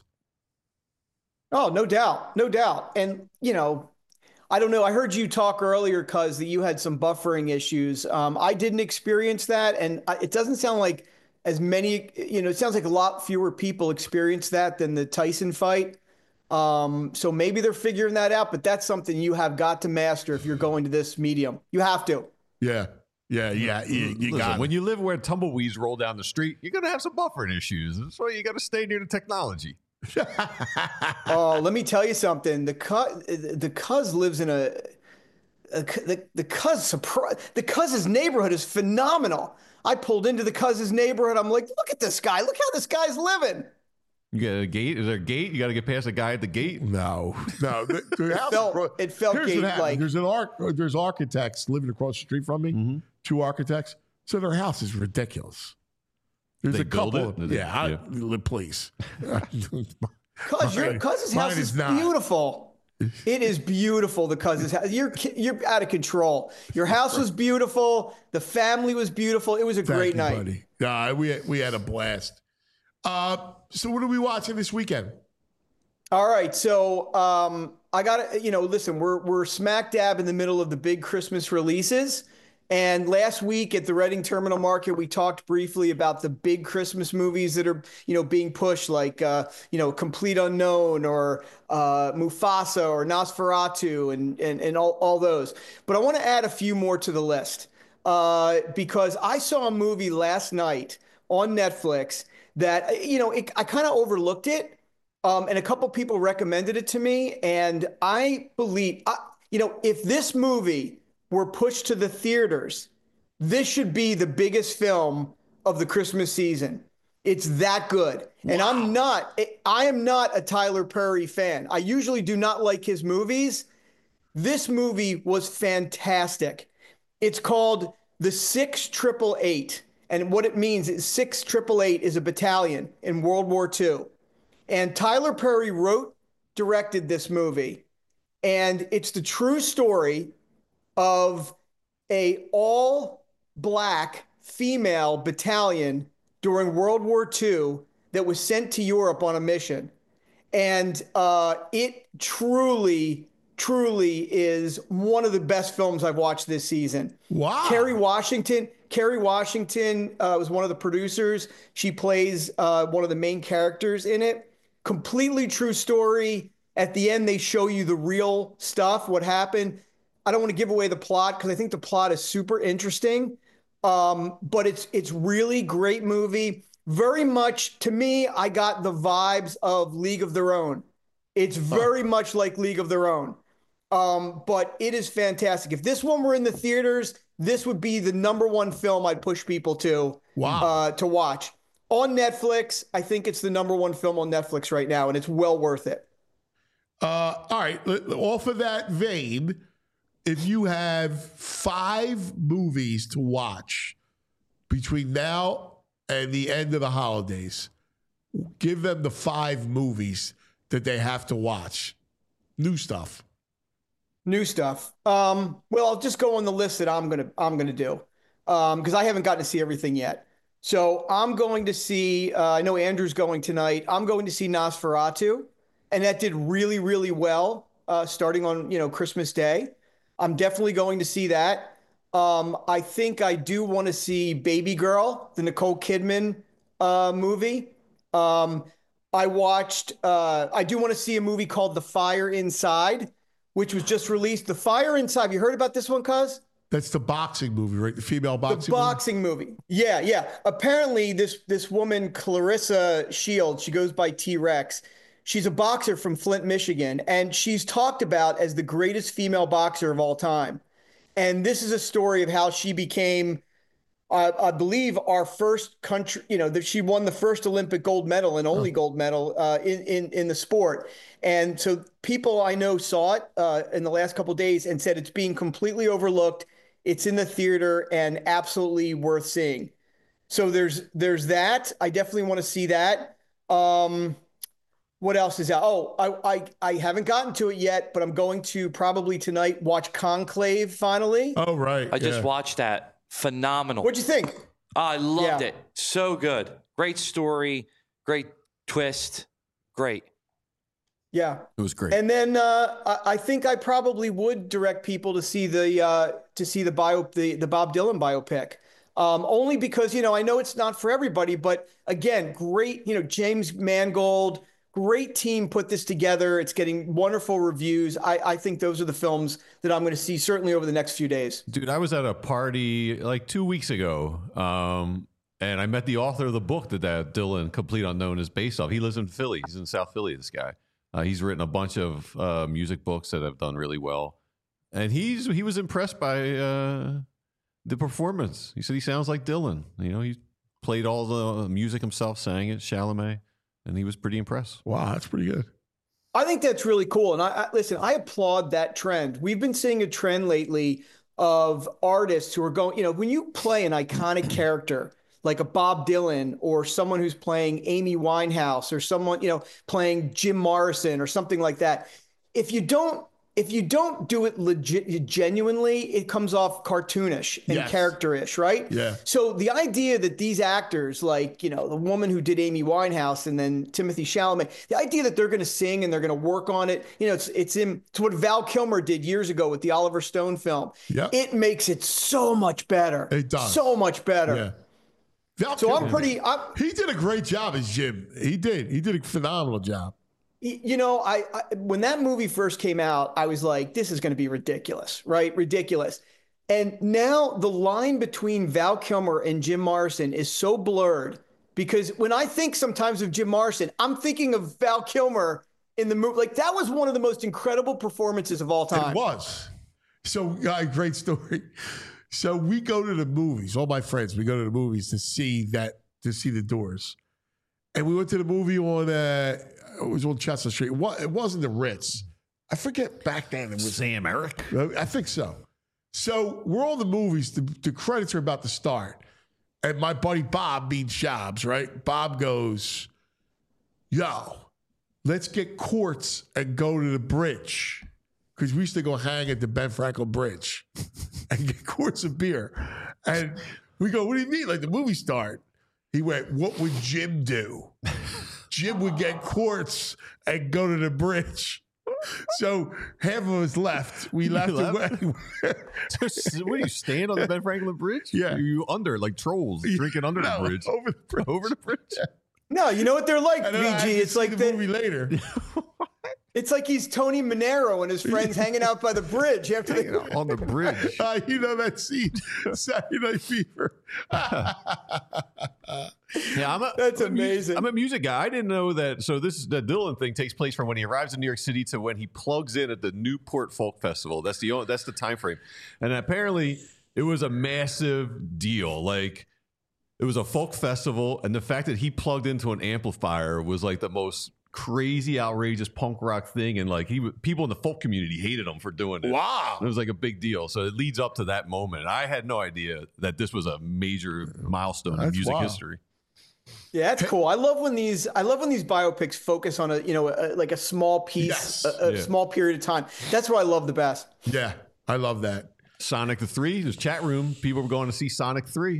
Oh, no doubt. No doubt. And, you know, I don't know. I heard you talk earlier, Cuz, that you had some buffering issues. Um, I didn't experience that. And I, it doesn't sound like as many, you know, it sounds like a lot fewer people experience that than the Tyson fight. Um, so maybe they're figuring that out, but that's something you have got to master if you're going to this medium. You have to. Yeah. Yeah. Yeah. You, you Listen, got when you live where tumbleweeds roll down the street, you're going to have some buffering issues. That's why you got to stay near the technology. Oh, let me tell you something. The cuz, the cuz lives in a, a the the cuz surprise. The cuz's neighborhood is phenomenal. I pulled into the cuz's neighborhood. I'm like, look at this guy. Look how this guy's living. You got a gate? Is there a gate? You got to get past a guy at the gate? No, no. The, the it, house felt, it felt gate like. There's an arc. There's architects living across the street from me. Mm-hmm. Two architects. So their house is ridiculous. There's they a couple. Of, yeah, yeah. I, please. Cuz your cousin's house is, is beautiful. It is beautiful. The cousin's house. You're you're out of control. Your house was beautiful. The family was beautiful. It was a Thank great you, night. Buddy. Yeah, we had, we had a blast. Uh, so what are we watching this weekend? All right, so um, I got to, you know, listen, we're we're smack dab in the middle of the big Christmas releases. And last week at the Reading Terminal Market, we talked briefly about the big Christmas movies that are, you know, being pushed, like, uh, you know, Complete Unknown or uh, Mufasa or Nosferatu and and, and all, all those. But I want to add a few more to the list uh, because I saw a movie last night on Netflix that, you know, it, I kind of overlooked it. Um, and a couple people recommended it to me. And I believe, I, you know, if this movie were pushed to the theaters, this should be the biggest film of the Christmas season. It's that good. Wow. And I'm not, I am not a Tyler Perry fan. I usually do not like his movies. This movie was fantastic. It's called The Six Triple Eight. And what it means is Six Triple Eight is a battalion in World War Two. And Tyler Perry wrote, directed this movie. And it's the true story of a all-black female battalion during World War Two that was sent to Europe on a mission. And uh, it truly, truly is one of the best films I've watched this season. Wow. Kerry Washington, Kerry Washington uh, was one of the producers. She plays uh, one of the main characters in it. Completely true story. At the end, they show you the real stuff, what happened. I don't want to give away the plot because I think the plot is super interesting. Um, but it's it's really great movie. Very much, to me, I got the vibes of League of Their Own. It's very huh. much like League of Their Own. Um, but it is fantastic. If this one were in the theaters, this would be the number one film I'd push people to, wow. uh, to watch. On Netflix, I think it's the number one film on Netflix right now, and it's well worth it. Uh, all right. Off of that vein, if you have five movies to watch between now and the end of the holidays, give them the five movies that they have to watch. New stuff. New stuff. Um, well, I'll just go on the list that I'm gonna I'm gonna do um, because I haven't gotten to see everything yet. So I'm going to see. Uh, I know Andrew's going tonight. I'm going to see Nosferatu, and that did really really well uh, starting on you know Christmas Day. I'm definitely going to see that. Um, I think I do want to see Baby Girl, the Nicole Kidman uh, movie. Um, I watched, uh, I do want to see a movie called The Fire Inside, which was just released. The Fire Inside, you heard about this one, cuz? That's the boxing movie, right? The female boxing The boxing movie. movie. Yeah, yeah. Apparently, this, this woman, Clarissa Shields, she goes by T-Rex. She's a boxer from Flint, Michigan, and she's talked about as the greatest female boxer of all time. And this is a story of how she became, uh, I believe, our first country, you know, that she won the first Olympic gold medal and only oh. gold medal uh, in, in, in the sport. And so people I know saw it uh, in the last couple of days and said it's being completely overlooked. It's in the theater and absolutely worth seeing. So there's there's that. I definitely want to see that. Um What else is out? Oh, I, I I haven't gotten to it yet, but I'm going to probably tonight watch Conclave finally. Oh, right. I just yeah. watched that. Phenomenal. What'd you think? Oh, I loved Yeah. it. So good. Great story. Great twist. Great. Yeah, It was great. and then uh, I, I think I probably would direct people to see the uh, to see the bio the the Bob Dylan biopic. Um, only because, you know, I know it's not for everybody, but again, great, you know, James Mangold, great team put this together. It's getting wonderful reviews. I, I think those are the films that I'm going to see certainly over the next few days. Dude, I was at a party like two weeks ago, um, and I met the author of the book that, that Dylan, Complete Unknown, is based off. He lives in Philly. He's in South Philly, this guy. Uh, he's written a bunch of uh, music books that have done really well. And he's he was impressed by uh, the performance. He said he sounds like Dylan. You know, he played all the music himself, sang it, Chalamet, and he was pretty impressed. Wow, that's pretty good. I think that's really cool. And I, I listen, I applaud that trend. We've been seeing a trend lately of artists who are going, you know, when you play an iconic character like a Bob Dylan or someone who's playing Amy Winehouse or someone, you know, playing Jim Morrison or something like that, if you don't if you don't do it legit genuinely, it comes off cartoonish and Yes. characterish, right? Yeah. So the idea that these actors, like, you know, the woman who did Amy Winehouse and then Timothy Chalamet, the idea that they're going to sing and they're going to work on it, you know, it's it's in it's what Val Kilmer did years ago with the Oliver Stone film. Yeah. It makes it so much better. It does. So much better. Yeah. Val So I'm Kilmer, pretty. I'm, he did a great job as Jim. He did. He did a phenomenal job. you know, I, I when that movie first came out, I was like, this is going to be ridiculous, right? Ridiculous. And now the line between Val Kilmer and Jim Morrison is so blurred because when I think sometimes of Jim Morrison, I'm thinking of Val Kilmer in the movie. Like that was one of the most incredible performances of all time. It was. So, uh, great story. So we go to the movies. All my friends, we go to the movies to see that to see The Doors, and we went to the movie on uh, it was on Chestnut Street. It wa- it wasn't the Ritz. I forget back then. It was Sam Eric. I think so. So we're all the movies. The, the credits are about to start, and my buddy Bob means Shabs, right? Bob goes, "Yo, let's get quarts and go to the bridge." Because we used to go hang at the Ben Franklin Bridge and get quarts of beer. And we go, what do you mean? Like the movie start? He went, what would Jim do? Jim would get quarts and go to the bridge. So half of us left. We You left. left? away. So, what do you stand on the Ben Franklin Bridge? Yeah. Are you under like trolls drinking under No, the bridge? over the bridge. Over the bridge. No, you know what they're like, And then I had V G. to It's see like the the, movie later. it's like he's Tony Manero and his friends hanging out by the bridge after they On the bridge. Uh, you know that scene, Saturday Night Fever. Yeah, I'm a, That's I'm a mu- amazing. I'm a music guy. I didn't know that. So this the Dylan thing takes place from when he arrives in New York City to when he plugs in at the Newport Folk Festival. That's the only, that's the time frame, and apparently it was a massive deal. Like it was a folk festival, and the fact that he plugged into an amplifier was like the most crazy, outrageous punk rock thing. And like he, w- people in the folk community hated him for doing it. Wow. It was like a big deal. So it leads up to that moment. I had no idea that this was a major milestone in That's music wild. history. Yeah, that's cool. I love when these I love when these biopics focus on a, you know, a, like a small piece, Yes. a, a Yeah. small period of time. That's what I love the best. Yeah, I love that. Sonic the Three. There's chat room. People were going to see Sonic Three.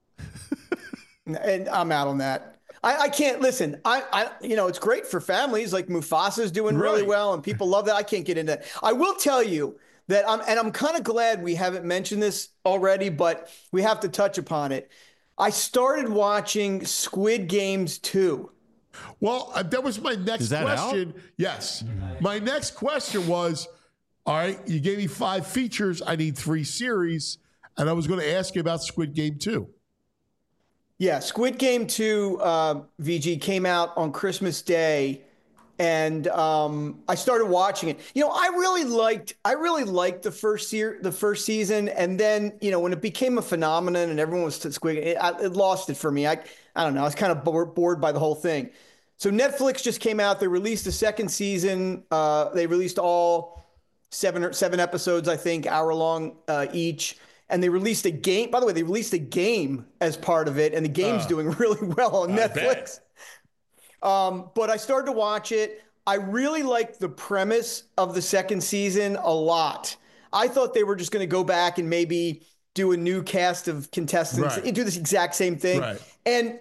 And I'm out on that. I, I can't listen. I, I, you know, it's great for families. Like Mufasa's doing really Right. well, and people love that. I can't get into that. I will tell you that I'm, and I'm kind of glad we haven't mentioned this already, but we have to touch upon it. I started watching Squid Games two. Well, uh, that was my next Is that question. Yes. My next question was, all right, you gave me five features. I need three series. And I was going to ask you about Squid Game two. Yeah, Squid Game two, uh, V G, came out on Christmas Day, and um, I started watching it. You know, I really liked, I really liked the first year, the first season, and then you know when it became a phenomenon and everyone was to Squid, it, I, it lost it for me. I, I don't know, I was kind of bored, bored by the whole thing. So Netflix just came out. They released the second season. Uh, they released all seven or seven episodes, I think, hour long uh, each. And they released a game. By the way, they released a game as part of it, and the game's Uh, doing really well on I Netflix. bet. Um, but I started to watch it. I really liked the premise of the second season a lot. I thought they were just going to go back and maybe do a new cast of contestants Right. and do this exact same thing. Right. And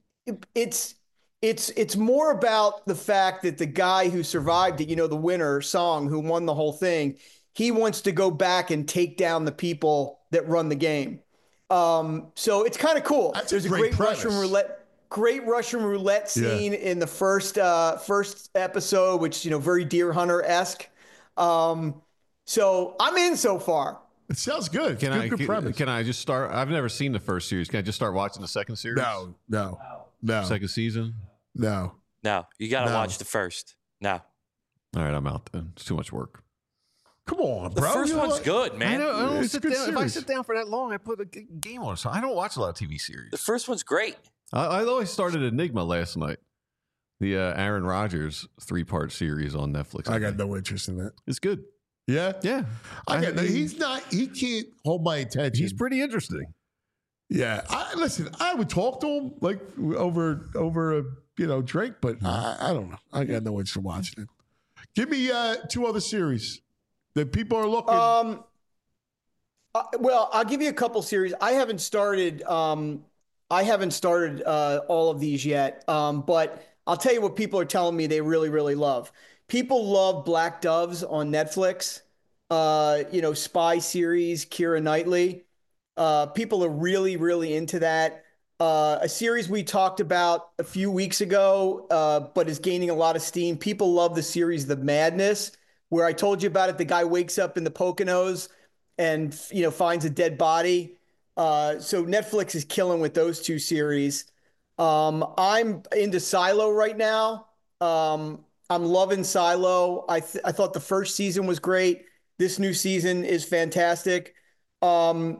it's it's it's more about the fact that the guy who survived it, you know, the winner, Song, who won the whole thing, he wants to go back and take down the people that run the game. Um, so it's kind of cool. That's a There's a great great, Russian premise. roulette, great Russian roulette scene Yeah. in the first uh, first episode, which you know, very Deer Hunter esque. Um, so I'm in so far. It sounds good. Can good, I good can, premise. can I just start? I've never seen the first series. Can I just start watching the second series? No, no, no, Second season? no. No, you got to No. watch the first. No. All right, I'm out then. It's too much work. Come on, The bro. first You know one's what? good, man. I don't, I don't It's a sit good down. If I series. sit down for that long, I put a g- game on. So I don't watch a lot of T V series. The first one's great. I, I always started Enigma last night. The uh, Aaron Rodgers three part series on Netflix. I got think. no interest in that. It's good. Yeah, Yeah. I got no. mean, He's not. He can't hold my attention. he's pretty interesting. Yeah, I listen. I would talk to him like over over a you know drink, but I, I don't know. I got no interest in watching it. Give me uh, two other series that people are looking. Um, uh, well, I'll give you a couple series. I haven't started. Um, I haven't started uh, all of these yet. Um, but I'll tell you what people are telling me they really, really love. People love Black Doves on Netflix. Uh, you know, spy series, Keira Knightley. Uh, people are really, really into that. Uh, a series we talked about a few weeks ago, uh, but is gaining a lot of steam. People love the series The Madness, where I told you about it. The guy wakes up in the Poconos and, you know, finds a dead body. Uh, so Netflix is killing with those two series. Um, I'm into Silo right now. Um, I'm loving Silo. I th- I thought the first season was great. This new season is fantastic. Um,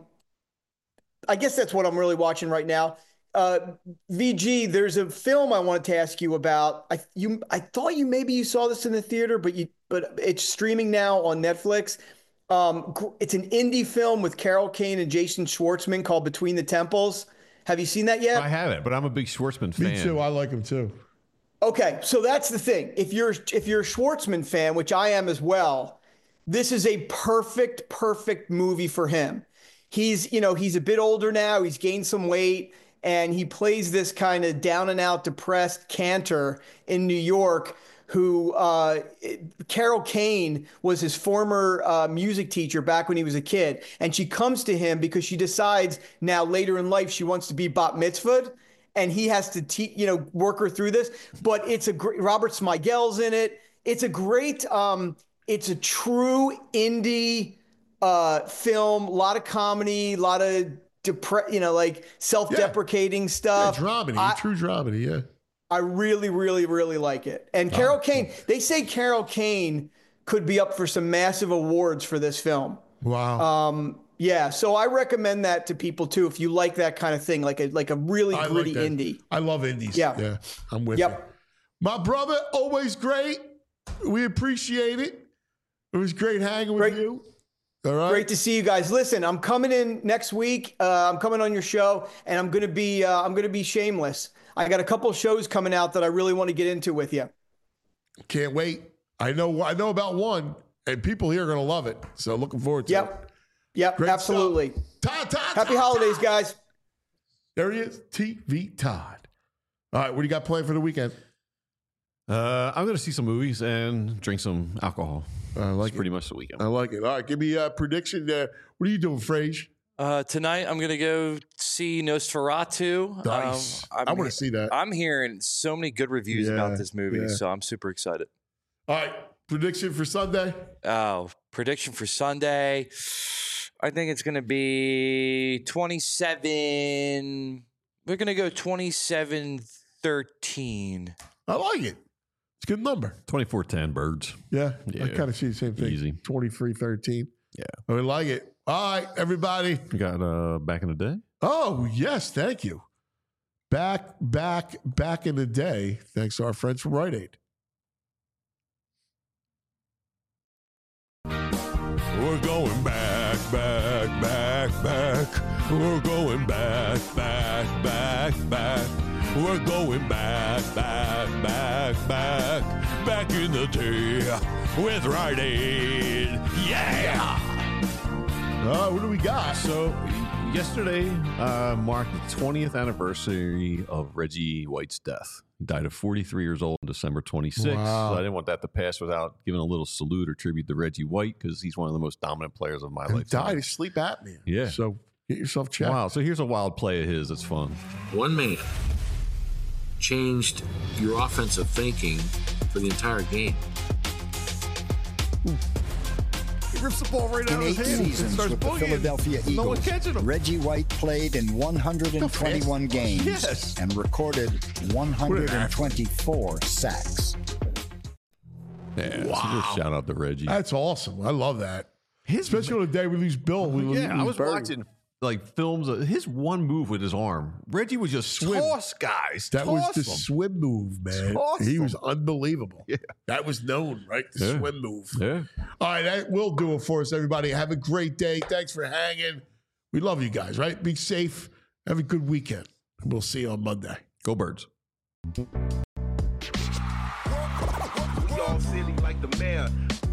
I guess that's what I'm really watching right now. Uh, V G, there's a film I wanted to ask you about. I you I thought you maybe you saw this in the theater, but you but it's streaming now on Netflix. Um, gr- it's an indie film with Carol Kane and Jason Schwartzman called Between the Temples. Have you seen that yet? I haven't, but I'm a big Schwartzman fan. Me too. I like him too. Okay, so that's the thing. If you're if you're a Schwartzman fan, which I am as well, this is a perfect, perfect movie for him. He's, you know, he's a bit older now. He's gained some weight, and he plays this kind of down and out, depressed cantor in New York who uh, Carol Kane was his former uh, music teacher back when he was a kid. And she comes to him because she decides now later in life she wants to be bat mitzvahed. And he has to, te- you know, work her through this. But it's a great, Robert Smigel's in it. It's a great, um, it's a true indie uh, film, a lot of comedy, a lot of, depre- you know, like self-deprecating Yeah, stuff. dramedy, I- true dramedy. Yeah. I really, really, really like it. And Carol Kane, they say Carol Kane could be up for some massive awards for this film. Wow. Um, yeah, so I recommend that to people too if you like that kind of thing, like a like a really I gritty like that. indie. I love indies. Yeah. Yeah. I'm with Yep. you. My brother, always great. We appreciate it. It was great hanging with Great. you. All right. Great to see you guys. Listen, I'm coming in next week. Uh, I'm coming on your show, and I'm gonna be uh, I'm gonna be shameless. I got a couple shows coming out that I really want to get into with you. Can't wait. I know I know about one, and people here are going to love it. So looking forward to it. Yep. Yep, Great absolutely. Todd, Todd, Happy Todd, holidays, Todd. guys. There he is, T V Todd. All right, what do you got planned for the weekend? Uh, I'm going to see some movies and drink some alcohol. I like It's pretty much the weekend. I like it. All right, give me a prediction. Uh, what are you doing, Frage? Uh, tonight I'm gonna go see Nosferatu. Nice. Um, I'm I want he- to see that. I'm hearing so many good reviews Yeah, about this movie, yeah. so I'm super excited. All right, prediction for Sunday. Oh, prediction for Sunday. I think it's gonna be twenty-seven. We're gonna go twenty-seven thirteen. I like it. It's a good number. twenty-four ten birds. Yeah, I Yeah. kind of see the same thing. Easy. twenty-three thirteen. Yeah. I like it. All right, everybody. You got uh, Back in the Day? Oh, yes, thank you. Back, back, back in the day, thanks to our friends from Rite Aid. We're going back back, back, back, back. We're going back, back, back, back. We're going back, back, back, back. Back in the day with Rite Aid. Yeah! Uh, what do we got? So, yesterday uh, marked the twentieth anniversary of Reggie White's death. He died at forty-three years old on December twenty-sixth. Wow. So I didn't want that to pass without giving a little salute or tribute to Reggie White because he's one of the most dominant players of my He life. died of sleep apnea. Yeah. So get yourself checked. Wow. So here's a wild play of his. It's fun. One man changed your offensive thinking for the entire game. He rips the ball right out In of eight his hand. seasons with the Philadelphia No one Eagles, catching him. Reggie White played in one hundred twenty-one games Yes. and recorded one hundred twenty-four sacks. Yeah, wow. So just shout out to Reggie. That's awesome. I love that. Especially on the day we lose Bill. We lose, Yeah, I lose was Bird. watching like films of his one move with his arm. Reggie was just Swim. toss guys. That was toss the them. swim move, man. Toss he them. was unbelievable. Yeah. That was known, right? The Yeah. swim move. Yeah. All right, that will do it for us, everybody. Have a great day. Thanks for hanging. We love you guys, right? Be safe. Have a good weekend. We'll see you on Monday. Go Birds. We all silly like the mayor.